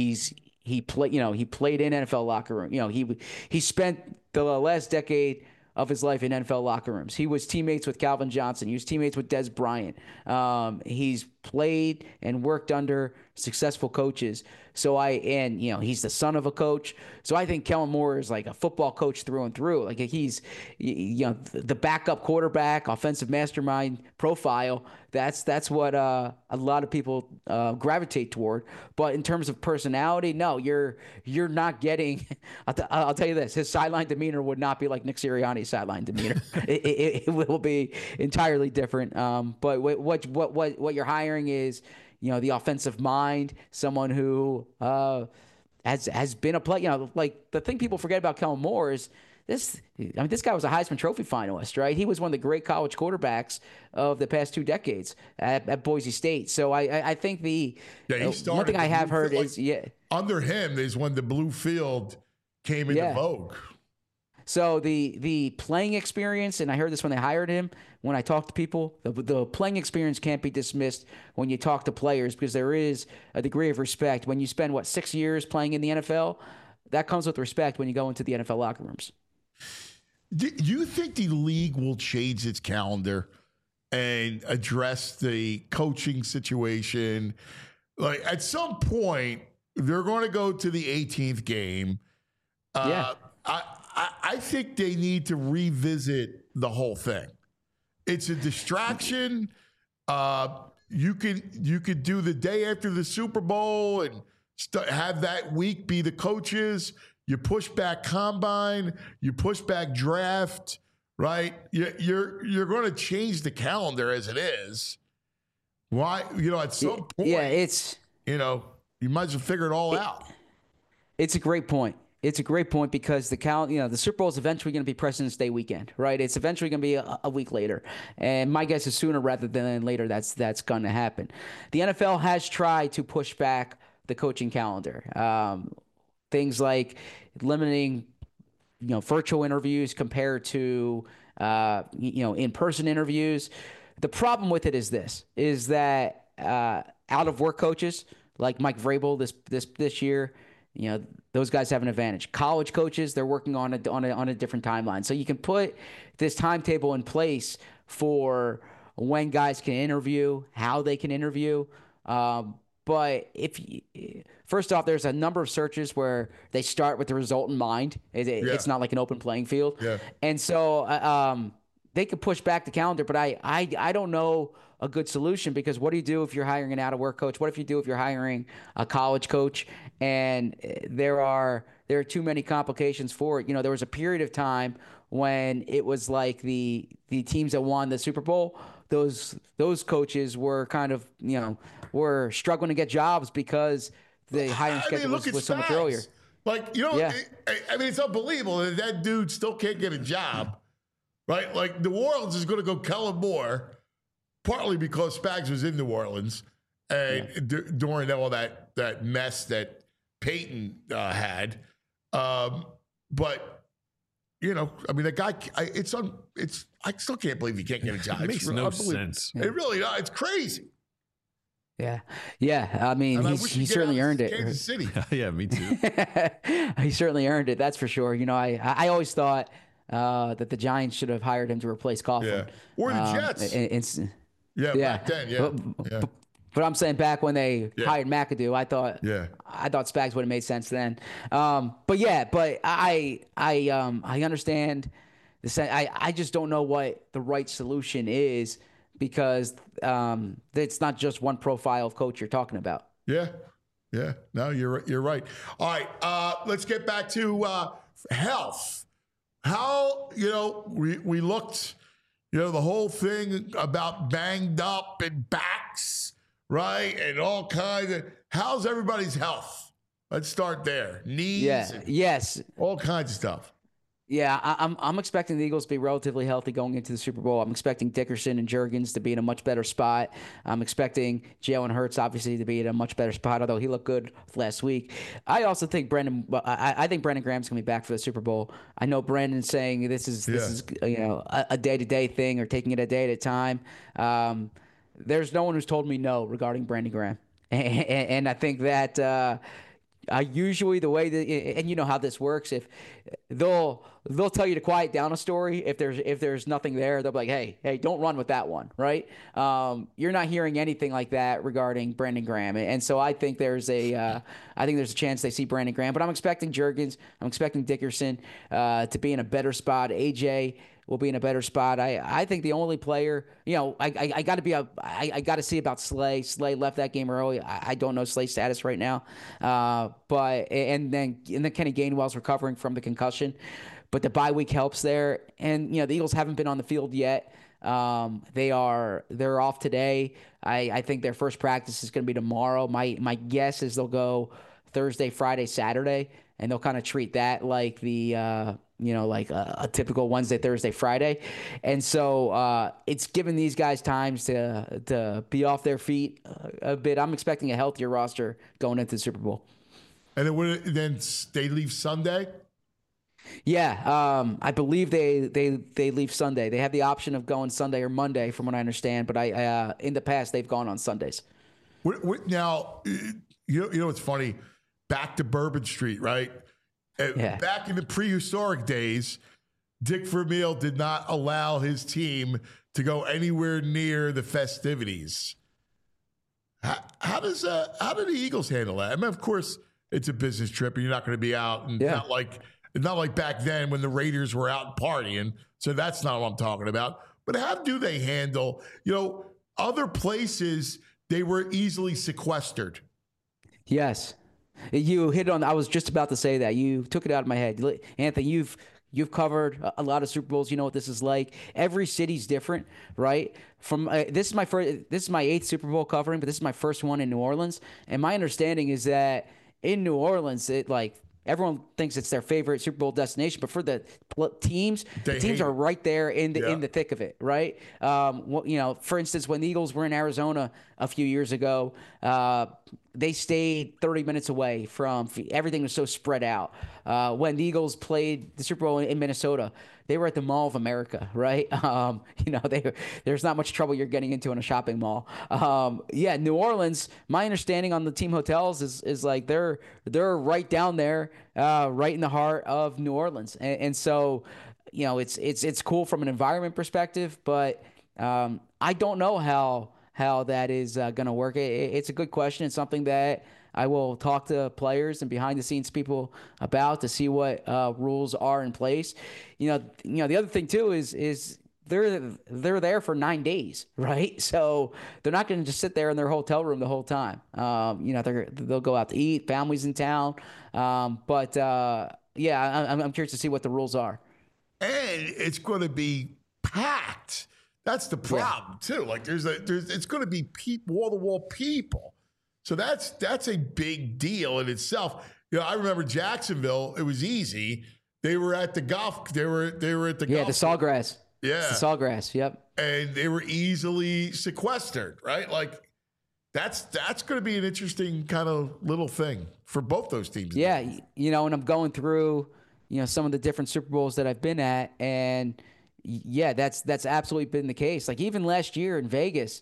Speaker 9: he played in NFL locker room. He spent the last decade of his life in NFL locker rooms. He was teammates with Calvin Johnson. He was teammates with Des Bryant. He's played and worked under successful coaches. He's the son of a coach. So I think Kellen Moore is like a football coach through and through. Like he's, the backup quarterback, offensive mastermind profile. That's what a lot of people gravitate toward. But in terms of personality, no, you're not getting. I'll tell you this: his sideline demeanor would not be like Nick Sirianni's sideline demeanor. it will be entirely different. But what you're hiring is, the offensive mind, someone who has been a player. Like the thing people forget about Kellen Moore is this guy was a Heisman Trophy finalist, right? He was one of the great college quarterbacks of the past 2 decades at Boise State. So I think one thing I have heard is
Speaker 2: under him is when the blue field came into vogue.
Speaker 9: So the playing experience, and I heard this when they hired him, when I talked to people, the playing experience can't be dismissed when you talk to players, because there is a degree of respect. When you spend, 6 years playing in the NFL, that comes with respect when you go into the NFL locker rooms.
Speaker 2: Do you think the league will change its calendar and address the coaching situation? Like at some point, they're going to go to the 18th game. I think they need to revisit the whole thing. It's a distraction. You could do the day after the Super Bowl and have that week be the coaches. You push back combine. You push back draft. Right? You're going to change the calendar as it is. Why? At some point.
Speaker 9: Yeah, it's
Speaker 2: you might as well figure it all out.
Speaker 9: It's a great point. It's a great point because the Super Bowl is eventually going to be President's Day weekend, right? It's eventually going to be a week later, and my guess is sooner rather than later that's going to happen. The NFL has tried to push back the coaching calendar, things like limiting, virtual interviews compared to in-person interviews. The problem with it is that out of work coaches like Mike Vrabel this year. Those guys have an advantage. College coaches, they're working on a different timeline. So you can put this timetable in place for when guys can interview, how they can interview. But first off, there's a number of searches where they start with the result in mind. It's not like an open playing field. Yeah. And so they could push back the calendar, but I don't know a good solution, because what do you do if you're hiring an out-of-work coach? What if you do if you're hiring a college coach? And there are too many complications for it. There was a period of time when it was like the teams that won the Super Bowl, those coaches were kind of, were struggling to get jobs because the hiring schedule was so much earlier.
Speaker 2: Like, it's unbelievable that dude still can't get a job, right? Like, New Orleans is going to go Kellen Moore, partly because Spags was in New Orleans and during all that mess that Peyton had. But, the guy, I still can't believe he can't get a job.
Speaker 3: It makes no sense.
Speaker 2: It really does. It's crazy.
Speaker 9: Yeah. I mean, he certainly earned it.
Speaker 2: Kansas City.
Speaker 3: Yeah, me too.
Speaker 9: He certainly earned it. That's for sure. I always thought that the Giants should have hired him to replace Coughlin.
Speaker 2: Yeah. Or the Jets. Back then,
Speaker 9: But I'm saying back when they hired McAdoo, I thought Spags would have made sense then. But I understand the sense. I just don't know what the right solution is, because it's not just one profile of coach you're talking about.
Speaker 2: Yeah. No, you're right. All right, let's get back to health. How we looked. The whole thing about banged up and backs, right? And all kinds of, how's everybody's health? Let's start there. Knees.
Speaker 9: Yes.
Speaker 2: All kinds of stuff.
Speaker 9: Yeah, I'm expecting the Eagles to be relatively healthy going into the Super Bowl. I'm expecting Dickerson and Juergens to be in a much better spot. I'm expecting Jalen Hurts obviously to be in a much better spot, although he looked good last week. I also think I think Brandon Graham's going to be back for the Super Bowl. I know Brandon's saying this is a day-to-day thing, or taking it a day at a time. There's no one who's told me no regarding Brandon Graham, and I think that Usually the way that, and you know how this works, if they'll tell you to quiet down a story if there's nothing there, they'll be like, hey, don't run with that one, right? You're not hearing anything like that regarding Brandon Graham, and so I think there's a chance they see Brandon Graham, but I'm expecting Juergens, I'm expecting Dickerson to be in a better spot. AJ will be in a better spot. I think the only player, I got to see about Slay. Slay left that game early. I don't know Slay's status right now. But then Kenny Gainwell's recovering from the concussion, but the bye week helps there. And the Eagles haven't been on the field yet. They're off today. I think their first practice is going to be tomorrow. My guess is they'll go Thursday, Friday, Saturday, and they'll kind of treat that like the like a typical Wednesday, Thursday, Friday. And so it's given these guys times to be off their feet a bit. I'm expecting a healthier roster going into the Super Bowl.
Speaker 2: And then they leave Sunday?
Speaker 9: Yeah, I believe they leave Sunday. They have the option of going Sunday or Monday, from what I understand. But in the past, they've gone on Sundays.
Speaker 2: Now, you know what's funny? Back to Bourbon Street, right?
Speaker 9: Yeah.
Speaker 2: Back in the prehistoric days, Dick Vermeil did not allow his team to go anywhere near the festivities. How do the Eagles handle that? I mean, of course, it's a business trip, and you're not going to be out, and not like back then when the Raiders were out partying. So that's not what I'm talking about. But how do they handle? Other places they were easily sequestered.
Speaker 9: Yes. You hit on. I was just about to say that. You took it out of my head, Anthony. You've covered a lot of Super Bowls. You know what this is like. Every city's different, right? From this is my 8th Super Bowl covering, but this is my first one in New Orleans. And my understanding is that in New Orleans, everyone thinks it's their favorite Super Bowl destination, but for the teams, the teams are right there in the thick of it, right? For instance, when the Eagles were in Arizona a few years ago, they stayed 30 minutes away from everything was so spread out. When the Eagles played the Super Bowl in Minnesota, they were at the Mall of America, right? There's not much trouble you're getting into in a shopping mall. New Orleans, my understanding on the team hotels is like they're right down there, right in the heart of New Orleans. And so, it's cool from an environment perspective, but I don't know how that is going to work. It's a good question. It's something that I will talk to players and behind-the-scenes people about to see what rules are in place. The other thing too is they're there for 9 days, right? So they're not going to just sit there in their hotel room the whole time. They'll go out to eat. Families in town, I'm curious to see what the rules are.
Speaker 2: And it's going to be packed. That's the problem too. Like it's going to be wall-to-wall people. So that's a big deal in itself. I remember Jacksonville. It was easy. They were at the golf. They were at the golf.
Speaker 9: The Sawgrass.
Speaker 2: Yeah,
Speaker 9: it's the Sawgrass. Yep. And
Speaker 2: they were easily sequestered, right? Like that's going to be an interesting kind of little thing for both those teams.
Speaker 9: Yeah, and I'm going through some of the different Super Bowls that I've been at, and that's absolutely been the case. Like even last year in Vegas,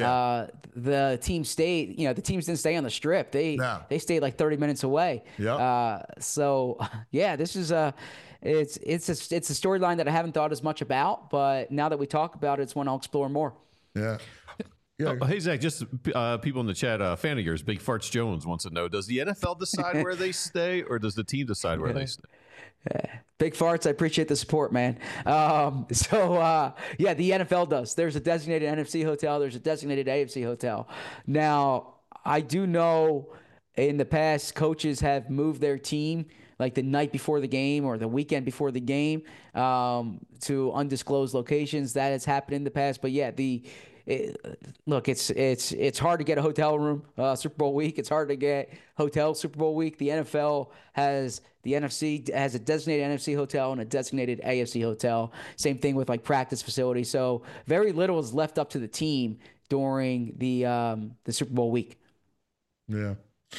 Speaker 9: the team stayed. The teams didn't stay on the Strip. They stayed like 30 minutes away.
Speaker 2: Yeah.
Speaker 9: This is it's a storyline that I haven't thought as much about, but now that we talk about it, it's one I'll explore more.
Speaker 2: Yeah.
Speaker 3: Yeah. Oh, hey Zach, just people in the chat. Fan of yours, Big Farts Jones wants to know: does the NFL decide where they stay, or does the team decide where they stay?
Speaker 9: Big Farts, I appreciate the support, man. The NFL does. There's a designated NFC hotel. There's a designated AFC hotel. Now, I do know in the past, coaches have moved their team like the night before the game or the weekend before the game to undisclosed locations. That has happened in the past. But it's hard to get a hotel room Super Bowl week. It's hard to get hotel Super Bowl week. The NFL has the NFC has a designated NFC hotel and a designated AFC hotel. Same thing with like practice facilities. So very little is left up to the team during the Super Bowl week.
Speaker 2: Yeah.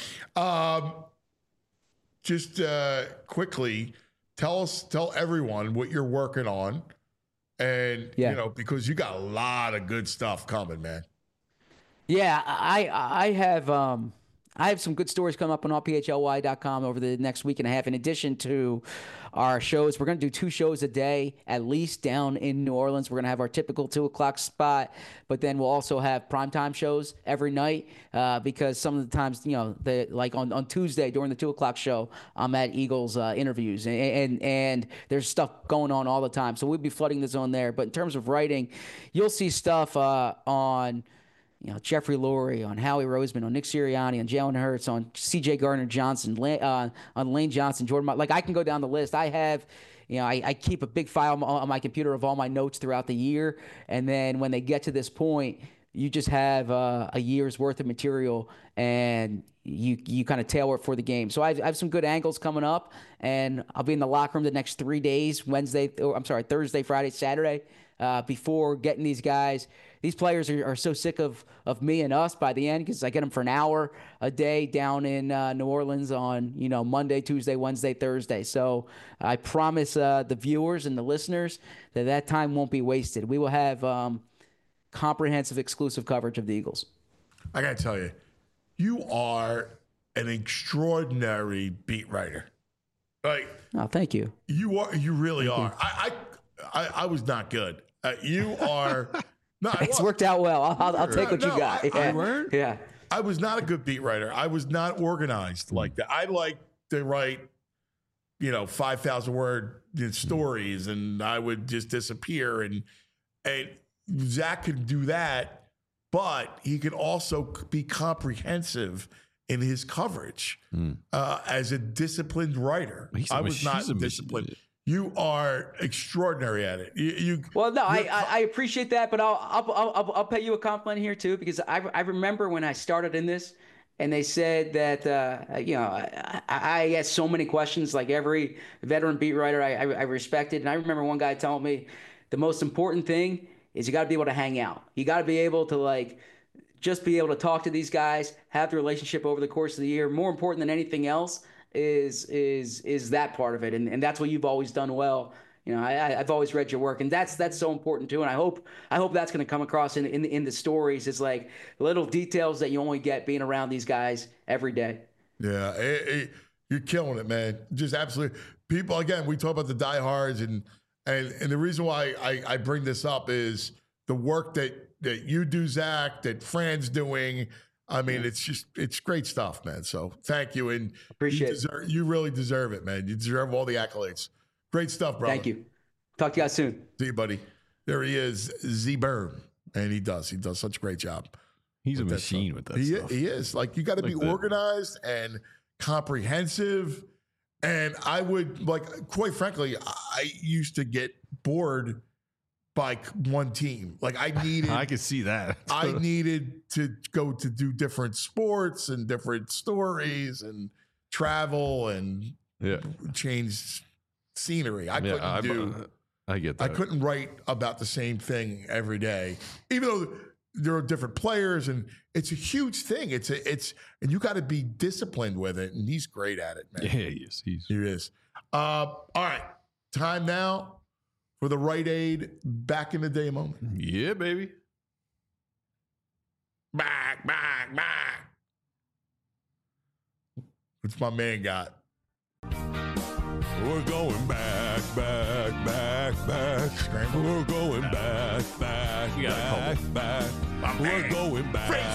Speaker 2: Just quickly tell everyone what you're working on. And, because you got a lot of good stuff coming, man.
Speaker 9: Yeah, I have I have some good stories coming up on allphly.com over the next week and a half. In addition to our shows, we're going to do 2 shows a day, at least down in New Orleans. We're going to have our typical 2 o'clock spot, but then we'll also have primetime shows every night because some of the times, like on Tuesday during the 2 o'clock show, I'm at Eagles interviews, and there's stuff going on all the time. So we'll be flooding the zone there. But in terms of writing, you'll see stuff on Jeffrey Lurie, on Howie Roseman, on Nick Sirianni, on Jalen Hurts, on C.J. Gardner-Johnson, on Lane Johnson, Jordan. Like, I can go down the list. I have, I keep a big file on my computer of all my notes throughout the year, and then when they get to this point, you just have a year's worth of material, and you kind of tailor it for the game. So I have some good angles coming up, and I'll be in the locker room the next 3 days, Thursday, Friday, Saturday, before getting these guys. These players are so sick of me and us by the end because I get them for an hour a day down in New Orleans on Monday, Tuesday, Wednesday, Thursday. So I promise the viewers and the listeners that time won't be wasted. We will have comprehensive, exclusive coverage of the Eagles.
Speaker 2: I got to tell you, you are an extraordinary beat writer. Like,
Speaker 9: oh, thank you.
Speaker 2: You really are. I was not good. You are. No,
Speaker 9: it's worked out well. I'll take what you got. Yeah.
Speaker 2: I was not a good beat writer. I was not organized like that. I like to write, 5,000 word stories, and I would just disappear. And Zach could do that, but he could also be comprehensive in his coverage as a disciplined writer. I was not disciplined. You are extraordinary at it.
Speaker 9: Well, no, I appreciate that, but I'll pay you a compliment here too, because I remember when I started in this, and they said that I asked so many questions, like every veteran beat writer I respected, and I remember one guy telling me the most important thing is you got to be able to hang out. You got to be able to just be able to talk to these guys, have the relationship over the course of the year. More important than anything else is that part of it, and that's what you've always done well. I've always read your work, and that's so important too. And I hope that's going to come across in the stories. It's like little details that you only get being around these guys every day.
Speaker 2: Yeah, you're killing it, man. Just absolutely. People, again, we talk about the diehards, and the reason why I bring this up is the work that you do, Zach, that Fran's doing. I mean, it's great stuff, man. So thank you. And
Speaker 9: appreciate it.
Speaker 2: You really deserve it, man. You deserve all the accolades. Great stuff, brother.
Speaker 9: Thank you. Talk to you guys soon.
Speaker 2: See you, buddy. There he is, Z Berm. And he does such a great job.
Speaker 3: He's a machine with that stuff.
Speaker 2: He is. Like, you got to be organized and comprehensive. And I would, quite frankly, I used to get bored by one team. Like, I
Speaker 3: could see that.
Speaker 2: I needed to go to do different sports and different stories and travel and change scenery. I get that. I couldn't write about the same thing every day, even though there are different players, and it's a huge thing. And you got to be disciplined with it. And he's great at it, man.
Speaker 3: Yeah, he is. He
Speaker 2: is. All right. Time now for the Rite Aid back in the day moment.
Speaker 3: Yeah, baby.
Speaker 2: Back. What's my man got?
Speaker 7: We're going back. We're going back. We're going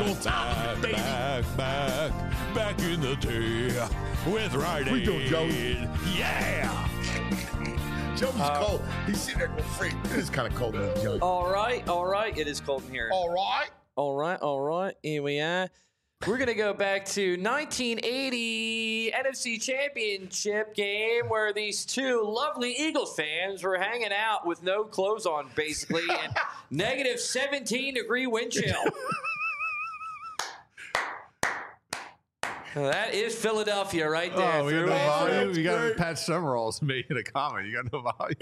Speaker 7: back in the day with Rite Aid.
Speaker 2: We doing, Joe?
Speaker 7: Yeah.
Speaker 2: Joe's cold. He's sitting there going, freak. It is kind of cold in here, Joe.
Speaker 6: All right. It is cold in here.
Speaker 2: All right.
Speaker 6: Here we are. We're going to go back to 1980 NFC Championship game where these two lovely Eagles fans were hanging out with no clothes on, basically, and negative 17-degree wind chill. That is Philadelphia right there.
Speaker 3: Oh, we got no volume. You got Pat Summerall's making a comment. You got no volume.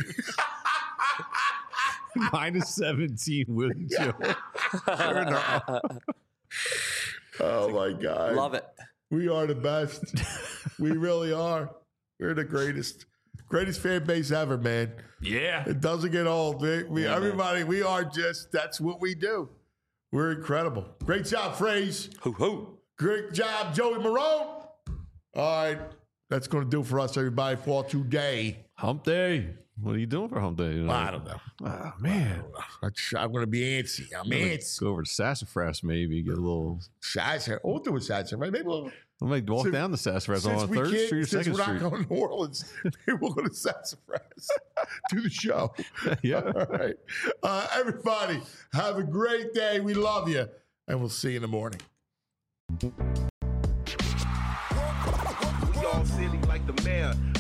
Speaker 3: Minus 17 wind chill.
Speaker 2: Oh, my God.
Speaker 6: Love it.
Speaker 2: We are the best. We really are. We're the greatest fan base ever, man.
Speaker 3: Yeah.
Speaker 2: It doesn't get old. Everybody, we are just, that's what we do. We're incredible. Great job, Phrase.
Speaker 6: Hoo-hoo.
Speaker 2: Great job, Joey Marone. All right. That's going to do for us, everybody, for today.
Speaker 3: Hump day. What are you doing for hump day?
Speaker 2: I don't know.
Speaker 3: Oh, man.
Speaker 2: I'm going to be antsy. I'm antsy.
Speaker 3: Go over to Sassafras, maybe. Get a little...
Speaker 2: Sassafras. We'll do a Sassafras. Maybe we'll
Speaker 3: walk down the Sassafras on 3rd Street or 2nd Street.
Speaker 2: Since we're not going to New Orleans, maybe we'll go to Sassafras. Do the show.
Speaker 3: Yeah.
Speaker 2: All right. Everybody, have a great day. We love you. And we'll see you in the morning.
Speaker 10: We all silly like the mayor.